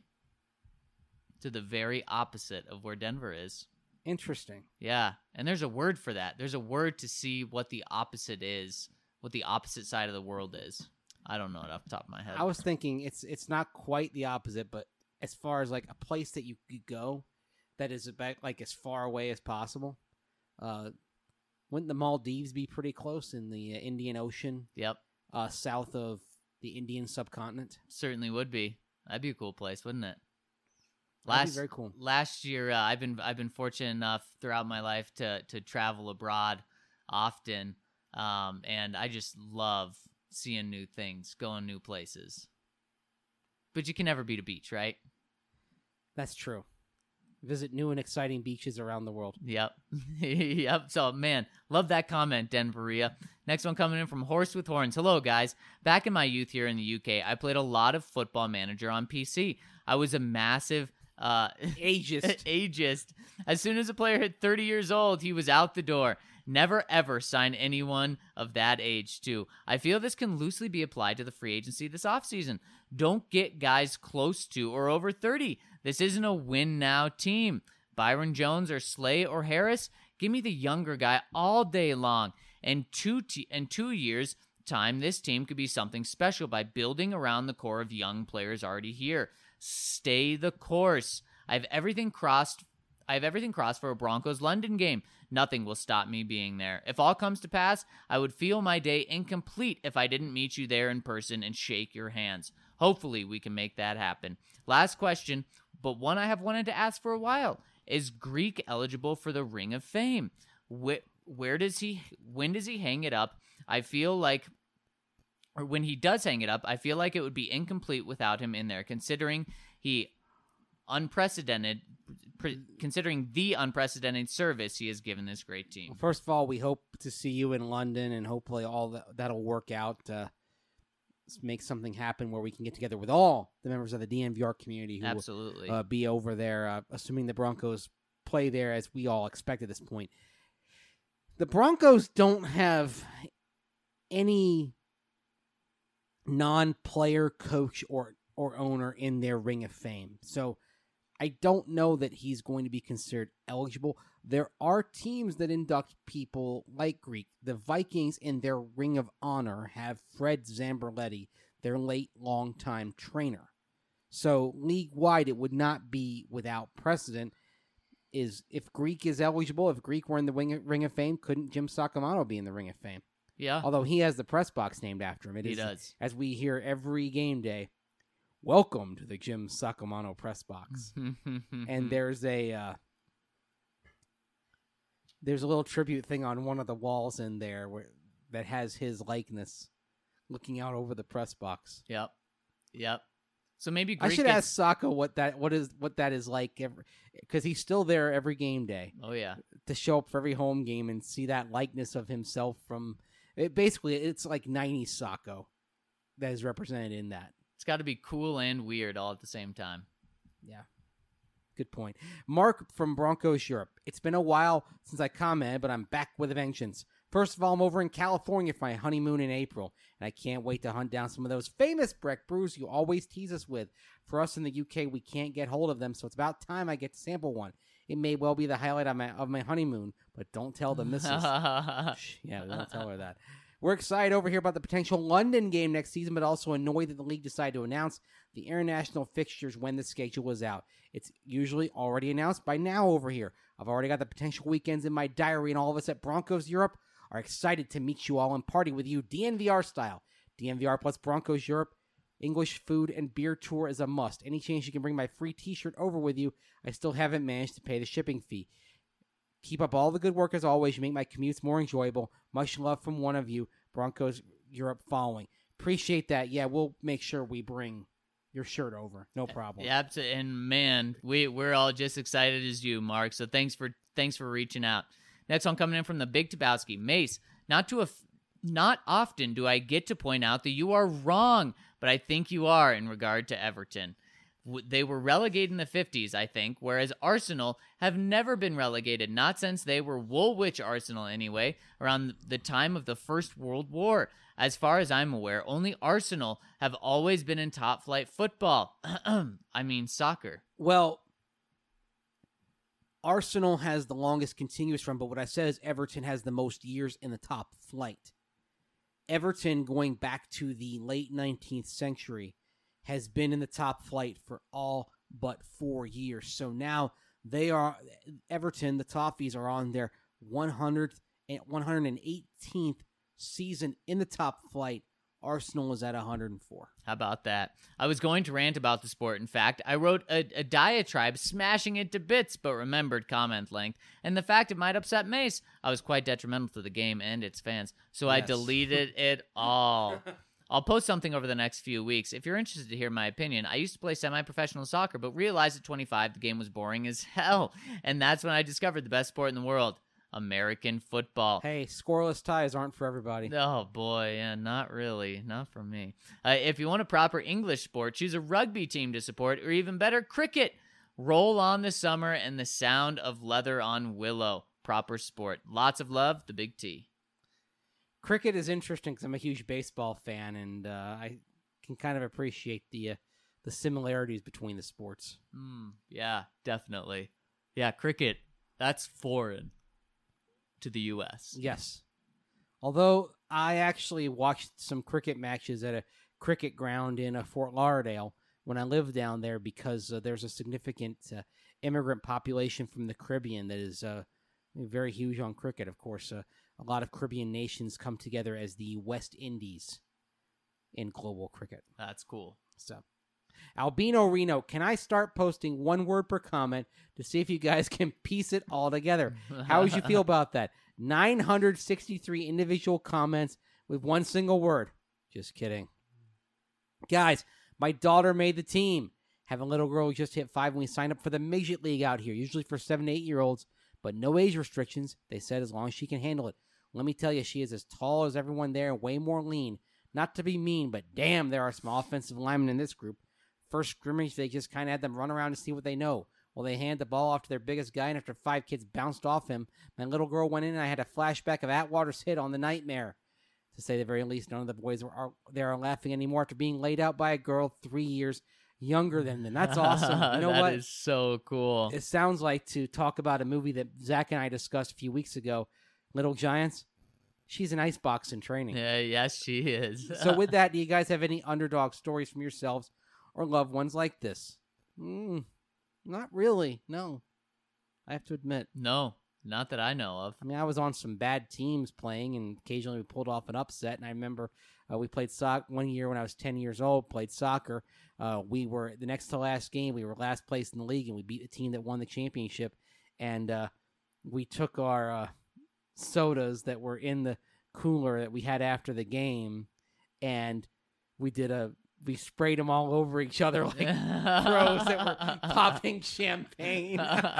To the very opposite of where Denver is. Interesting. Yeah, and there's a word for that. There's a word to see what the opposite is, what the opposite side of the world is. I don't know it off the top of my head. I was thinking it's not quite the opposite, but as far as like a place that you could go that is about like as far away as possible, wouldn't the Maldives be pretty close in the Indian Ocean? Yep. South of the Indian subcontinent? Certainly would be. That'd be a cool place, wouldn't it? That'd be very cool. Last year, I've been fortunate enough throughout my life to travel abroad often, and I just love seeing new things, going new places. But you can never beat a beach, right? That's true. Visit new and exciting beaches around the world. Yep. Yep. So, man, love that comment, Denveria. Next one coming in from Horse with Horns. Hello, guys. Back in my youth here in the UK, I played a lot of Football Manager on PC. I was a massive ageist. As soon as a player hit 30 years old, he was out the door. Never ever sign anyone of that age too. I feel this can loosely be applied to the free agency this offseason. Don't get guys close to or over 30. This isn't a win now team. Byron Jones or Slay or Harris, give me the younger guy all day long. In 2 years time, this team could be something special by building around the core of young players already here. Stay the course. I have everything crossed for a Broncos London game. Nothing will stop me being there. If all comes to pass, I would feel my day incomplete if I didn't meet you there in person and shake your hands. Hopefully, we can make that happen. Last question, but one I have wanted to ask for a while. Is Greek eligible for the Ring of Fame? When does he hang it up? When he does hang it up, I feel like it would be incomplete without him in there, considering the unprecedented service he has given this great team. Well, first of all, we hope to see you in London, and hopefully all that'll work out. Let's make something happen where we can get together with all the members of the DNVR community who absolutely will be over there, assuming the Broncos play there as we all expect at this point. The Broncos don't have any non-player coach or owner in their Ring of Fame. So I don't know that he's going to be considered eligible. There are teams that induct people like Greek. The Vikings in their Ring of Honor have Fred Zamberletti, their late longtime trainer. So league-wide, it would not be without precedent. If Greek is eligible, if Greek were in the Ring of Fame, couldn't Jim Sacamano be in the Ring of Fame? Yeah. Although he has the press box named after him. He does. As we hear every game day, welcome to the Jim Sacamano press box. And there's a little tribute thing on one of the walls in there that has his likeness looking out over the press box. Yep. So maybe Greek I should ask Sacco what that is like, because he's still there every game day. Oh yeah, to show up for every home game and see that likeness of himself from it. Basically, it's like 90s Sacco that is represented in that. It's got to be cool and weird all at the same time. Yeah. Good point. Mark from Broncos Europe. It's been a while since I commented, but I'm back with a vengeance. First of all, I'm over in California for my honeymoon in April, and I can't wait to hunt down some of those famous Breck brews you always tease us with. For us in the UK, we can't get hold of them, so it's about time I get to sample one. It may well be the highlight of my honeymoon, but don't tell the missus. Yeah, we won't tell her that. We're excited over here about the potential London game next season, but also annoyed that the league decided to announce the international fixtures when the schedule was out. It's usually already announced by now over here. I've already got the potential weekends in my diary, and all of us at Broncos Europe are excited to meet you all and party with you DNVR style. DNVR plus Broncos Europe, English food and beer tour is a must. Any chance you can bring my free t-shirt over with you, I still haven't managed to pay the shipping fee. Keep up all the good work as always. You make my commutes more enjoyable. Much love from one of you. Broncos Europe following. Appreciate that. Yeah, we'll make sure we bring your shirt over. No problem. Yeah, and man, we're all just excited as you, Mark. So thanks for reaching out. Next one coming in from the Big Tabowski. Mace, not often do I get to point out that you are wrong, but I think you are in regard to Everton. They were relegated in the 50s, I think, whereas Arsenal have never been relegated, not since they were Woolwich Arsenal anyway, around the time of the First World War. As far as I'm aware, only Arsenal have always been in top-flight football. I mean soccer. Well, Arsenal has the longest continuous run, but what I said is Everton has the most years in the top flight. Everton, going back to the late 19th century, has been in the top flight for all but 4 years. So now Everton, the Toffees, are on their 118th season in the top flight. Arsenal is at 104. How about that? I was going to rant about the sport. In fact, I wrote a diatribe smashing it to bits, but remembered comment length. And the fact it might upset Mace, I was quite detrimental to the game and its fans. So I deleted it all. I'll post something over the next few weeks. If you're interested to hear my opinion, I used to play semi-professional soccer, but realized at 25 the game was boring as hell. And that's when I discovered the best sport in the world, American football. Hey, scoreless ties aren't for everybody. Oh, boy. Yeah, not really. Not for me. If you want a proper English sport, choose a rugby team to support, or even better, cricket. Roll on the summer and the sound of leather on willow. Proper sport. Lots of love, the Big T. Cricket is interesting because I'm a huge baseball fan, and I can kind of appreciate the similarities between the sports. Yeah, definitely. Yeah, cricket, that's foreign to the U.S. Yes. Although I actually watched some cricket matches at a cricket ground in Fort Lauderdale when I lived down there because there's a significant immigrant population from the Caribbean that is very huge on cricket. Of course, a lot of Caribbean nations come together as the West Indies in global cricket. That's cool. So, Albino Reno, can I start posting one word per comment to see if you guys can piece it all together? How would you feel about that? 963 individual comments with one single word. Just kidding. Guys, my daughter made the team. Have a little girl who just hit 5 when we signed up for the midget league out here, usually for 7 to 8-year-olds, but no age restrictions. They said as long as she can handle it. Let me tell you, she is as tall as everyone there and way more lean. Not to be mean, but damn, there are some offensive linemen in this group. First scrimmage, they just kind of had them run around to see what they know. Well, they hand the ball off to their biggest guy, and after 5 kids bounced off him, my little girl went in, and I had a flashback of Atwater's hit on the Nightmare. To say the very least, none of the boys are laughing anymore after being laid out by a girl 3 years younger than them. That's awesome. You know what? That is so cool. It sounds like, to talk about a movie that Zach and I discussed a few weeks ago, Little Giants. She's an icebox in training. Yeah, yes, she is. So with that, do you guys have any underdog stories from yourselves or loved ones like this? Not really. No. I have to admit. No, not that I know of. I mean, I was on some bad teams playing, and occasionally we pulled off an upset. And I remember we played soccer one year when I was 10 years old, played soccer. We were, the next to last game, we were last place in the league, and we beat the team that won the championship. And we took our sodas that were in the cooler that we had after the game, and we sprayed them all over each other like pros that were popping champagne.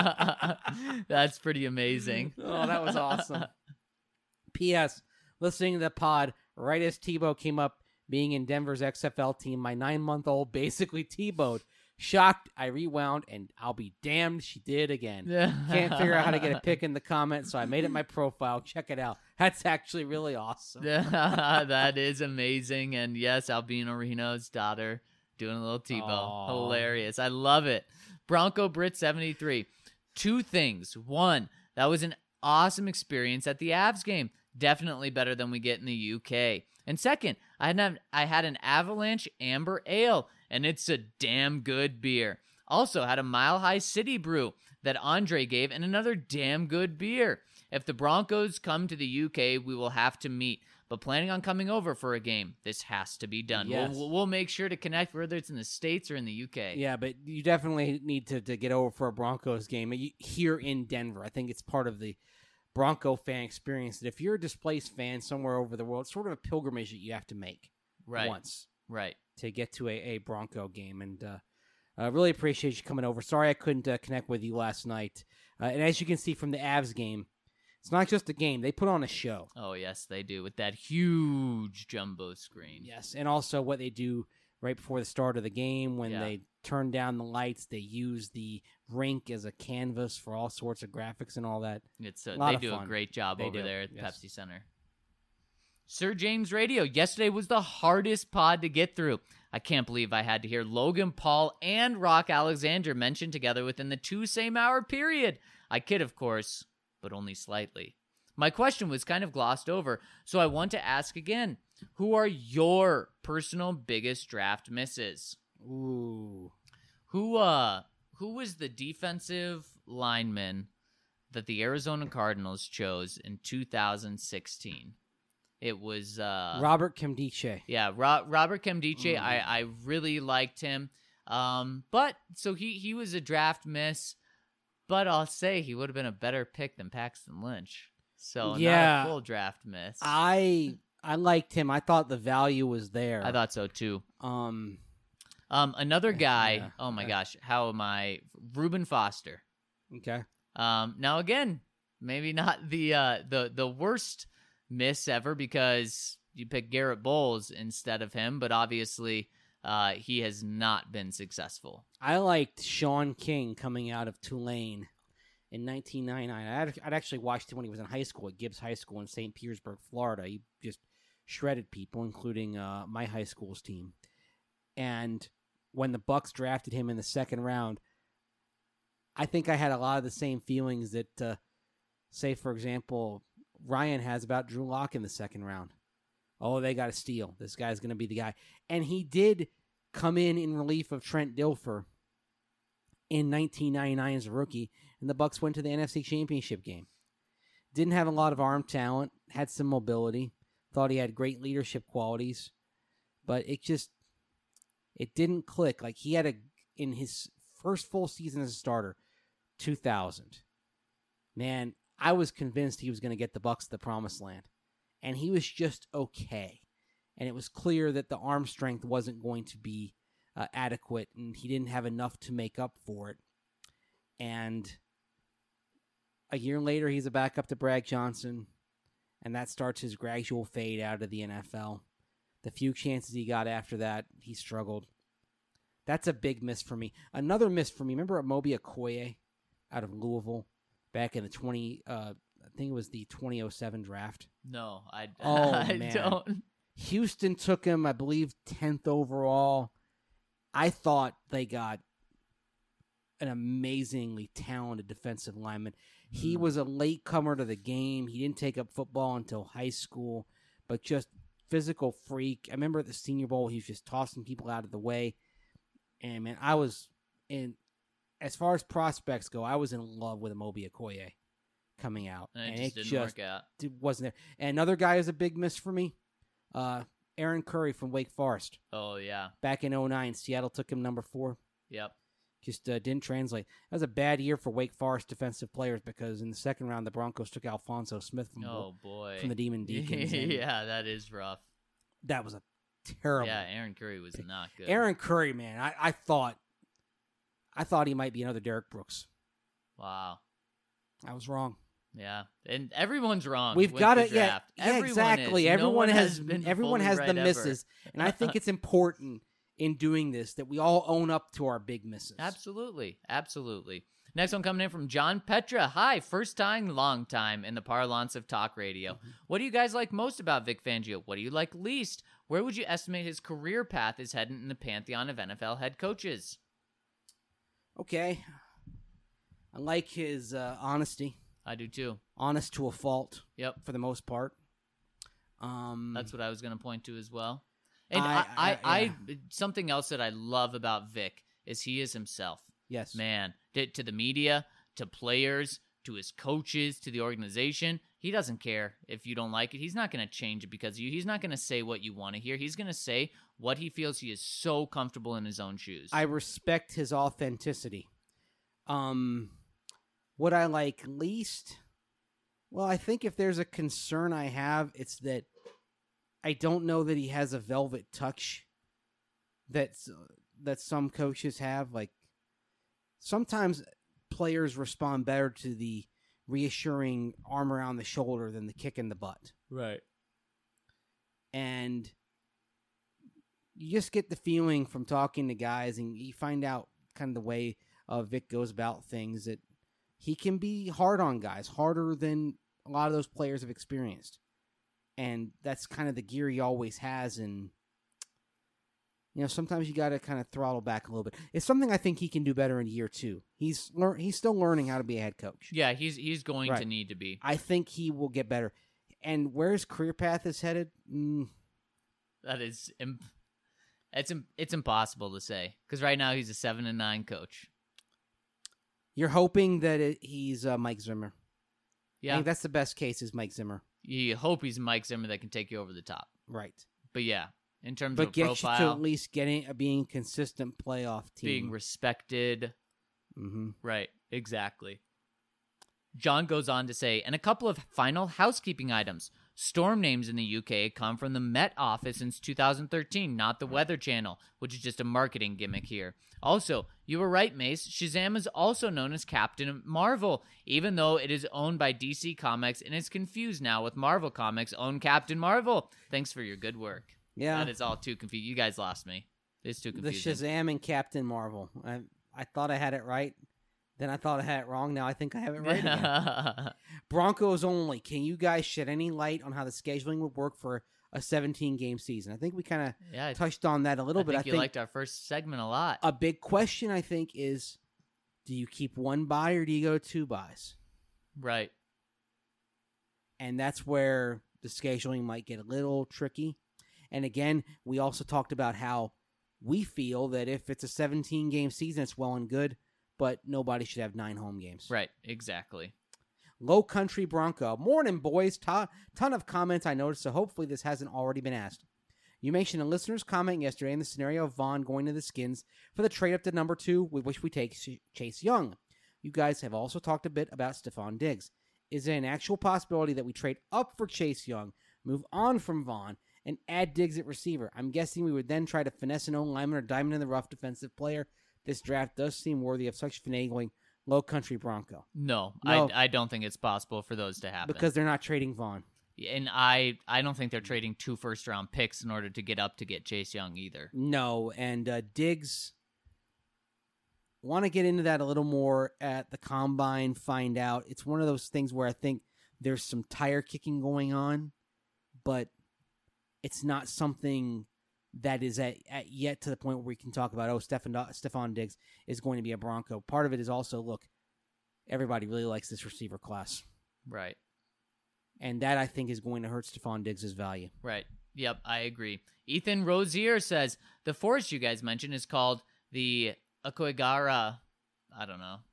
That's pretty amazing. Oh, that was awesome. P.S. Listening to the pod right as Tebow came up being in Denver's XFL team, my 9-month-old basically Tebowed. Shocked, I rewound, and I'll be damned she did again. Can't figure out how to get a pic in the comments, so I made it my profile. Check it out. That's actually really awesome. That is amazing. And yes, Albino Reno's daughter doing a little Tebow. Aww. Hilarious. I love it. Bronco Brit 73. 2 things. 1, that was an awesome experience at the Avs game. Definitely better than we get in the UK. And second, I had an Avalanche Amber Ale, and it's a damn good beer. Also had a Mile High City Brew that Andre gave, and another damn good beer. If the Broncos come to the UK, we will have to meet. But planning on coming over for a game, this has to be done. Yes. We'll make sure to connect, whether it's in the States or in the UK. Yeah, but you definitely need to get over for a Broncos game here in Denver. I think it's part of the Bronco fan experience that if you're a displaced fan somewhere over the world, it's sort of a pilgrimage that you have to make once to get to a Bronco game. And I really appreciate you coming over. Sorry I couldn't connect with you last night. And as you can see from the Avs game, it's not just a game. They put on a show. Oh, yes, they do, with that huge jumbo screen. Yes, and also what they do right before the start of the game when they turn down the lights, they use the rink as a canvas for all sorts of graphics and all that. It's a lot they of do fun. A great job They over do, there at yes. Pepsi Center. Sir James Radio. Yesterday was the hardest pod to get through. I can't believe I had to hear Logan Paul and Rock Alexander mentioned together within the 2 same-hour period. I kid, of course, but only slightly. My question was kind of glossed over, so I want to ask again. Who are your personal biggest draft misses? Ooh. Who was the defensive lineman that the Arizona Cardinals chose in 2016? It was Robert Nkemdiche. Yeah, Robert Nkemdiche. I really liked him. But so he was a draft miss, but I'll say he would have been a better pick than Paxton Lynch. So Yeah. not a full draft miss. I liked him. I thought the value was there. I thought so too. Um, Another guy. Yeah. Oh my gosh, how am I? Reuben Foster. okay. Now again, maybe not the worst miss ever because you picked Garrett Bowles instead of him, but obviously he has not been successful. I liked Sean King coming out of Tulane in 1999. I'd actually watched him when he was in high school at Gibbs High School in St. Petersburg, Florida. He just shredded people, including my high school's team. And when the Bucks drafted him in the second round, I think I had a lot of the same feelings that, say, for example, Ryan has about Drew Lock in the second round. Oh, they got to steal. This guy's going to be the guy. And he did come in relief of Trent Dilfer in 1999 as a rookie, and the Bucks went to the NFC Championship game. Didn't have a lot of arm talent, had some mobility, thought he had great leadership qualities, but it didn't click. Like he had in his first full season as a starter, 2000. Man, I was convinced he was going to get the Bucks to the promised land, and he was just okay. And it was clear that the arm strength wasn't going to be adequate, and he didn't have enough to make up for it. And a year later, he's a backup to Brad Johnson, and that starts his gradual fade out of the NFL. The few chances he got after that, he struggled. That's a big miss for me. Another miss for me, remember Amobi Okoye out of Louisville back in the I think it was the 2007 draft? No, I man. don't. Houston took him, I believe, 10th overall. I thought they got an amazingly talented defensive lineman. He was a late comer to the game. He didn't take up football until high school, but just physical freak. I remember at the Senior Bowl, he was just tossing people out of the way. And, man, I was in, as far as prospects go, I was in love with Amobi Okoye coming out. And it just didn't work out. It wasn't there. And another guy who's a big miss for me, Aaron Curry from Wake Forest. Oh, yeah. Back in 2009, Seattle took him number 4. Yep. Just didn't translate. That was a bad year for Wake Forest defensive players because in the second round, the Broncos took Alfonso Smith from the Demon Deacons. Yeah, that is rough. That was a terrible. Yeah, Aaron Curry was not good. Aaron Curry, man, I thought he might be another Derek Brooks. Wow. I was wrong. Yeah, and everyone's wrong. We've got it. Yeah, Everyone exactly. is. Everyone no has been everyone fully has right the misses, and I think it's important in doing this that we all own up to our big misses. Absolutely. Next one coming in from John Petra. Hi, first time, long time in the parlance of talk radio. What do you guys like most about Vic Fangio? What do you like least? Where would you estimate his career path is heading in the pantheon of NFL head coaches? Okay, I like his honesty. I do too. Honest to a fault. Yep. For the most part. That's what I was going to point to as well. And I something else that I love about Vic is he is himself. Yes. Man, to the media, to players, to his coaches, to the organization. He doesn't care if you don't like it. He's not going to change it because of you. He's not going to say what you want to hear. He's going to say what he feels. He is so comfortable in his own shoes. I respect his authenticity. What I like least, well, I think if there's a concern I have, it's that I don't know that he has a velvet touch that some coaches have. Like, sometimes players respond better to the reassuring arm around the shoulder than the kick in the butt. Right. And you just get the feeling from talking to guys, and you find out kind of the way Vic goes about things, that he can be hard on guys, harder than a lot of those players have experienced. And that's kind of the gear he always has. And, sometimes you got to kind of throttle back a little bit. It's something I think he can do better in year 2. He's still learning how to be a head coach. Yeah, he's going to need to be. I think he will get better. And where his career path is headed, that is, it's impossible to say, because right now he's a 7-9 coach. You're hoping that he's Mike Zimmer. Yeah, I think that's the best case is Mike Zimmer. You hope he's Mike Zimmer that can take you over the top. Right. But yeah, in terms but of get profile, you to at least being consistent playoff team. being respected. Mm-hmm. Right, exactly. John goes on to say, and a couple of final housekeeping items. Storm names in the UK come from the Met Office since 2013, not the Weather Channel, which is just a marketing gimmick here. Also, you were right, Mace. Shazam is also known as Captain Marvel, even though it is owned by DC Comics and is confused now with Marvel Comics' own Captain Marvel. Thanks for your good work. Yeah. That is all too confusing. You guys lost me. It's too confusing. The Shazam and Captain Marvel. I thought I had it right. Then I thought I had it wrong. Now I think I have it right again. Broncos only. Can you guys shed any light on how the scheduling would work for a 17-game season? I think we kind of touched on that a little bit. I think you liked our first segment a lot. A big question, I think, is do you keep one bye or do you go 2 byes? Right. And that's where the scheduling might get a little tricky. And again, we also talked about how we feel that if it's a 17-game season, it's well and good, but nobody should have 9 home games. Right, exactly. Low Country Bronco. Morning, boys. Ton of comments I noticed, so hopefully this hasn't already been asked. You mentioned a listener's comment yesterday in the scenario of Vaughn going to the Skins for the trade up to number 2, with which we take Chase Young. You guys have also talked a bit about Stephon Diggs. Is there an actual possibility that we trade up for Chase Young, move on from Vaughn, and add Diggs at receiver? I'm guessing we would then try to finesse an O-lineman or diamond in the rough defensive player. This draft does seem worthy of such finagling. Low Country Bronco. No. I don't think it's possible for those to happen. Because they're not trading Vaughn. And I don't think they're trading 2 first-round picks in order to get up to get Chase Young either. No, and Diggs, want to get into that a little more at the Combine, find out. It's one of those things where I think there's some tire kicking going on, but it's not something that is at yet to the point where we can talk about, Stephon Diggs is going to be a Bronco. Part of it is also, look, everybody really likes this receiver class. Right. And that, I think, is going to hurt Stephon Diggs' value. Right. Yep, I agree. Ethan Rozier says, the forest you guys mentioned is called the Aokigahara. I don't know.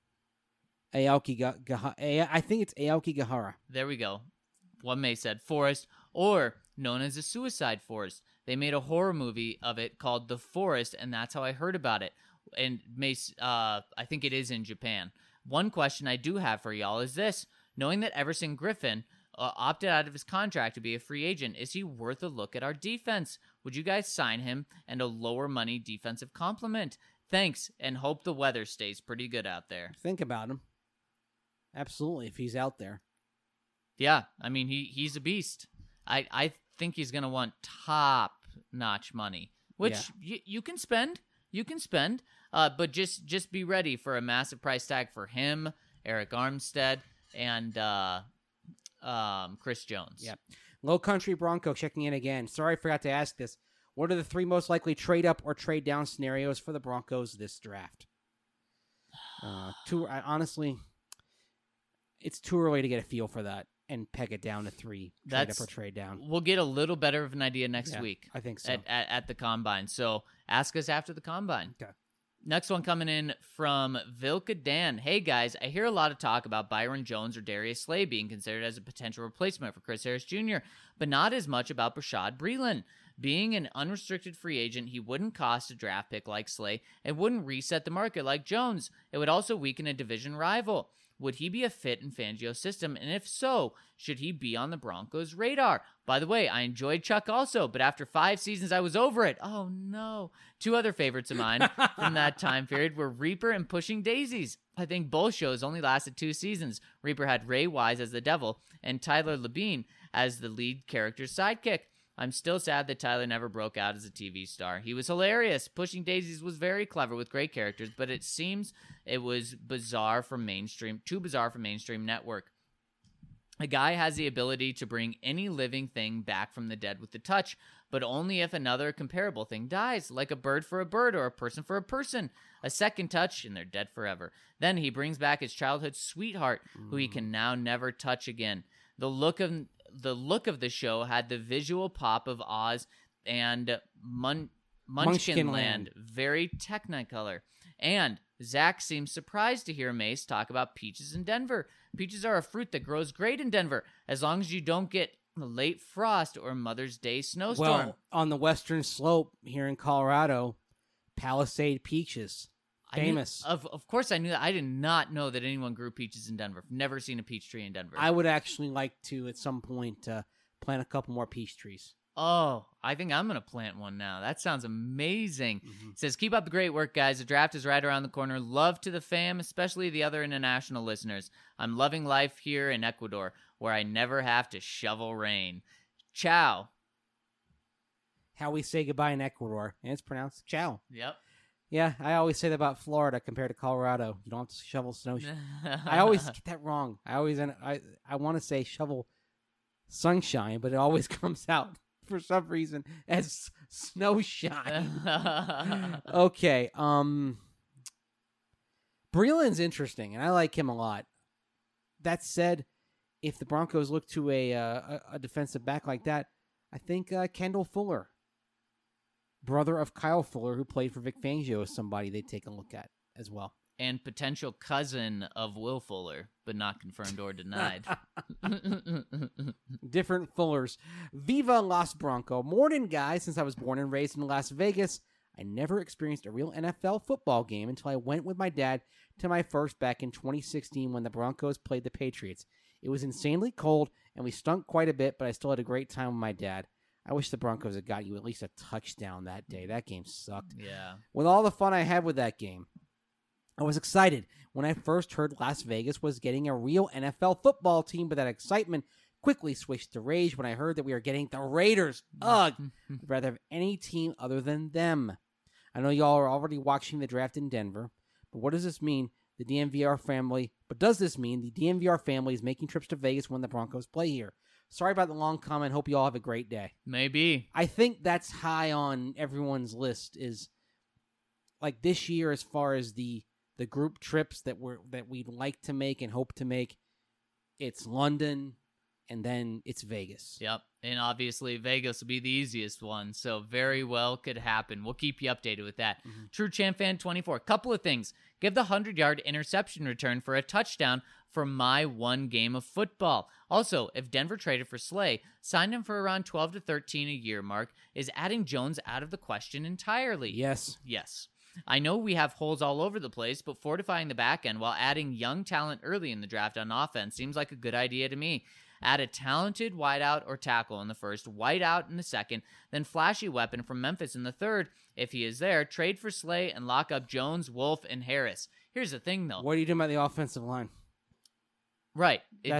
I think it's Aokigahara. There we go. One may said forest, or known as the Suicide Forest. They made a horror movie of it called The Forest, and that's how I heard about it. And I think it is in Japan. One question I do have for y'all is this. Knowing that Everson Griffin opted out of his contract to be a free agent, is he worth a look at our defense? Would you guys sign him and a lower money defensive complement? Thanks, and hope the weather stays pretty good out there. Think about him. Absolutely, if he's out there. Yeah, I mean, he's a beast. I think he's going to want top-notch money, which you can spend. You can spend, but just be ready for a massive price tag for him, Eric Armstead, and Chris Jones. Yeah. Low Country Bronco checking in again. Sorry, I forgot to ask this. What are the 3 most likely trade-up or trade-down scenarios for the Broncos this draft? Honestly, it's too early to get a feel for that and peg it down to 3, trade up or trade down. We'll get a little better of an idea next week. I think so. At the Combine. So ask us after the Combine. Okay. Next one coming in from Vilka Dan. Hey guys, I hear a lot of talk about Byron Jones or Darius Slay being considered as a potential replacement for Chris Harris Jr., but not as much about Bashaud Breeland. Being an unrestricted free agent, he wouldn't cost a draft pick like Slay and wouldn't reset the market like Jones. It would also weaken a division rival. Would he be a fit in Fangio's system? And if so, should he be on the Broncos' radar? By the way, I enjoyed Chuck also, but after 5 seasons, I was over it. Oh, no. 2 other favorites of mine from that time period were Reaper and Pushing Daisies. I think both shows only lasted 2 seasons. Reaper had Ray Wise as the devil and Tyler Labine as the lead character's sidekick. I'm still sad that Tyler never broke out as a TV star. He was hilarious. Pushing Daisies was very clever with great characters, but it seems it was too bizarre for mainstream network. A guy has the ability to bring any living thing back from the dead with the touch, but only if another comparable thing dies, like a bird for a bird or a person for a person. A second touch, and they're dead forever. Then he brings back his childhood sweetheart, who he can now never touch again. The look of the show had the visual pop of Oz and Munchkin Land, very Technicolor. And Zach seems surprised to hear Mace talk about peaches in Denver. Peaches are a fruit that grows great in Denver, as long as you don't get late frost or Mother's Day snowstorm. Well, on the western slope here in Colorado, Palisade peaches. Famous. Of course I knew that. I did not know that anyone grew peaches in Denver. Never seen a peach tree in Denver. I would actually like to, at some point, plant a couple more peach trees. Oh, I think I'm going to plant one now. That sounds amazing. It says, keep up the great work, guys. The draft is right around the corner. Love to the fam, especially the other international listeners. I'm loving life here in Ecuador, where I never have to shovel rain. Ciao. How we say goodbye in Ecuador. And it's pronounced ciao. Yep. Yeah, I always say that about Florida compared to Colorado. You don't have to shovel snow. I always get that wrong. I want to say shovel sunshine, but it always comes out for some reason as snowshine. Okay. Breeland's interesting, and I like him a lot. That said, if the Broncos look to a defensive back like that, I think Kendall Fuller, brother of Kyle Fuller, who played for Vic Fangio, is somebody they take a look at as well. And potential cousin of Will Fuller, but not confirmed or denied. Different Fullers. Viva Las Bronco. Morning, guys. Since I was born and raised in Las Vegas, I never experienced a real NFL football game until I went with my dad to my first back in 2016 when the Broncos played the Patriots. It was insanely cold, and we stunk quite a bit, but I still had a great time with my dad. I wish the Broncos had got you at least a touchdown that day. That game sucked. Yeah. With all the fun I had with that game, I was excited when I first heard Las Vegas was getting a real NFL football team, but that excitement quickly switched to rage when I heard that we were getting the Raiders. Ugh! I'd rather have any team other than them. I know y'all are already watching the draft in Denver, but what does this mean? Does this mean the DNVR family is making trips to Vegas when the Broncos play here? Sorry about the long comment. Hope you all have a great day. Maybe. I think that's high on everyone's list, is like this year as far as the group trips that we'd like to make and hope to make. It's London, and then it's Vegas. Yep. And obviously Vegas will be the easiest one, so very well could happen. We'll keep you updated with that. True Champ Fan 24. Couple of things. Give the 100-yard interception return for a touchdown for my one game of football. Also, if Denver traded for Slay, signed him for around 12 to 13 a year mark, is adding Jones out of the question entirely? Yes. Yes. I know we have holes all over the place, but fortifying the back end while adding young talent early in the draft on offense seems like a good idea to me. Add a talented wideout or tackle in the first, wideout in the second, then flashy weapon from Memphis in the third. If he is there, trade for Slay and lock up Jones, Wolf, and Harris. Here's the thing, though. What are you doing about the offensive line? Right.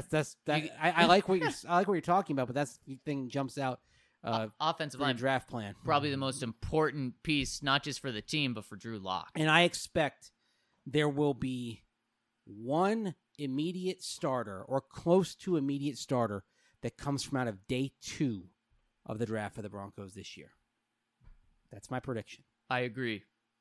I like what you're talking about, but that's the thing jumps out. Offensive for line your draft plan, probably the most important piece, not just for the team, but for Drew Lock. And I expect there will be one immediate starter or close to immediate starter that comes from out of day 2 of the draft for the Broncos this year. That's my prediction. I agree.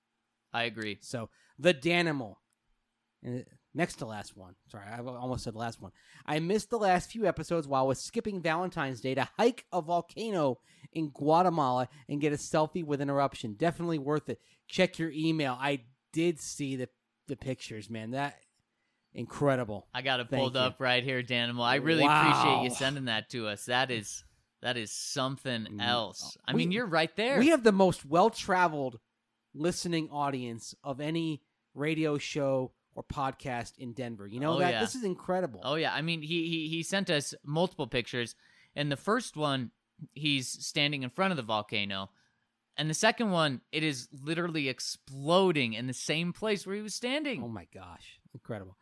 So the Danimal. Next to last one. Sorry, I almost said last one. I missed the last few episodes while I was skipping Valentine's Day to hike a volcano in Guatemala and get a selfie with an eruption. Definitely worth it. Check your email. I did see the pictures, man. That incredible. I got it Thank pulled you. up right here, Danimal. I really Wow. appreciate you sending that to us. That is something else. I mean, you're right there. We have the most well-traveled listening audience of any radio show or podcast in Denver. You know Oh, that? yeah. This is incredible. Oh yeah, I mean he sent us multiple pictures, and the first one he's standing in front of the volcano, and the second one it is literally exploding in the same place where he was standing. Oh my gosh, incredible.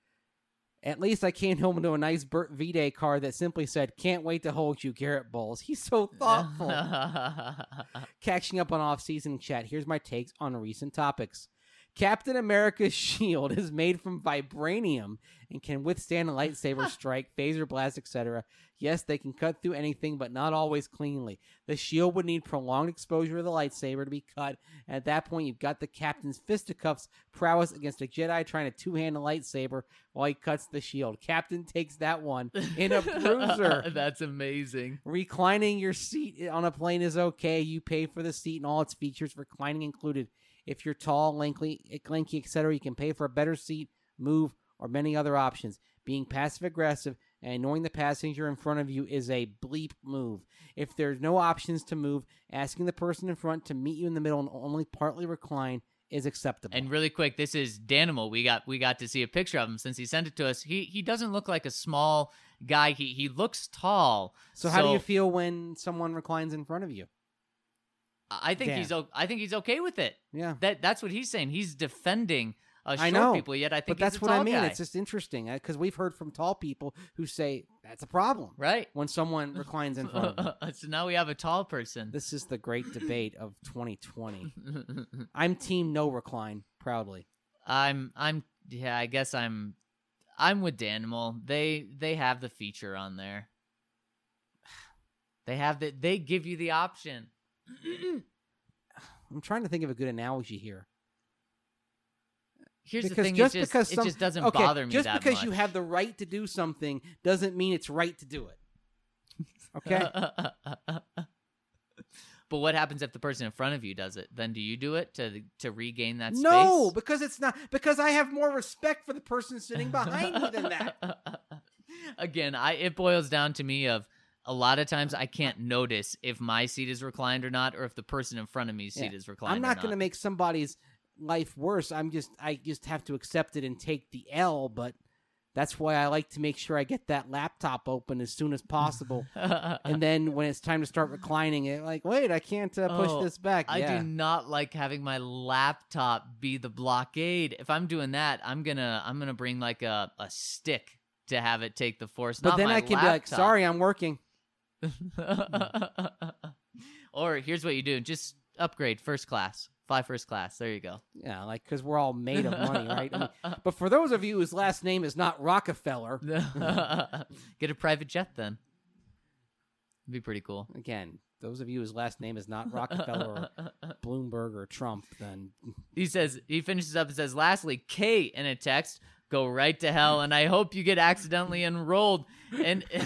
At least I came home to a nice Burt V-Day card that simply said, "Can't wait to hold you, Garrett Bowles." He's so thoughtful. Catching up on off-season chat, here's my takes on recent topics. Captain America's shield is made from vibranium and can withstand a lightsaber strike, phaser blast, etc. Yes, they can cut through anything, but not always cleanly. The shield would need prolonged exposure of the lightsaber to be cut. And at that point, you've got the Captain's fisticuffs prowess against a Jedi trying to two-hand a lightsaber while he cuts the shield. Captain takes that one in a bruiser. That's amazing. Reclining your seat on a plane is okay. You pay for the seat and all its features, reclining included. If you're tall, lanky, etc., you can pay for a better seat, move, or many other options. Being passive-aggressive and ignoring the passenger in front of you is a bleep move. If there's no options to move, asking the person in front to meet you in the middle and only partly recline is acceptable. And really quick, this is Danimal. We got to see a picture of him since he sent it to us. He doesn't look like a small guy. He looks tall. So how do you feel when someone reclines in front of you? I think he's okay with it. Yeah. That's what he's saying. He's defending short I know, people, yet I think but that's he's a what I tall mean. guy. It's just interesting because we've heard from tall people who say that's a problem, right? when someone reclines in front of you. So now we have a tall person. This is the great debate of 2020. I'm team no recline, proudly. Yeah, I guess I'm with Danimal. They have the feature on there. They give you the option. I'm trying to think of a good analogy here. Here's Because the thing: just it because just doesn't bother me just that because much. you have the right to do something doesn't mean it's right to do it. Okay. But what happens if the person in front of you does it? Then do you do it to regain that space? No, because it's not. Because I have more respect for the person sitting behind me than that. Again, it boils down to me of a lot of times I can't notice if my seat is reclined or not, or if the person in front of me's seat is reclined. I'm not going to make somebody's life worse. I just have to accept it and take the L. But that's why I like to make sure I get that laptop open as soon as possible. And then when it's time to start reclining it, like, wait, I can't push this back. I do not like having my laptop be the blockade. If I'm doing that, I'm gonna bring like a stick to have it take the force. But not then my I can laptop. be like, sorry, I'm working. Or here's what you do: just upgrade first class. Fly first class. There you go. Yeah, like, because we're all made of money, right? I mean, but for those of you whose last name is not Rockefeller, Get a private jet then. It'd be pretty cool. again, those of you whose last name is not Rockefeller or Bloomberg or Trump, then He finishes up and says, lastly, Kate in a text, go right to hell, and I hope you get accidentally enrolled in in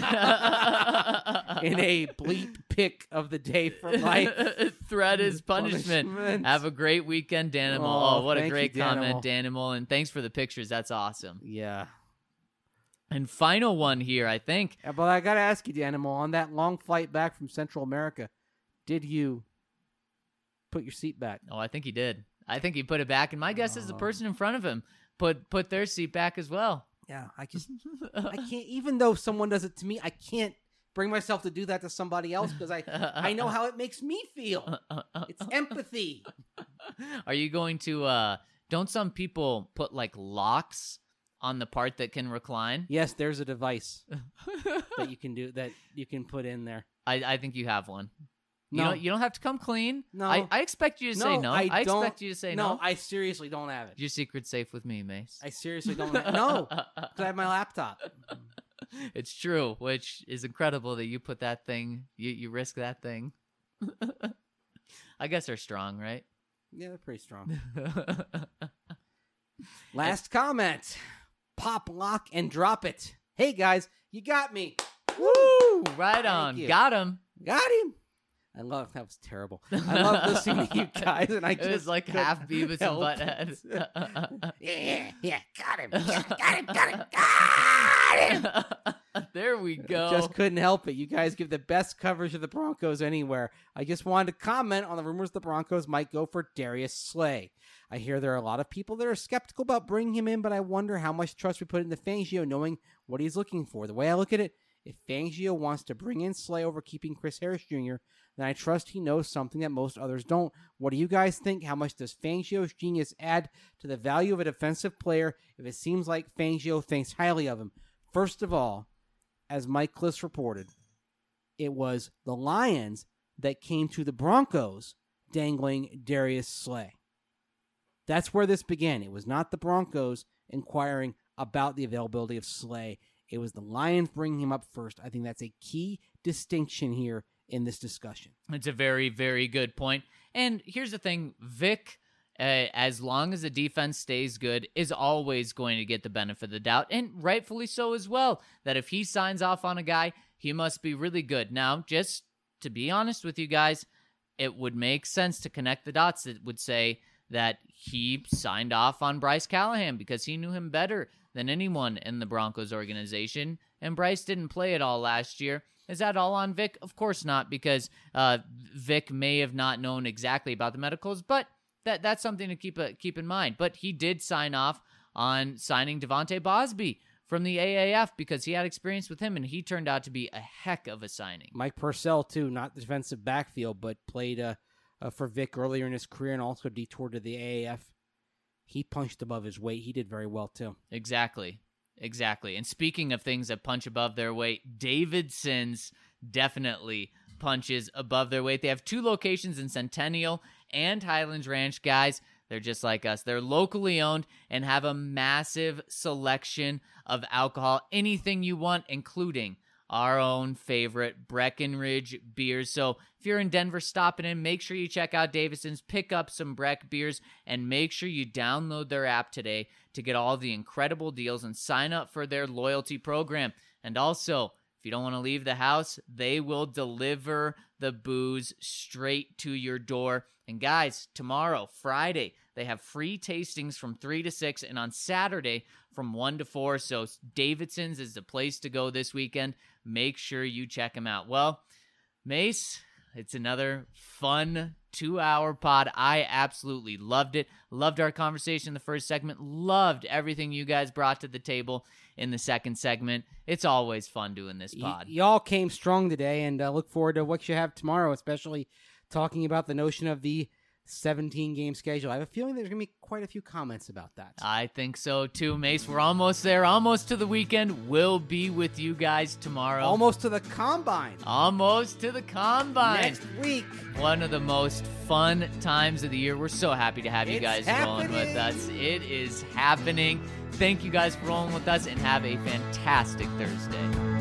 a bleep pick of the day for life. threat is punishment. Punishment. Have a great weekend, Danimal. Oh, Oh, what a thank great you, comment, Danimal. And thanks for the pictures. That's awesome. Yeah. And final one here, I think. But I got to ask you, Animal, on that long flight back from Central America, did you put your seat back? Oh, I think he did. I think he put it back. And my guess is the person in front of him put their seat back as well. Yeah, I can't, even though someone does it to me, I can't bring myself to do that to somebody else because I know how it makes me feel. It's empathy. Are you going to, don't some people put like locks on the part that can recline? Yes, there's a device that you can do, that you can put in there. I think you have one. No. You don't have to come clean. No. I expect you to say no. I expect you to say no. No, I seriously don't have it. Your secret's safe with me, Mace. I seriously don't have it. No, because I have my laptop. It's true, which is incredible that you put that thing, you risk that thing. I guess they're strong, right? Yeah, they're pretty strong. Last comment. Pop, lock, and drop it. Hey, guys, you got me. Woo! Right Thank on. you. Got him. Got him. That was terrible. I love listening to you guys, and It was like half Beavis and Butthead. yeah, got him, got him. There we go. Just couldn't help it. You guys give the best coverage of the Broncos anywhere. I just wanted to comment on the rumors the Broncos might go for Darius Slay. I hear there are a lot of people that are skeptical about bringing him in, but I wonder how much trust we put into Fangio knowing what he's looking for. The way I look at it, if Fangio wants to bring in Slay over keeping Chris Harris Jr., then I trust he knows something that most others don't. What do you guys think? How much does Fangio's genius add to the value of a defensive player if it seems like Fangio thinks highly of him? First of all, as Mike Kliss reported, it was the Lions that came to the Broncos dangling Darius Slay. That's where this began. It was not the Broncos inquiring about the availability of Slay. It was the Lions bringing him up first. I think that's a key distinction here in this discussion. It's a very, very good point. And here's the thing, Vic, as long as the defense stays good, is always going to get the benefit of the doubt, and rightfully so as well, that if he signs off on a guy, he must be really good. Now, just to be honest with you guys, it would make sense to connect the dots that would say that he signed off on Bryce Callahan because he knew him better than anyone in the Broncos organization, and Bryce didn't play at all last year. Is that all on Vic? Of course not, because Vic may have not known exactly about the medicals, but that's something to keep in mind. But he did sign off on signing Devontae Bosby from the AAF because he had experience with him, and he turned out to be a heck of a signing. Mike Purcell, too, not the defensive backfield, but played for Vic earlier in his career and also detoured to the AAF. He punched above his weight. He did very well, too. Exactly. And speaking of things that punch above their weight, Davidson's definitely punches above their weight. They have 2 locations in Centennial and Highlands Ranch, guys. They're just like us. They're locally owned and have a massive selection of alcohol, anything you want, including our own favorite Breckenridge beers. So if you're in Denver stopping in, make sure you check out Davidson's, pick up some Breck beers, and make sure you download their app today to get all the incredible deals and sign up for their loyalty program. And also, if you don't want to leave the house, they will deliver the booze straight to your door. And guys, tomorrow, Friday, they have free tastings from 3 to 6, and on Saturday from 1 to 4. So Davidson's is the place to go this weekend. Make sure you check them out. Well, Mace, it's another fun 2-hour pod. I absolutely loved it. Loved our conversation in the first segment. Loved everything you guys brought to the table in the second segment. It's always fun doing this pod. Y'all came strong today, and look forward to what you have tomorrow, especially talking about the notion of the 17-game schedule. I have a feeling there's going to be quite a few comments about that. I think so too, Mace. We're almost there, almost to the weekend. We'll be with you guys tomorrow. Almost to the Combine. Almost to the Combine. Next week. One of the most fun times of the year. We're so happy to have you guys rolling with us. It is happening. Thank you guys for rolling with us, and have a fantastic Thursday.